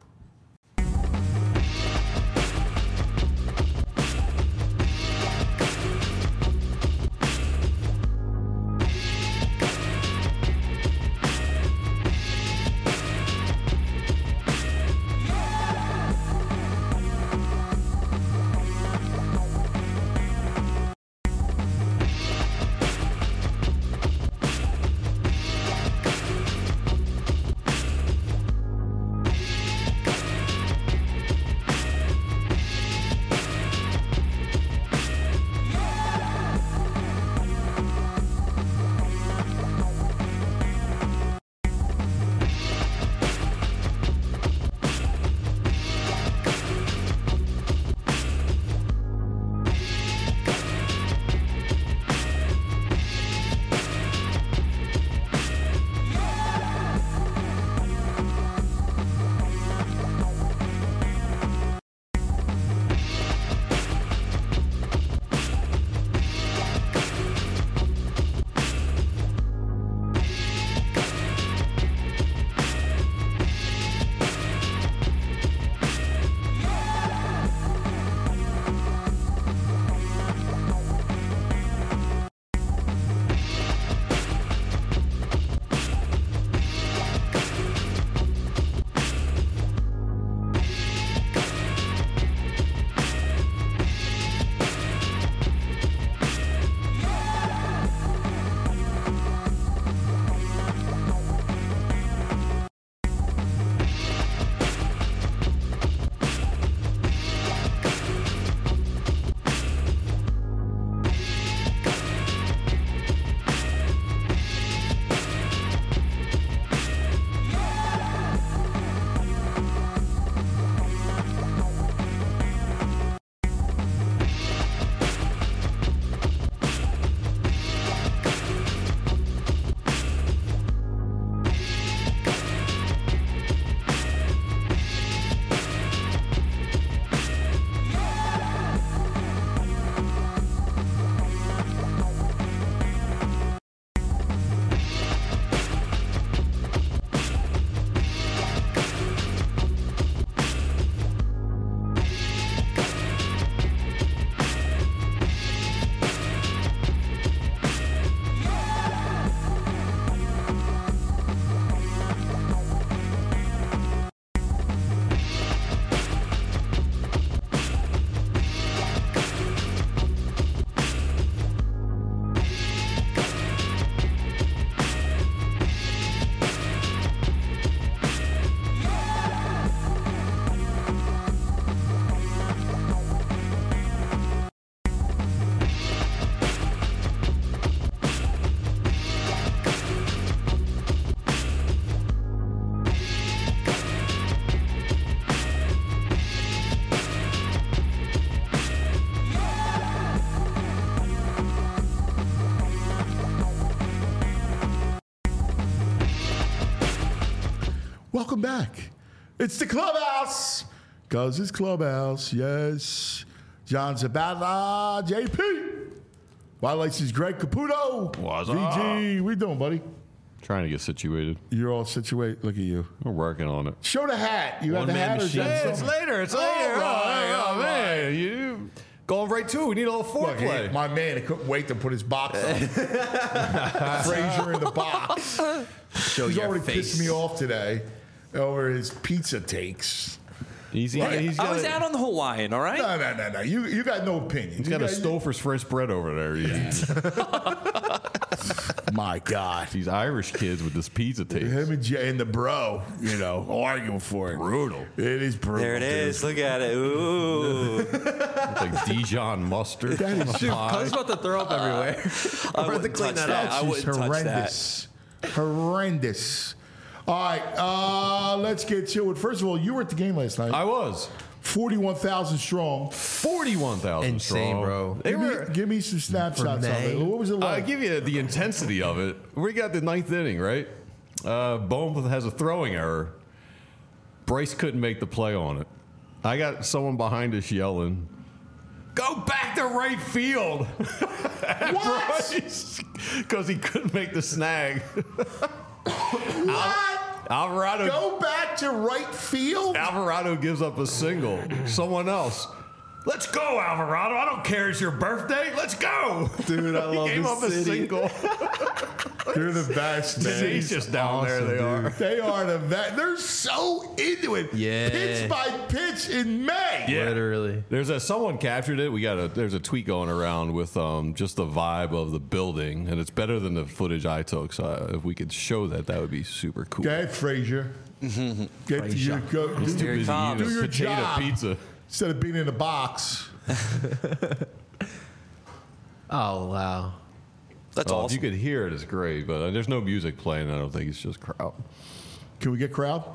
[SPEAKER 2] Welcome back. It's the Clubhouse. Because it's Clubhouse, yes. John Zabala, JP. Violations Greg Caputo.
[SPEAKER 8] What's
[SPEAKER 2] VG. What you doing, buddy?
[SPEAKER 8] Trying to get situated.
[SPEAKER 2] You're all situated. Look at you.
[SPEAKER 8] We're working on it.
[SPEAKER 2] Show the hat. You got the
[SPEAKER 3] One-man
[SPEAKER 2] hat or
[SPEAKER 3] machine.
[SPEAKER 2] is that
[SPEAKER 3] Hey,
[SPEAKER 8] It's
[SPEAKER 2] something?
[SPEAKER 8] later. It's
[SPEAKER 2] All
[SPEAKER 8] later.
[SPEAKER 2] right, all
[SPEAKER 8] man.
[SPEAKER 2] right.
[SPEAKER 8] You going right to it. We need a little
[SPEAKER 2] Look,
[SPEAKER 8] foreplay.
[SPEAKER 2] my man, he couldn't wait to put his box on. Frazier in the box.
[SPEAKER 3] Show
[SPEAKER 2] He's
[SPEAKER 3] your
[SPEAKER 2] already
[SPEAKER 3] face.
[SPEAKER 2] pissed me off today over his pizza takes.
[SPEAKER 8] He's
[SPEAKER 4] I was out on the Hawaiian, all right?
[SPEAKER 2] No. You got no opinion.
[SPEAKER 8] He's got a Stouffer's fresh bread over there.
[SPEAKER 2] My God.
[SPEAKER 8] These Irish kids with this pizza taste.
[SPEAKER 2] Him and Jay and the bro, arguing for it.
[SPEAKER 8] Brutal.
[SPEAKER 2] It is brutal.
[SPEAKER 4] There it
[SPEAKER 2] dude.
[SPEAKER 4] is. Look at it. Ooh.
[SPEAKER 8] It's like Dijon mustard.
[SPEAKER 2] That is
[SPEAKER 3] Cuz about to throw up everywhere.
[SPEAKER 4] I wouldn't touch that. I wouldn't touch that.
[SPEAKER 2] horrendous. Horrendous. All right, let's get to it. First of all, you were at the game last night.
[SPEAKER 8] I was
[SPEAKER 2] 41,000 strong.
[SPEAKER 8] 41,000
[SPEAKER 3] Insane,
[SPEAKER 8] strong.
[SPEAKER 3] bro.
[SPEAKER 8] They were.
[SPEAKER 2] Give me some snapshots of
[SPEAKER 3] May.
[SPEAKER 2] it. What was it
[SPEAKER 8] I'll
[SPEAKER 2] like?
[SPEAKER 8] give you the intensity of it. We got the ninth inning, right? Bohm has a throwing error. Bryce couldn't make the play on it. I got someone behind us yelling, "Go back to right field!"
[SPEAKER 2] What?
[SPEAKER 8] Because he couldn't make the snag.
[SPEAKER 2] What?
[SPEAKER 8] Alvarado
[SPEAKER 2] Go back to right field?
[SPEAKER 8] Alvarado gives up a single. Someone else. Let's go, Alvarado. I don't care. It's your birthday. Let's go.
[SPEAKER 3] Dude, I love
[SPEAKER 8] He gave
[SPEAKER 3] this
[SPEAKER 8] up a
[SPEAKER 3] city.
[SPEAKER 8] single.
[SPEAKER 2] They're the best, man.
[SPEAKER 8] Tenacious down there, they are.
[SPEAKER 2] They are the best. They're so into it.
[SPEAKER 3] Yeah.
[SPEAKER 2] Pitch by pitch in May.
[SPEAKER 8] Yeah.
[SPEAKER 3] Literally.
[SPEAKER 8] Someone captured it. There's a tweet going around with just the vibe of the building, and it's better than the footage I took. So if we could show that, that would be super cool.
[SPEAKER 2] Go ahead, Frazier. Get to your go.
[SPEAKER 4] Here he
[SPEAKER 8] Busy
[SPEAKER 4] comes.
[SPEAKER 8] eating
[SPEAKER 2] Do your
[SPEAKER 8] potato
[SPEAKER 2] job.
[SPEAKER 8] pizza.
[SPEAKER 2] Instead of being in a box.
[SPEAKER 3] Oh, wow.
[SPEAKER 4] That's
[SPEAKER 8] If
[SPEAKER 4] awesome.
[SPEAKER 8] you could hear it, it's great. But there's no music playing. I don't think it's just crowd.
[SPEAKER 2] Can we get crowd?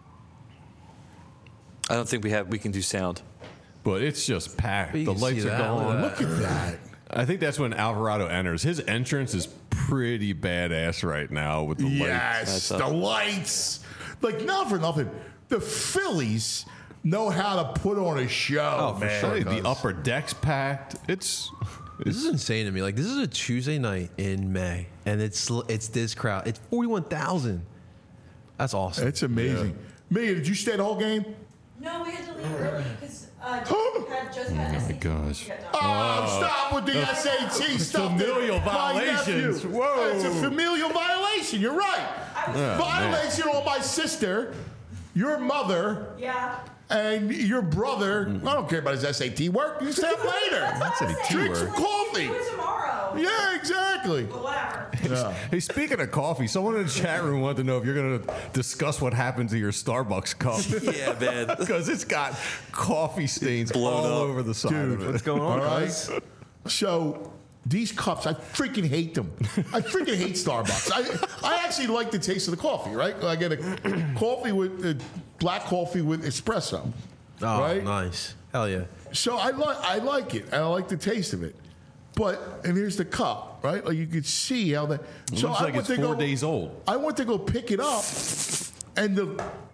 [SPEAKER 4] I don't think we can do sound.
[SPEAKER 8] But it's just packed.
[SPEAKER 3] You
[SPEAKER 8] The
[SPEAKER 3] can
[SPEAKER 8] lights
[SPEAKER 3] see
[SPEAKER 8] are
[SPEAKER 3] that.
[SPEAKER 8] going.
[SPEAKER 2] Look at that.
[SPEAKER 8] I think that's when Alvarado enters. His entrance is pretty badass right now with the lights.
[SPEAKER 2] Yes, the lights. Like, not for nothing. The Phillies know how to put on a show,
[SPEAKER 3] for
[SPEAKER 2] man.
[SPEAKER 3] sure.
[SPEAKER 8] The upper deck's packed.
[SPEAKER 3] This is insane to me. Like, this is a Tuesday night in May, and it's this crowd. It's 41,000. That's awesome.
[SPEAKER 2] It's amazing. Mia, did you stay the whole game?
[SPEAKER 9] No, we had to leave early because just had SAT.
[SPEAKER 8] gosh.
[SPEAKER 9] get done.
[SPEAKER 2] Oh, stop with the SAT stuff.
[SPEAKER 8] familial
[SPEAKER 2] My
[SPEAKER 8] violations.
[SPEAKER 2] nephew.
[SPEAKER 8] Whoa.
[SPEAKER 2] It's a familial violation. You're right. Violation on my sister, your mother,
[SPEAKER 9] Yeah.
[SPEAKER 2] and your brother. I don't care about his SAT work. You stay up later.
[SPEAKER 8] SAT
[SPEAKER 2] Drink some
[SPEAKER 8] work.
[SPEAKER 2] coffee.
[SPEAKER 9] Do it tomorrow.
[SPEAKER 2] Yeah, exactly.
[SPEAKER 9] But whatever.
[SPEAKER 2] Yeah.
[SPEAKER 8] Hey, speaking of coffee, someone in the chat room wanted to know if you're going to discuss what happened to your Starbucks cup.
[SPEAKER 4] Yeah, man.
[SPEAKER 8] Because it's got coffee stains all over the side
[SPEAKER 2] Dude,
[SPEAKER 8] of it.
[SPEAKER 3] What's going on,
[SPEAKER 2] All right.
[SPEAKER 3] guys?
[SPEAKER 2] So these cups, I freaking hate them. I freaking hate Starbucks. I actually like the taste of the coffee, right? I get a coffee with black coffee with espresso.
[SPEAKER 3] Oh,
[SPEAKER 2] right?
[SPEAKER 3] nice. Hell yeah.
[SPEAKER 2] So I like it. I like the taste of it. And here's the cup, right? Like you could see how that.
[SPEAKER 8] It
[SPEAKER 2] So
[SPEAKER 8] looks
[SPEAKER 2] I
[SPEAKER 8] like
[SPEAKER 2] went
[SPEAKER 8] it's
[SPEAKER 2] to
[SPEAKER 8] 4
[SPEAKER 2] go.
[SPEAKER 8] days old.
[SPEAKER 2] I went to go pick it up, and the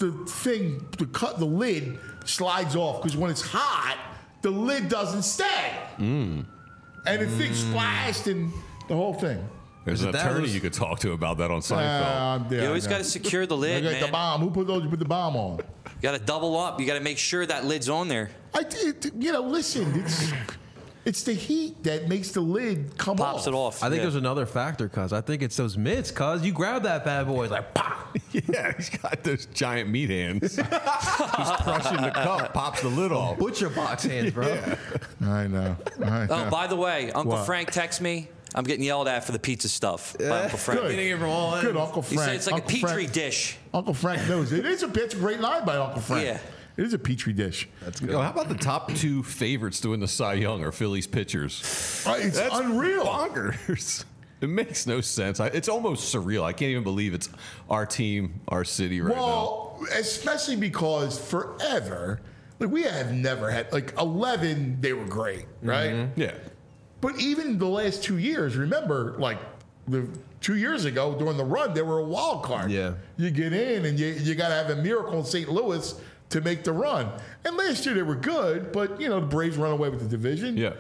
[SPEAKER 2] lid slides off because when it's hot, the lid doesn't stay, and the thing splashed and the whole thing.
[SPEAKER 8] There's an
[SPEAKER 3] that
[SPEAKER 8] attorney
[SPEAKER 3] was-
[SPEAKER 8] you could talk to about that on Seinfeld.
[SPEAKER 2] Yeah,
[SPEAKER 4] You always
[SPEAKER 2] I
[SPEAKER 4] got
[SPEAKER 2] know.
[SPEAKER 4] to secure the
[SPEAKER 2] I
[SPEAKER 4] lid,
[SPEAKER 2] got the
[SPEAKER 4] man.
[SPEAKER 2] bomb. Who put the bomb on?
[SPEAKER 4] You got to double up. You got to make sure that lid's on there.
[SPEAKER 2] Listen, it's the heat that makes the lid come off.
[SPEAKER 4] Pops it off.
[SPEAKER 3] I think
[SPEAKER 4] Yeah.
[SPEAKER 3] there's another factor, cuz. I think it's those mitts, cuz. You grab that bad boy, it's like, pop.
[SPEAKER 8] Yeah, he's got those giant meat hands. He's crushing the cup, pops the lid off.
[SPEAKER 3] Butcher box hands, bro.
[SPEAKER 2] I know.
[SPEAKER 4] Oh, by the way, Uncle
[SPEAKER 2] What?
[SPEAKER 4] Frank texts me. I'm getting yelled at for the pizza stuff by Uncle Frank.
[SPEAKER 2] Good.
[SPEAKER 3] Getting it from all ends.
[SPEAKER 2] Good, Uncle
[SPEAKER 4] He
[SPEAKER 2] Frank.
[SPEAKER 4] said it's like
[SPEAKER 2] Uncle
[SPEAKER 4] a petri
[SPEAKER 2] Frank,
[SPEAKER 4] dish.
[SPEAKER 2] Uncle Frank knows it. It's a great line by Uncle Frank.
[SPEAKER 4] Yeah.
[SPEAKER 2] It is a petri dish.
[SPEAKER 3] That's
[SPEAKER 8] Yo,
[SPEAKER 3] good.
[SPEAKER 8] how about the top two favorites to win the Cy Young are Phillies pitchers?
[SPEAKER 2] It's
[SPEAKER 8] That's
[SPEAKER 2] unreal.
[SPEAKER 8] bonkers. It makes no sense. It's almost surreal. I can't even believe it's our team, our city right
[SPEAKER 2] Well, especially because forever, we have never had 11. They were great, right?
[SPEAKER 8] now. Yeah.
[SPEAKER 2] But even the last 2 years, remember, the 2 years ago during the run, they were a wild card.
[SPEAKER 3] Yeah.
[SPEAKER 2] You get in and you got to have a miracle in St. Louis to make the run. And last year they were good, but the Braves run away with the division.
[SPEAKER 8] Yeah.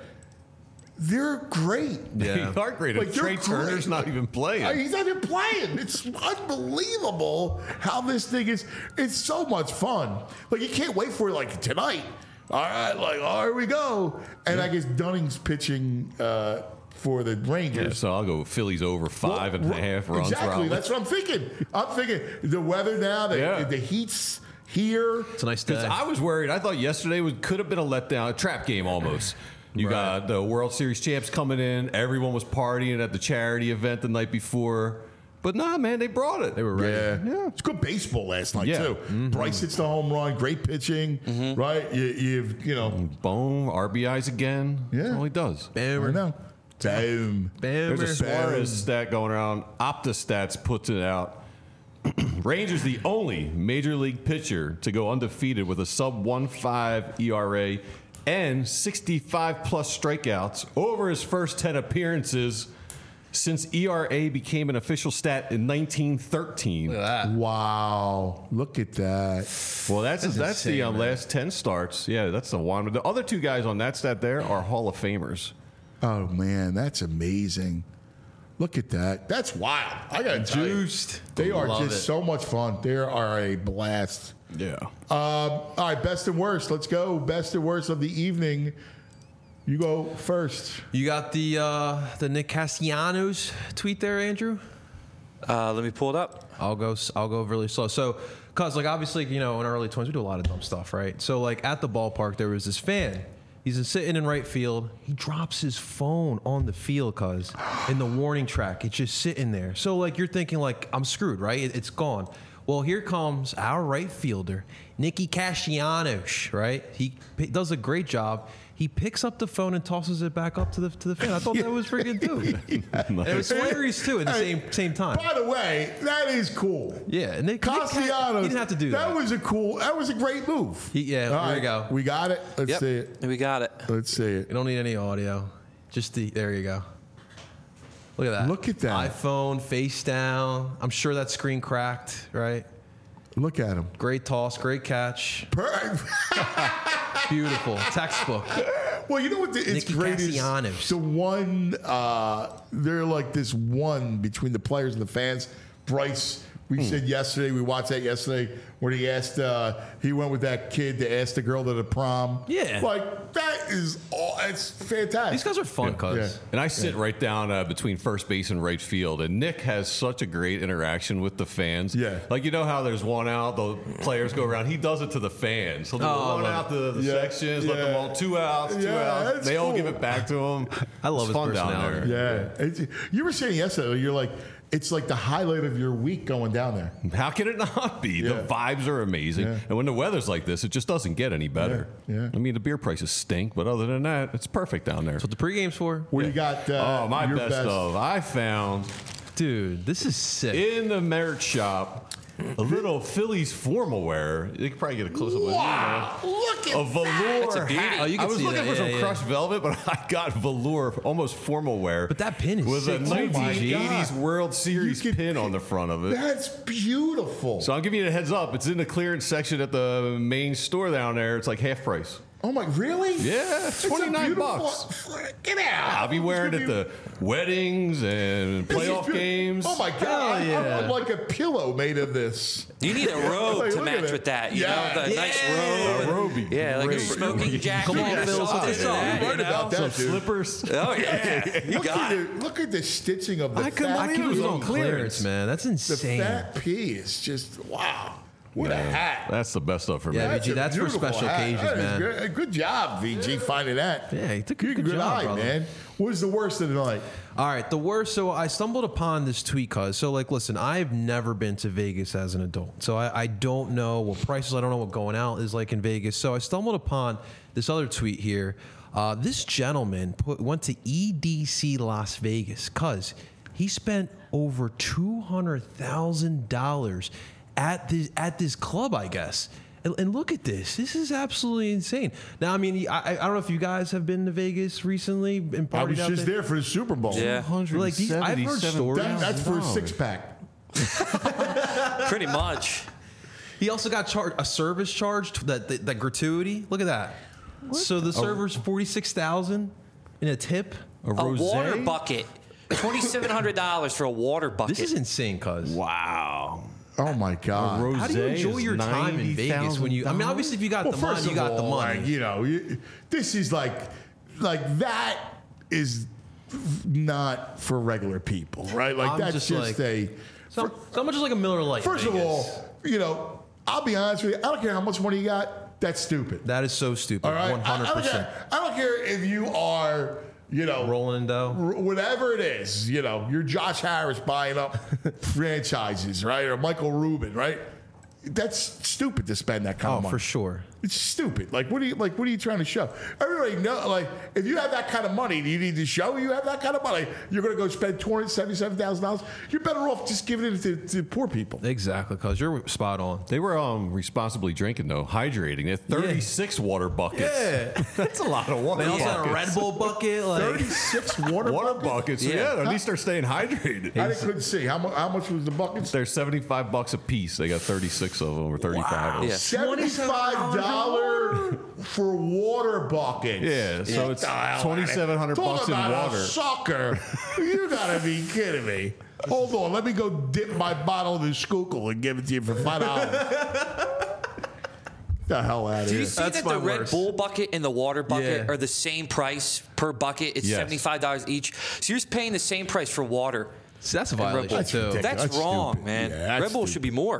[SPEAKER 2] They're great.
[SPEAKER 3] Yeah.
[SPEAKER 8] They are great.
[SPEAKER 2] Like,
[SPEAKER 8] Trey
[SPEAKER 2] they're
[SPEAKER 8] Turner's
[SPEAKER 2] great.
[SPEAKER 8] not even playing.
[SPEAKER 2] He's not even playing. It's unbelievable how this thing is. It's so much fun. Like, you can't wait for it, like, tonight. All right, here we go. And I guess Dunning's pitching for the Rangers.
[SPEAKER 8] Yeah, so I'll go Phillies over 5.5 runs.
[SPEAKER 2] Exactly.
[SPEAKER 8] Probably.
[SPEAKER 2] That's what I'm thinking. I'm thinking the weather now, the heat's here.
[SPEAKER 3] It's a nice day.
[SPEAKER 8] Because I was worried. I thought yesterday could have been a letdown, a trap game almost. You got the World Series champs coming in. Everyone was partying at the charity event the night before. But nah, man, they brought it.
[SPEAKER 3] They were ready.
[SPEAKER 2] Yeah. It's good baseball last night,
[SPEAKER 8] Yeah.
[SPEAKER 2] too. Bryce hits the home run. Great pitching, right? You've
[SPEAKER 8] Boom, RBIs again.
[SPEAKER 2] Yeah.
[SPEAKER 8] That's all he does.
[SPEAKER 2] I know. Boom.
[SPEAKER 8] There's a Suarez stat going around. OptaStats puts it out. Rangers the only major league pitcher to go undefeated with a sub 1.5 ERA and 65-plus strikeouts over his first 10 appearances since ERA became an official stat in 1913.
[SPEAKER 3] Look at that.
[SPEAKER 2] Wow. Look at that.
[SPEAKER 8] Well, that's
[SPEAKER 3] insane,
[SPEAKER 8] the
[SPEAKER 3] man.
[SPEAKER 8] last 10 starts. Yeah, that's the one. The other two guys on that stat there are Hall of Famers.
[SPEAKER 2] Oh, man. That's amazing. Look at that. That's wild. I got to tell you.
[SPEAKER 3] Juiced.
[SPEAKER 2] They are
[SPEAKER 3] Love
[SPEAKER 2] just
[SPEAKER 3] it.
[SPEAKER 2] so much fun. They are a blast.
[SPEAKER 8] Yeah.
[SPEAKER 2] All right, best and worst. Let's go. Best and worst of the evening. You go first.
[SPEAKER 3] You got the Nick Castellanos tweet there, Andrew?
[SPEAKER 4] Let me pull it up.
[SPEAKER 3] I'll go really slow. So, cause like obviously, in early 20s we do a lot of dumb stuff, right? So like at the ballpark there was this fan. He's sitting in right field. He drops his phone on the field, cause in the warning track, it's just sitting there. So like you're thinking like I'm screwed, right? It's gone. Well, here comes our right fielder, Nicky Castellanos, right? He does a great job. He picks up the phone and tosses it back up to the fan. I thought that was freaking dude. And it was hilarious too at the same time.
[SPEAKER 2] By the way, that is cool.
[SPEAKER 3] Yeah, and Nick
[SPEAKER 2] Castellanos.
[SPEAKER 3] he didn't have to do that.
[SPEAKER 2] That was a great move.
[SPEAKER 3] All
[SPEAKER 2] All
[SPEAKER 3] there
[SPEAKER 2] right,
[SPEAKER 3] you go.
[SPEAKER 2] We got it. Let's see it.
[SPEAKER 4] We got it.
[SPEAKER 2] Let's see it.
[SPEAKER 3] You don't need any audio. Just there you go. Look at that.
[SPEAKER 2] Look at that.
[SPEAKER 3] iPhone face down. I'm sure that screen cracked, right?
[SPEAKER 2] Look at him.
[SPEAKER 3] Great toss, great catch. Beautiful. Textbook.
[SPEAKER 2] Well, you know what? It's
[SPEAKER 3] Nicky
[SPEAKER 2] great. Is
[SPEAKER 3] Castellanos.
[SPEAKER 2] the one. They're like this one between the players and the fans. Bryce. We said yesterday. We watched that yesterday where he asked. He went with that kid to ask the girl to the prom.
[SPEAKER 3] Yeah.
[SPEAKER 2] Like that is. It's fantastic.
[SPEAKER 3] These guys are fun, cuz.
[SPEAKER 2] Yeah.
[SPEAKER 8] And I sit right down between first base and right field, and Nick has such a great interaction with the fans.
[SPEAKER 2] Yeah.
[SPEAKER 8] Like, how there's one out, the players go around. He does it to the fans. He'll do one out to the sections, let them all 2 outs, 2 outs.
[SPEAKER 2] that's
[SPEAKER 8] They all
[SPEAKER 2] cool.
[SPEAKER 8] give it back to him.
[SPEAKER 3] I love
[SPEAKER 8] It's
[SPEAKER 3] his
[SPEAKER 8] fun down
[SPEAKER 3] personality.
[SPEAKER 8] there.
[SPEAKER 2] Yeah. You were saying yesterday. You're like. It's like the highlight of your week going down there.
[SPEAKER 8] How can it not be?
[SPEAKER 2] Yeah.
[SPEAKER 8] The vibes are amazing.
[SPEAKER 2] Yeah.
[SPEAKER 8] And when the weather's like this, it just doesn't get any better.
[SPEAKER 2] Yeah.
[SPEAKER 8] I mean, the beer prices stink, but other than that, it's perfect down there.
[SPEAKER 3] That's what the pregame's for.
[SPEAKER 2] What do you got?
[SPEAKER 8] My
[SPEAKER 2] your
[SPEAKER 8] best of. I found
[SPEAKER 3] Dude, this is sick.
[SPEAKER 8] in the merch shop a little Phillies formal wear. You can probably get a close up of
[SPEAKER 2] Wow! Look at
[SPEAKER 8] a velour
[SPEAKER 4] That's a beauty.
[SPEAKER 8] hat.
[SPEAKER 3] Oh, you can
[SPEAKER 8] I was
[SPEAKER 3] see
[SPEAKER 8] looking
[SPEAKER 3] that.
[SPEAKER 8] for some
[SPEAKER 3] Yeah,
[SPEAKER 8] crushed velvet, but I got velour, almost formal wear.
[SPEAKER 3] But that pin is
[SPEAKER 8] with
[SPEAKER 3] sick
[SPEAKER 8] a
[SPEAKER 3] too,
[SPEAKER 8] 1980s
[SPEAKER 2] God.
[SPEAKER 8] World Series
[SPEAKER 2] You could-
[SPEAKER 8] pin on the front of it.
[SPEAKER 2] That's beautiful.
[SPEAKER 8] So I'll give you a heads up. It's in the clearance section at the main store down there. It's like half price.
[SPEAKER 2] Oh my, really?
[SPEAKER 8] Yeah,
[SPEAKER 2] It's a
[SPEAKER 8] $29
[SPEAKER 2] beautiful- Get out!
[SPEAKER 8] I'll be wearing it
[SPEAKER 2] It's gonna
[SPEAKER 8] at the weddings and
[SPEAKER 2] This is
[SPEAKER 8] playoff
[SPEAKER 2] beautiful.
[SPEAKER 8] games.
[SPEAKER 2] Oh my God!
[SPEAKER 3] Hell yeah.
[SPEAKER 2] I'm like a pillow made of this.
[SPEAKER 4] You need a robe
[SPEAKER 2] Like,
[SPEAKER 4] to
[SPEAKER 2] look at
[SPEAKER 4] match
[SPEAKER 2] it.
[SPEAKER 4] with that. You
[SPEAKER 2] Yeah.
[SPEAKER 4] know, the nice robe.
[SPEAKER 8] A robe be
[SPEAKER 4] Yeah, like a
[SPEAKER 8] great.
[SPEAKER 4] smoking jacket.
[SPEAKER 3] Come on,
[SPEAKER 4] Yeah,
[SPEAKER 3] Phil,
[SPEAKER 4] something
[SPEAKER 3] what's
[SPEAKER 4] like
[SPEAKER 3] up?
[SPEAKER 4] that,
[SPEAKER 2] You heard
[SPEAKER 4] you know?
[SPEAKER 2] about that,
[SPEAKER 8] Some
[SPEAKER 2] dude.
[SPEAKER 8] slippers.
[SPEAKER 4] Oh yeah, you
[SPEAKER 2] Look
[SPEAKER 4] got
[SPEAKER 2] at
[SPEAKER 4] it.
[SPEAKER 2] look at the stitching of the
[SPEAKER 8] I couldn't
[SPEAKER 2] fat.
[SPEAKER 8] believe it was on clearance,
[SPEAKER 3] man. That's
[SPEAKER 2] The
[SPEAKER 3] insane.
[SPEAKER 2] fat P is just wow. What a hat!
[SPEAKER 8] That's the best stuff for me.
[SPEAKER 3] Yeah,
[SPEAKER 2] That's
[SPEAKER 3] VG,
[SPEAKER 2] a
[SPEAKER 3] that's for
[SPEAKER 2] beautiful
[SPEAKER 3] special
[SPEAKER 2] hat.
[SPEAKER 3] occasions,
[SPEAKER 2] That is
[SPEAKER 3] man.
[SPEAKER 2] Good job, VG, finding that.
[SPEAKER 3] Yeah, he took a
[SPEAKER 2] You're
[SPEAKER 3] good job,
[SPEAKER 2] eye,
[SPEAKER 3] brother.
[SPEAKER 2] man. What was the worst of the night?
[SPEAKER 3] All right, the worst. So I stumbled upon this tweet, cuz. So, like, listen, I've never been to Vegas as an adult. So I don't know what prices, I don't know what going out is like in Vegas. So I stumbled upon this other tweet here. This gentleman went to EDC Las Vegas, cuz he spent over $200,000 at this club, I guess. And look at this. This is absolutely insane. Now, I mean, I don't know if you guys have been to Vegas recently and partied
[SPEAKER 2] I was
[SPEAKER 3] out
[SPEAKER 2] just there for the Super Bowl.
[SPEAKER 4] Yeah.
[SPEAKER 3] Like these, I've heard stories.
[SPEAKER 2] That's for a 6-pack.
[SPEAKER 4] Pretty much.
[SPEAKER 3] He also got charged a service charge, that gratuity. Look at that. So the server's $46,000 in a tip.
[SPEAKER 4] A water bucket. $2,700 for a water bucket.
[SPEAKER 3] This is insane, cuz.
[SPEAKER 8] Wow.
[SPEAKER 2] Oh my God!
[SPEAKER 3] How do you enjoy your time in Vegas when you? I mean, obviously, if you got the money, you got the money.
[SPEAKER 2] Like, you know, this is like that is not for regular people, right? Like
[SPEAKER 3] I'm
[SPEAKER 2] that's just a.
[SPEAKER 3] So much like a Miller Lite.
[SPEAKER 2] First of all, you know, I'll be honest with you. I don't care how much money you got. That's stupid.
[SPEAKER 3] That is so stupid.
[SPEAKER 2] All right,
[SPEAKER 3] 100%.
[SPEAKER 2] I don't care if you are. You know,
[SPEAKER 3] rolling in dough,
[SPEAKER 2] whatever it is. You know, you're Josh Harris buying up franchises, right? Or Michael Rubin, right? That's stupid to spend that kind of money.
[SPEAKER 3] For sure.
[SPEAKER 2] It's stupid. What are you trying to show? Everybody know. Like, if you have that kind of money, do you need to show you have that kind of money? You're going to go spend $277,000. You're better off just giving it to poor people.
[SPEAKER 3] Exactly, because you're spot on.
[SPEAKER 8] They were responsibly drinking though, hydrating. They had 36 water buckets.
[SPEAKER 3] Yeah,
[SPEAKER 8] that's a lot of water.
[SPEAKER 3] They also
[SPEAKER 8] buckets.
[SPEAKER 3] had a Red Bull bucket. Like
[SPEAKER 2] 36 water
[SPEAKER 8] buckets. Yeah, at least they're staying hydrated.
[SPEAKER 2] I couldn't see how much was the buckets.
[SPEAKER 8] They're $75 a piece. They got 36 of them or 35.
[SPEAKER 2] Wow.
[SPEAKER 8] Of them.
[SPEAKER 2] Yeah. $75 for water buckets.
[SPEAKER 8] Yeah, so it's $2,700 in water.
[SPEAKER 2] Sucker, you gotta be kidding me. Hold on, let me go dip my bottle in the Schuylkill and give it to you for $5. The hell out of here.
[SPEAKER 4] Do you see that the Red Bull bucket and the water bucket are the same price per bucket? It's $75 each. So you're just paying the same price for water.
[SPEAKER 3] See, that's a violation too.
[SPEAKER 4] That's wrong,
[SPEAKER 2] stupid.
[SPEAKER 4] man.
[SPEAKER 2] Yeah,
[SPEAKER 4] Red Bull should be more.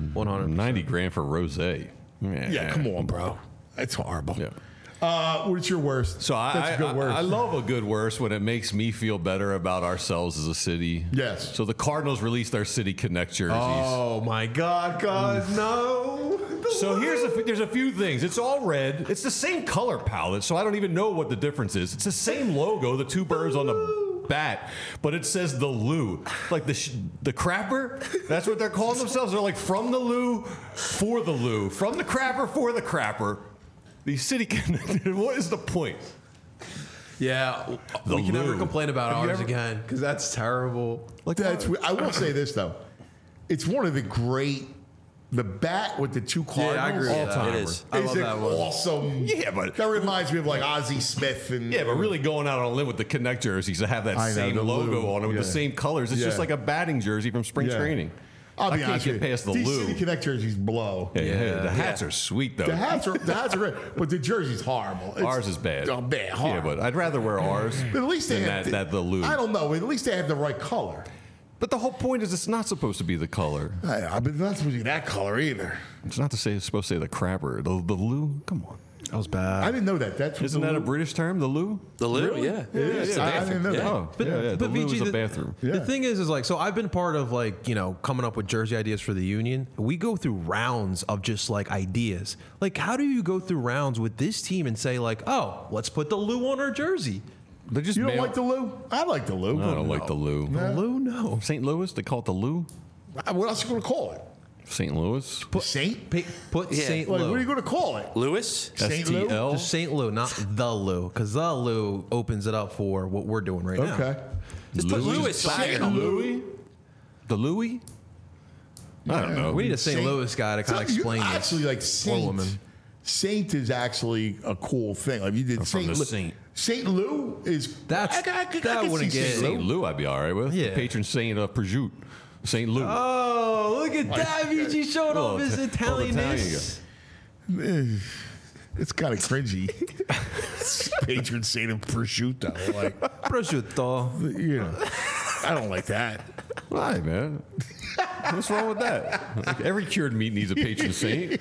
[SPEAKER 8] 190 grand for rosé.
[SPEAKER 2] Yeah, come on, bro. That's horrible.
[SPEAKER 8] Yeah.
[SPEAKER 2] What's your worst?
[SPEAKER 8] So
[SPEAKER 2] That's a good worst.
[SPEAKER 8] I love a good worst when it makes me feel better about ourselves as a city.
[SPEAKER 2] Yes.
[SPEAKER 8] So the Cardinals released their City Connect jerseys.
[SPEAKER 3] Oh my God, guys, no.
[SPEAKER 8] So there's a few things. It's all red. It's the same color palette, so I don't even know what the difference is. It's the same logo, the two birds on the bat, but it says the Lou, like the crapper. That's what they're calling themselves. They're like from the Lou for the Lou, from the crapper for the crapper. The City Connected. What is the point?
[SPEAKER 3] Yeah, we can never complain about ours again because that's terrible.
[SPEAKER 2] Like I will say this though, it's one of the great. The bat with the two Cardinals.
[SPEAKER 3] Yeah, I agree with that. It is. I love that one.
[SPEAKER 2] Awesome.
[SPEAKER 8] Yeah, but
[SPEAKER 2] that reminds me of like Ozzie Smith and.
[SPEAKER 8] Yeah, but really going out on a limb with the Connect jerseys to have that same logo on it with the same colors. It's just like a batting jersey from spring training.
[SPEAKER 2] I'll be
[SPEAKER 8] I can't
[SPEAKER 2] honest
[SPEAKER 8] get
[SPEAKER 2] with you.
[SPEAKER 8] past the
[SPEAKER 2] These
[SPEAKER 8] Lou.
[SPEAKER 2] City Connect jerseys blow.
[SPEAKER 8] Yeah, the hats are sweet though.
[SPEAKER 2] The hats are great, but the jersey's horrible.
[SPEAKER 8] Ours is bad.
[SPEAKER 2] Oh, bad, horrible.
[SPEAKER 8] Yeah, but I'd rather wear ours.
[SPEAKER 2] But at least they
[SPEAKER 8] than
[SPEAKER 2] have
[SPEAKER 8] the Lou.
[SPEAKER 2] I don't know. At least they have the right color.
[SPEAKER 8] But the whole point is it's not supposed to be the color.
[SPEAKER 2] I mean, it's not supposed to be that color either.
[SPEAKER 8] It's not to say it's supposed to say the crapper. The Lou. Come on.
[SPEAKER 3] That was bad.
[SPEAKER 2] I didn't know that.
[SPEAKER 8] Isn't that a British term? The Loo?
[SPEAKER 4] The Lou,
[SPEAKER 2] Really?
[SPEAKER 4] yeah.
[SPEAKER 2] It is. I didn't know that.
[SPEAKER 8] Oh,
[SPEAKER 3] But
[SPEAKER 8] the Loo
[SPEAKER 3] VG,
[SPEAKER 8] is a bathroom.
[SPEAKER 3] The thing is like, so I've been part of like, you know, coming up with jersey ideas for the Union. We go through rounds of just like ideas. Like, how do you go through rounds with this team and say like, oh, let's put the Lou on our jersey?
[SPEAKER 8] They just
[SPEAKER 2] You don't like the Lou? I like the Lou.
[SPEAKER 8] I don't like the Lou.
[SPEAKER 3] The Lou, no.
[SPEAKER 8] St. Louis? They call it the Lou?
[SPEAKER 2] What else are you going to call it?
[SPEAKER 8] St. Louis?
[SPEAKER 2] Saint?
[SPEAKER 3] Put St.
[SPEAKER 2] Like,
[SPEAKER 3] Lou.
[SPEAKER 2] what are you going to call it?
[SPEAKER 4] Lewis?
[SPEAKER 2] St. Lou?
[SPEAKER 8] STL?
[SPEAKER 3] Just St. Lou, not the Lou, because the Lou opens it up for what we're doing right now.
[SPEAKER 2] Okay.
[SPEAKER 4] Just put Lewis back.
[SPEAKER 2] St. Louis?
[SPEAKER 8] The Louis? I don't know.
[SPEAKER 3] We need a St. Louis guy to kind of explain this.
[SPEAKER 2] Actually, like Saint.
[SPEAKER 3] woman.
[SPEAKER 2] Saint is actually a cool thing. Like you did
[SPEAKER 8] from
[SPEAKER 2] Saint
[SPEAKER 8] the
[SPEAKER 2] Lou.
[SPEAKER 8] Saint.
[SPEAKER 2] St. Lou is
[SPEAKER 3] That's-
[SPEAKER 2] I
[SPEAKER 3] that wouldn't
[SPEAKER 2] see
[SPEAKER 3] get
[SPEAKER 2] St.
[SPEAKER 8] St. Lou I'd be all right with.
[SPEAKER 3] Yeah.
[SPEAKER 8] The patron saint of prosciutto. St. Lou.
[SPEAKER 3] Oh, look at that. VG showing off his Italianness.
[SPEAKER 2] It's kind of cringy. Patron saint of prosciutto. Like,
[SPEAKER 3] Prosciutto.
[SPEAKER 2] you know, I don't like that.
[SPEAKER 8] Why, man? What's wrong with that? Like, every cured meat needs a patron saint.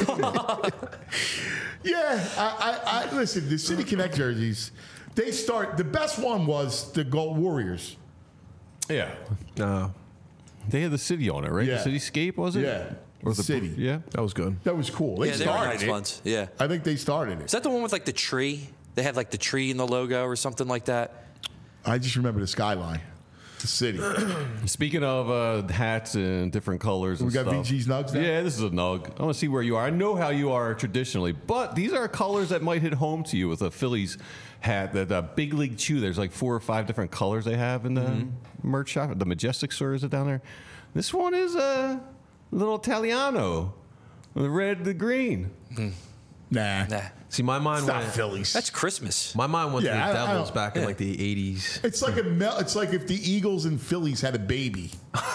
[SPEAKER 2] Yeah, I listen. The City Connect jerseys, they start. The best one was the Gold Warriors.
[SPEAKER 8] Yeah.
[SPEAKER 3] No,
[SPEAKER 8] They had the city on it, right?
[SPEAKER 2] Yeah.
[SPEAKER 8] The cityscape, was it?
[SPEAKER 2] Yeah,
[SPEAKER 8] Or the
[SPEAKER 2] city.
[SPEAKER 8] Yeah.
[SPEAKER 3] that was good.
[SPEAKER 2] That was cool. They
[SPEAKER 4] Yeah, they were
[SPEAKER 2] started
[SPEAKER 4] nice
[SPEAKER 2] it.
[SPEAKER 4] ones. Yeah.
[SPEAKER 2] I think they started
[SPEAKER 4] Is
[SPEAKER 2] it.
[SPEAKER 4] that the one with like the tree? They had like the tree in the logo or something like that.
[SPEAKER 2] I just remember the skyline. the city.
[SPEAKER 8] Speaking of hats and different colors, and
[SPEAKER 2] We got
[SPEAKER 8] stuff.
[SPEAKER 2] VG's nugs now?
[SPEAKER 8] Yeah, this is a nug. I want to see where you are. I know how you are traditionally, but these are colors that might hit home to you with a Phillies hat. That Big League Chew. There's like 4 or 5 different colors they have in the merch shop. The Majestic store, is it down there? This one is a little Italiano, the red, the green.
[SPEAKER 2] Nah.
[SPEAKER 3] See, my mind
[SPEAKER 2] It's not
[SPEAKER 3] went.
[SPEAKER 2] Phillies.
[SPEAKER 4] That's Christmas.
[SPEAKER 3] My mind went
[SPEAKER 2] Yeah,
[SPEAKER 3] to
[SPEAKER 2] I
[SPEAKER 3] the
[SPEAKER 2] don't-
[SPEAKER 3] Devils back in like the 80s.
[SPEAKER 2] It's like it's like if the Eagles and Phillies had a baby.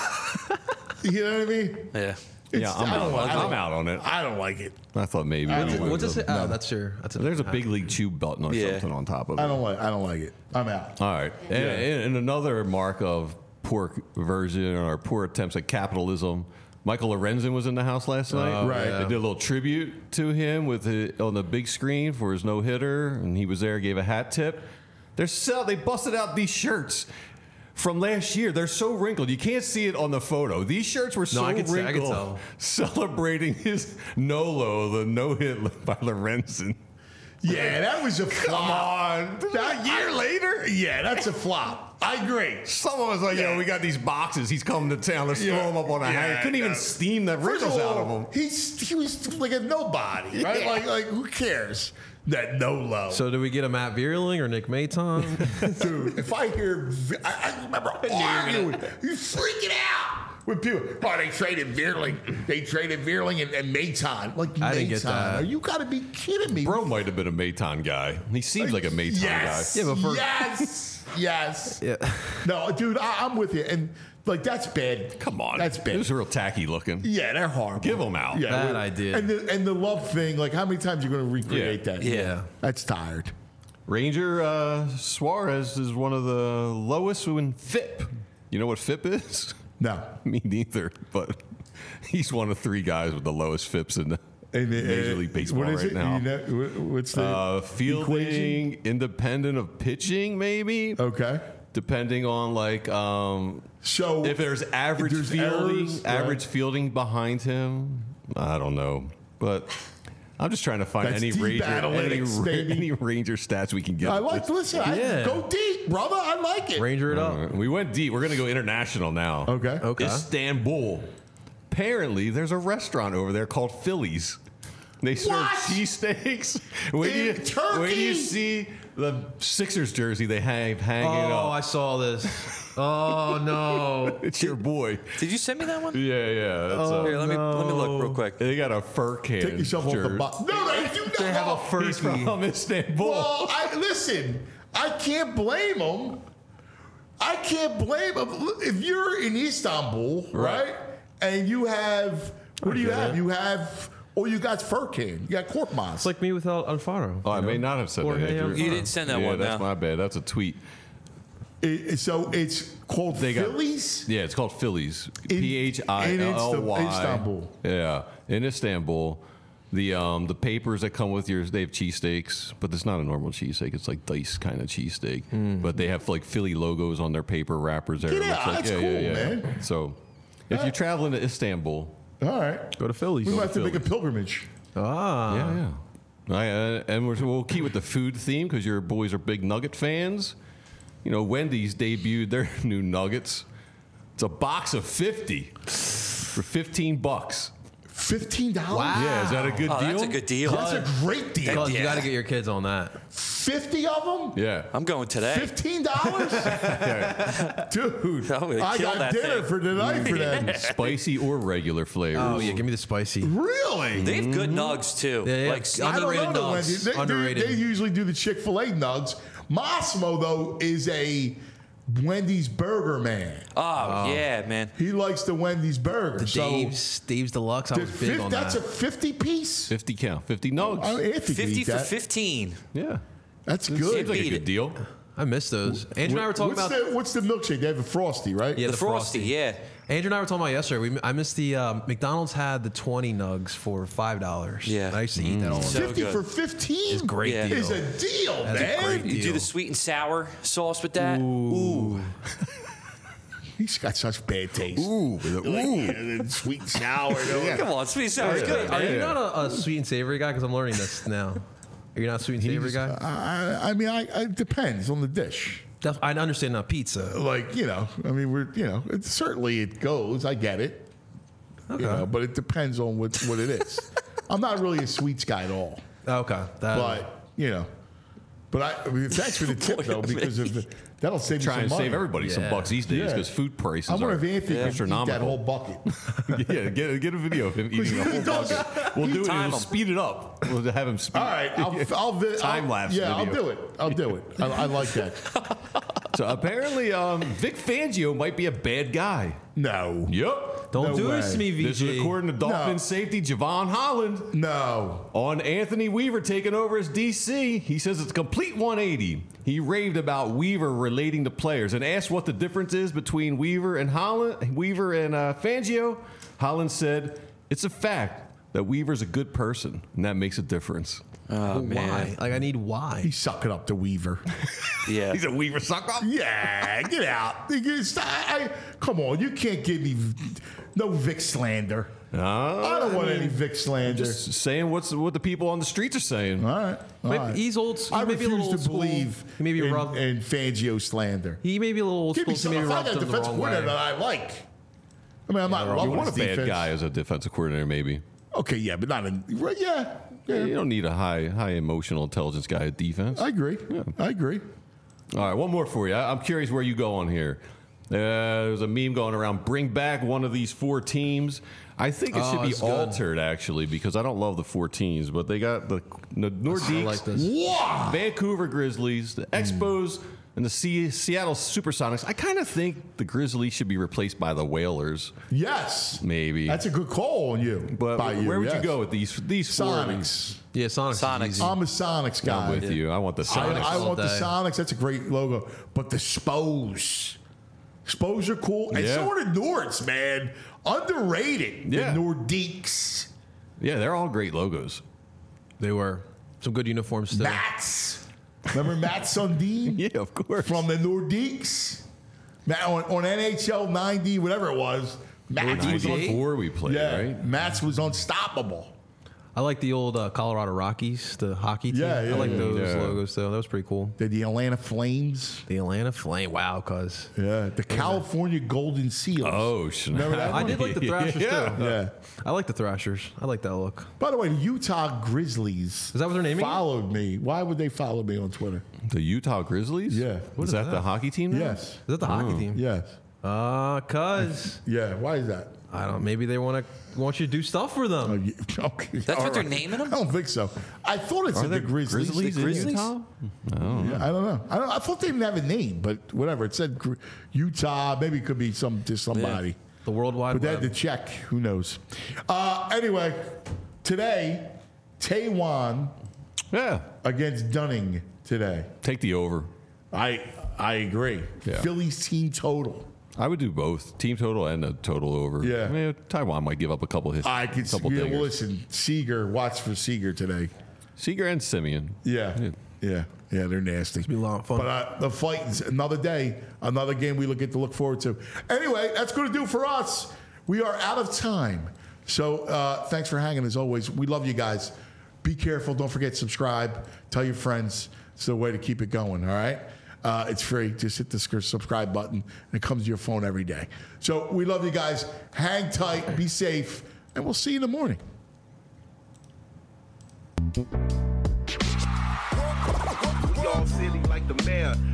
[SPEAKER 2] You know what I mean?
[SPEAKER 4] Yeah.
[SPEAKER 8] Yeah, I'm out on it.
[SPEAKER 2] I don't like it.
[SPEAKER 8] I thought maybe.
[SPEAKER 3] What's this? Oh, that's your. That's a,
[SPEAKER 8] There's a Big League Chew button or
[SPEAKER 4] Yeah.
[SPEAKER 8] something on top of it.
[SPEAKER 2] I don't like it. I'm out.
[SPEAKER 8] All right. And another mark of poor version or poor attempts at capitalism. Michael Lorenzen was in the house last night.
[SPEAKER 2] Right.
[SPEAKER 8] They did a little tribute to him on the big screen for his no-hitter, and he was there, gave a hat tip. They busted out these shirts from last year. They're so wrinkled. You can't see it on the photo. These shirts were so
[SPEAKER 3] I can
[SPEAKER 8] wrinkled.
[SPEAKER 3] tell.
[SPEAKER 8] Celebrating his the no-hit by Lorenzen.
[SPEAKER 2] Yeah, that was a flop.
[SPEAKER 8] Come on.
[SPEAKER 2] That year later? Yeah, that's a flop. I agree.
[SPEAKER 8] Someone was like, yo, we got these boxes. He's coming to town. Let's throw him up on a hanger. Couldn't even steam the
[SPEAKER 2] First
[SPEAKER 8] wrinkles out of him.
[SPEAKER 2] He was like a nobody, right?
[SPEAKER 8] Yeah.
[SPEAKER 2] Like who cares? That no-low.
[SPEAKER 3] So do we get a Matt Vierling or Nick Maton?
[SPEAKER 2] Dude, if I hear, I remember arguing, you freaking out with people. Oh, they traded Vierling. They traded Vierling and Maton. Like,
[SPEAKER 3] I didn't get that.
[SPEAKER 2] Are you got to be kidding me?
[SPEAKER 8] Bro might have been a Maton guy. He seems like a Maton
[SPEAKER 2] Yes.
[SPEAKER 8] guy.
[SPEAKER 3] Yeah, but for-
[SPEAKER 2] yes.
[SPEAKER 3] Yeah.
[SPEAKER 2] No, dude, I'm with you. And, like, that's bad.
[SPEAKER 8] Come on.
[SPEAKER 2] That's bad.
[SPEAKER 8] It was real tacky looking.
[SPEAKER 2] Yeah, they're horrible.
[SPEAKER 8] Give them out.
[SPEAKER 2] Yeah,
[SPEAKER 3] That
[SPEAKER 2] we-
[SPEAKER 3] I did.
[SPEAKER 2] And the love thing, like, how many times are you going to recreate that?
[SPEAKER 4] Yeah.
[SPEAKER 2] That's tired.
[SPEAKER 8] Ranger Suarez is one of the lowest in FIP. You know what FIP is?
[SPEAKER 2] No.
[SPEAKER 8] Me neither, but he's one of 3 guys with the lowest FIPs in the Major League Baseball
[SPEAKER 2] what is
[SPEAKER 8] right
[SPEAKER 2] it?
[SPEAKER 8] now.
[SPEAKER 2] You know, what's the
[SPEAKER 8] Fielding,
[SPEAKER 2] equation?
[SPEAKER 8] independent of pitching, maybe.
[SPEAKER 2] Okay.
[SPEAKER 8] Depending on
[SPEAKER 2] So
[SPEAKER 8] if there's average
[SPEAKER 2] there's
[SPEAKER 8] fielding,
[SPEAKER 2] errors,
[SPEAKER 8] average
[SPEAKER 2] right.
[SPEAKER 8] fielding behind him, I don't know, but I'm just trying to find
[SPEAKER 2] That's
[SPEAKER 8] any
[SPEAKER 2] deep
[SPEAKER 8] Ranger,
[SPEAKER 2] analytics, baby.
[SPEAKER 8] any Ranger stats we can get.
[SPEAKER 2] I like. Listen,
[SPEAKER 3] Yeah.
[SPEAKER 2] go deep, brother. I like it.
[SPEAKER 3] Ranger it
[SPEAKER 8] All
[SPEAKER 3] up.
[SPEAKER 8] right, we went deep. We're gonna go international now.
[SPEAKER 2] Okay.
[SPEAKER 3] Okay.
[SPEAKER 8] Istanbul. Apparently, there's a restaurant over there called Phillies. They serve
[SPEAKER 2] What?
[SPEAKER 8] cheesesteaks. When
[SPEAKER 2] In Turkey?
[SPEAKER 8] When you see the Sixers jersey they have hanging
[SPEAKER 3] Oh,
[SPEAKER 8] up,
[SPEAKER 3] I saw this. Oh no.
[SPEAKER 8] it's your boy.
[SPEAKER 4] Did you send me that one?
[SPEAKER 8] Yeah. That's
[SPEAKER 4] Here, let me look real quick.
[SPEAKER 8] they got a fur can.
[SPEAKER 2] Take yourself off the
[SPEAKER 8] jersey.
[SPEAKER 2] box. No, they do not.
[SPEAKER 3] They have a fur
[SPEAKER 8] He's
[SPEAKER 3] key.
[SPEAKER 8] from Istanbul.
[SPEAKER 2] Well, listen. I can't blame them. I can't blame them. If you're in Istanbul, right, and you have what do you have? You have. Or you got fur can. You got Korkmaz.
[SPEAKER 3] It's like me without Alfaro.
[SPEAKER 8] Oh, I may not have said that.
[SPEAKER 3] Jorge
[SPEAKER 8] Andrew.
[SPEAKER 3] Alfaro.
[SPEAKER 4] You didn't send that
[SPEAKER 8] Yeah,
[SPEAKER 4] one.
[SPEAKER 8] that's
[SPEAKER 4] no.
[SPEAKER 8] my bad. That's a tweet.
[SPEAKER 2] So it's called
[SPEAKER 8] They got-
[SPEAKER 2] Phillies?
[SPEAKER 8] Yeah, it's called Phillies.
[SPEAKER 2] In-
[SPEAKER 8] Philly.
[SPEAKER 2] in Istanbul.
[SPEAKER 8] Yeah, in Istanbul. The papers that come with they have cheesesteaks, but it's not a normal cheesesteak. It's like diced kind of cheesesteak. But they have like Philly logos on their paper wrappers there.
[SPEAKER 2] Get
[SPEAKER 8] It looks
[SPEAKER 2] out.
[SPEAKER 8] like,
[SPEAKER 2] That's cool, man.
[SPEAKER 8] So if you're traveling to Istanbul,
[SPEAKER 2] All right.
[SPEAKER 3] Go to Phillies.
[SPEAKER 2] We might have to make a
[SPEAKER 8] Philly.
[SPEAKER 2] pilgrimage.
[SPEAKER 3] Ah.
[SPEAKER 8] yeah. And we'll keep with the food theme because your boys are big nugget fans. You know, Wendy's debuted their new nuggets. It's a box of 50 for $15.
[SPEAKER 2] $15?
[SPEAKER 3] Wow.
[SPEAKER 8] Yeah, is that a good
[SPEAKER 4] Oh,
[SPEAKER 8] deal?
[SPEAKER 4] that's a good deal.
[SPEAKER 2] That's a great deal.
[SPEAKER 3] Cuz you
[SPEAKER 4] Yeah.
[SPEAKER 3] got to get your kids on that.
[SPEAKER 2] 50 of them?
[SPEAKER 8] Yeah.
[SPEAKER 4] I'm going today.
[SPEAKER 2] $15? Dude,
[SPEAKER 4] I'm gonna
[SPEAKER 2] I
[SPEAKER 4] kill
[SPEAKER 2] got
[SPEAKER 4] that
[SPEAKER 2] dinner
[SPEAKER 4] thing.
[SPEAKER 2] for tonight for them.
[SPEAKER 8] Spicy or regular flavors.
[SPEAKER 3] Oh yeah, give me the spicy.
[SPEAKER 2] Really?
[SPEAKER 4] They have good nugs too.
[SPEAKER 3] Yeah, yeah.
[SPEAKER 4] Like
[SPEAKER 2] I don't
[SPEAKER 3] Underrated
[SPEAKER 2] know the
[SPEAKER 3] nugs.
[SPEAKER 2] Wendy's.
[SPEAKER 3] Underrated.
[SPEAKER 2] They usually do the Chick-fil-A nugs. Massimo, though, is a Wendy's burger man.
[SPEAKER 4] yeah, man.
[SPEAKER 2] He likes the Wendy's burger. So
[SPEAKER 3] Dave's Deluxe. I was big on
[SPEAKER 2] that's
[SPEAKER 3] that.
[SPEAKER 2] a 50 piece?
[SPEAKER 8] 50 count, 50 nugs.
[SPEAKER 2] Oh, Anthony could
[SPEAKER 4] 50
[SPEAKER 2] eat
[SPEAKER 4] for
[SPEAKER 2] that.
[SPEAKER 4] 15.
[SPEAKER 8] Yeah.
[SPEAKER 2] That's
[SPEAKER 8] Seems
[SPEAKER 2] good.
[SPEAKER 8] like a
[SPEAKER 4] Beat
[SPEAKER 8] good
[SPEAKER 4] it.
[SPEAKER 8] deal.
[SPEAKER 3] I miss those. Andrew and I were talking about
[SPEAKER 2] What's the milkshake? They have a Frosty, right?
[SPEAKER 3] yeah,
[SPEAKER 4] The Frosty, yeah.
[SPEAKER 3] Andrew and I were talking about yesterday. I missed the McDonald's had the 20 nugs for $5.
[SPEAKER 4] Yeah.
[SPEAKER 3] And I used to eat that all the
[SPEAKER 4] So
[SPEAKER 3] time.
[SPEAKER 2] 50
[SPEAKER 4] good.
[SPEAKER 2] for 15?
[SPEAKER 3] It's a great
[SPEAKER 4] Yeah.
[SPEAKER 3] deal.
[SPEAKER 2] Is a deal,
[SPEAKER 3] That's a
[SPEAKER 2] man.
[SPEAKER 3] great
[SPEAKER 4] You do
[SPEAKER 3] deal.
[SPEAKER 4] the sweet and sour sauce with that. Ooh.
[SPEAKER 2] He's got such bad taste.
[SPEAKER 8] Ooh.
[SPEAKER 2] Like, sweet and sour.
[SPEAKER 4] Come on, sweet and sour is good.
[SPEAKER 3] Are
[SPEAKER 4] man.
[SPEAKER 3] you not a sweet and savory guy? Because I'm learning this now. Are you not a sweet and savory guy?
[SPEAKER 2] I mean, it depends on the dish.
[SPEAKER 3] I understand not pizza.
[SPEAKER 2] Like, I mean, certainly it goes. I get it.
[SPEAKER 3] Okay.
[SPEAKER 2] But it depends on what it is. I'm not really a sweets guy at all.
[SPEAKER 3] Okay.
[SPEAKER 2] But thanks for the tip, though, because that'll save you some
[SPEAKER 8] Trying to
[SPEAKER 2] money.
[SPEAKER 8] save everybody some bucks these days because food prices
[SPEAKER 2] I wonder
[SPEAKER 8] are
[SPEAKER 2] if Anthony can eat
[SPEAKER 8] astronomical.
[SPEAKER 2] that whole bucket.
[SPEAKER 8] Yeah, get a video of him eating a whole bucket. We'll do it. We'll speed it up. We'll have him speed.
[SPEAKER 2] All right, I'll
[SPEAKER 8] time lapse.
[SPEAKER 2] Yeah,
[SPEAKER 8] video.
[SPEAKER 2] I'll do it. I like that.
[SPEAKER 8] So apparently, Vic Fangio might be a bad guy.
[SPEAKER 2] No.
[SPEAKER 8] Yep.
[SPEAKER 3] Don't
[SPEAKER 2] No
[SPEAKER 3] do
[SPEAKER 2] way.
[SPEAKER 3] this to me, VG.
[SPEAKER 8] This is according to Dolphins safety Javon Holland.
[SPEAKER 2] No.
[SPEAKER 8] On Anthony Weaver taking over as DC, he says it's a complete 180. He raved about Weaver relating to players and asked what the difference is between Weaver and Fangio. Holland said, "It's a fact that Weaver's a good person, and that makes a difference."
[SPEAKER 4] Oh,
[SPEAKER 3] Why?
[SPEAKER 4] man.
[SPEAKER 3] Like, I need why.
[SPEAKER 2] He's sucking up to Weaver.
[SPEAKER 4] Yeah.
[SPEAKER 8] He's a Weaver suck up.
[SPEAKER 2] Yeah, get out. Come on, you can't give me no Vic slander. I don't want any Vic slander.
[SPEAKER 8] Just saying what the people on the streets are saying.
[SPEAKER 2] All right.
[SPEAKER 3] Maybe he's old.
[SPEAKER 2] I
[SPEAKER 3] He may be a
[SPEAKER 2] refuse
[SPEAKER 3] little
[SPEAKER 2] to
[SPEAKER 3] old school.
[SPEAKER 2] believe
[SPEAKER 3] He may be rubbed.
[SPEAKER 2] in Fangio slander.
[SPEAKER 3] He may be a little old
[SPEAKER 2] Give me
[SPEAKER 3] school.
[SPEAKER 2] some.
[SPEAKER 3] So maybe
[SPEAKER 2] If I
[SPEAKER 3] rubbed
[SPEAKER 2] got a
[SPEAKER 3] him the
[SPEAKER 2] defense
[SPEAKER 3] wrong
[SPEAKER 2] coordinator
[SPEAKER 3] way.
[SPEAKER 2] that I like. I mean, I'm not
[SPEAKER 8] You
[SPEAKER 2] loving
[SPEAKER 8] want a
[SPEAKER 2] his
[SPEAKER 8] bad
[SPEAKER 2] defense.
[SPEAKER 8] guy as a defensive coordinator, maybe.
[SPEAKER 2] Okay, yeah, but not in. Yeah.
[SPEAKER 8] You don't need a high emotional intelligence guy at defense.
[SPEAKER 2] I agree. I agree.
[SPEAKER 8] All right, one more for you. I'm curious where you go on here. There's a meme going around. Bring back one of these 4 teams. I think it should be
[SPEAKER 3] it's good.
[SPEAKER 8] altered, actually, because I don't love the 4 teams, but they got the Nordiques,
[SPEAKER 3] I like this.
[SPEAKER 2] Wow.
[SPEAKER 8] Vancouver Grizzlies, the Expos, and the Seattle Supersonics. I kind of think the Grizzlies should be replaced by the Whalers,
[SPEAKER 2] Yes.
[SPEAKER 8] maybe.
[SPEAKER 2] That's a good call on you.
[SPEAKER 8] But
[SPEAKER 2] by you,
[SPEAKER 8] where would
[SPEAKER 2] yes.
[SPEAKER 8] you go with these 4?
[SPEAKER 2] Sonics.
[SPEAKER 3] Yeah, Sonics.
[SPEAKER 4] Sonics.
[SPEAKER 3] Easy.
[SPEAKER 2] I'm a Sonics guy.
[SPEAKER 8] I'm with you. I want the Sonics.
[SPEAKER 2] I
[SPEAKER 3] all
[SPEAKER 2] want the
[SPEAKER 3] day.
[SPEAKER 2] Sonics. That's a great logo. But the Spos. Spos are cool. And
[SPEAKER 8] Yeah.
[SPEAKER 2] so are the Nords, man. Underrated.
[SPEAKER 8] Yeah.
[SPEAKER 2] The Nordiques.
[SPEAKER 8] Yeah, they're all great logos.
[SPEAKER 3] They were some good uniforms still.
[SPEAKER 2] Mats. Remember Matt Sundin?
[SPEAKER 8] Yeah, of course.
[SPEAKER 2] From the Nordiques? On NHL 90, whatever it was. Mats was on.
[SPEAKER 8] 94 we played,
[SPEAKER 2] Yeah.
[SPEAKER 8] right?
[SPEAKER 2] Mats was unstoppable.
[SPEAKER 3] I like the old Colorado Rockies, the hockey team.
[SPEAKER 2] Yeah, yeah,
[SPEAKER 3] I like
[SPEAKER 2] yeah,
[SPEAKER 3] those
[SPEAKER 8] yeah.
[SPEAKER 3] logos though. That was pretty cool.
[SPEAKER 2] The Atlanta Flames.
[SPEAKER 3] The Atlanta Flame. Wow, cuz.
[SPEAKER 2] Yeah. The California Golden Seals.
[SPEAKER 8] Oh, snap.
[SPEAKER 2] Remember that
[SPEAKER 3] I
[SPEAKER 2] one?
[SPEAKER 3] did like the Thrashers
[SPEAKER 8] Yeah.
[SPEAKER 3] too.
[SPEAKER 2] Yeah.
[SPEAKER 3] I like the Thrashers. I like that look.
[SPEAKER 2] By the way, the Utah Grizzlies
[SPEAKER 3] Is that what they're naming it?
[SPEAKER 2] followed me. Why would they follow me on Twitter?
[SPEAKER 8] The Utah Grizzlies?
[SPEAKER 2] Yeah.
[SPEAKER 8] Was that the hockey team now?
[SPEAKER 2] Yes.
[SPEAKER 3] Is that the hockey team?
[SPEAKER 2] Yes.
[SPEAKER 3] Cuz.
[SPEAKER 2] Yeah. Why is that?
[SPEAKER 3] I don't. Maybe they want you to do stuff for them.
[SPEAKER 2] Oh, yeah. Okay.
[SPEAKER 4] That's
[SPEAKER 2] All
[SPEAKER 4] what they're
[SPEAKER 2] right.
[SPEAKER 4] naming them?
[SPEAKER 2] I don't think so. I thought it
[SPEAKER 8] Are
[SPEAKER 2] said the
[SPEAKER 8] there
[SPEAKER 2] Grizzlies.
[SPEAKER 8] Grizzlies in
[SPEAKER 4] Grizzlies?
[SPEAKER 8] Utah?
[SPEAKER 2] Yeah, I don't know. I thought they didn't have a name, but whatever. It said Utah. Maybe it could be somebody.
[SPEAKER 3] The World Wide
[SPEAKER 2] But they had
[SPEAKER 3] Web.
[SPEAKER 2] to check. Who knows? Anyway, today, Taiwan
[SPEAKER 8] Yeah.
[SPEAKER 2] against Dunning today.
[SPEAKER 8] Take the over.
[SPEAKER 2] I agree.
[SPEAKER 8] Yeah.
[SPEAKER 2] Phillies team total.
[SPEAKER 8] I would do both. Team total and a total over.
[SPEAKER 2] Yeah.
[SPEAKER 8] I mean, Taiwan might give up a couple hits.
[SPEAKER 2] I could.
[SPEAKER 8] couple
[SPEAKER 2] Yeah,
[SPEAKER 8] dingers.
[SPEAKER 2] well, listen, Seager. Watch for Seager today.
[SPEAKER 8] Seager and Simeon.
[SPEAKER 2] Yeah. They're nasty.
[SPEAKER 3] be a lot of fun.
[SPEAKER 2] But the fight is another day, another game we get to look forward to. Anyway, that's going to do for us. We are out of time. So thanks for hanging as always. We love you guys. Be careful. Don't forget to subscribe. Tell your friends. It's the way to keep it going. All right. It's free. Just hit the subscribe button, and it comes to your phone every day. So we love you guys. Hang tight. Be safe, and we'll see you in the morning.
[SPEAKER 10] We all silly like the mayor.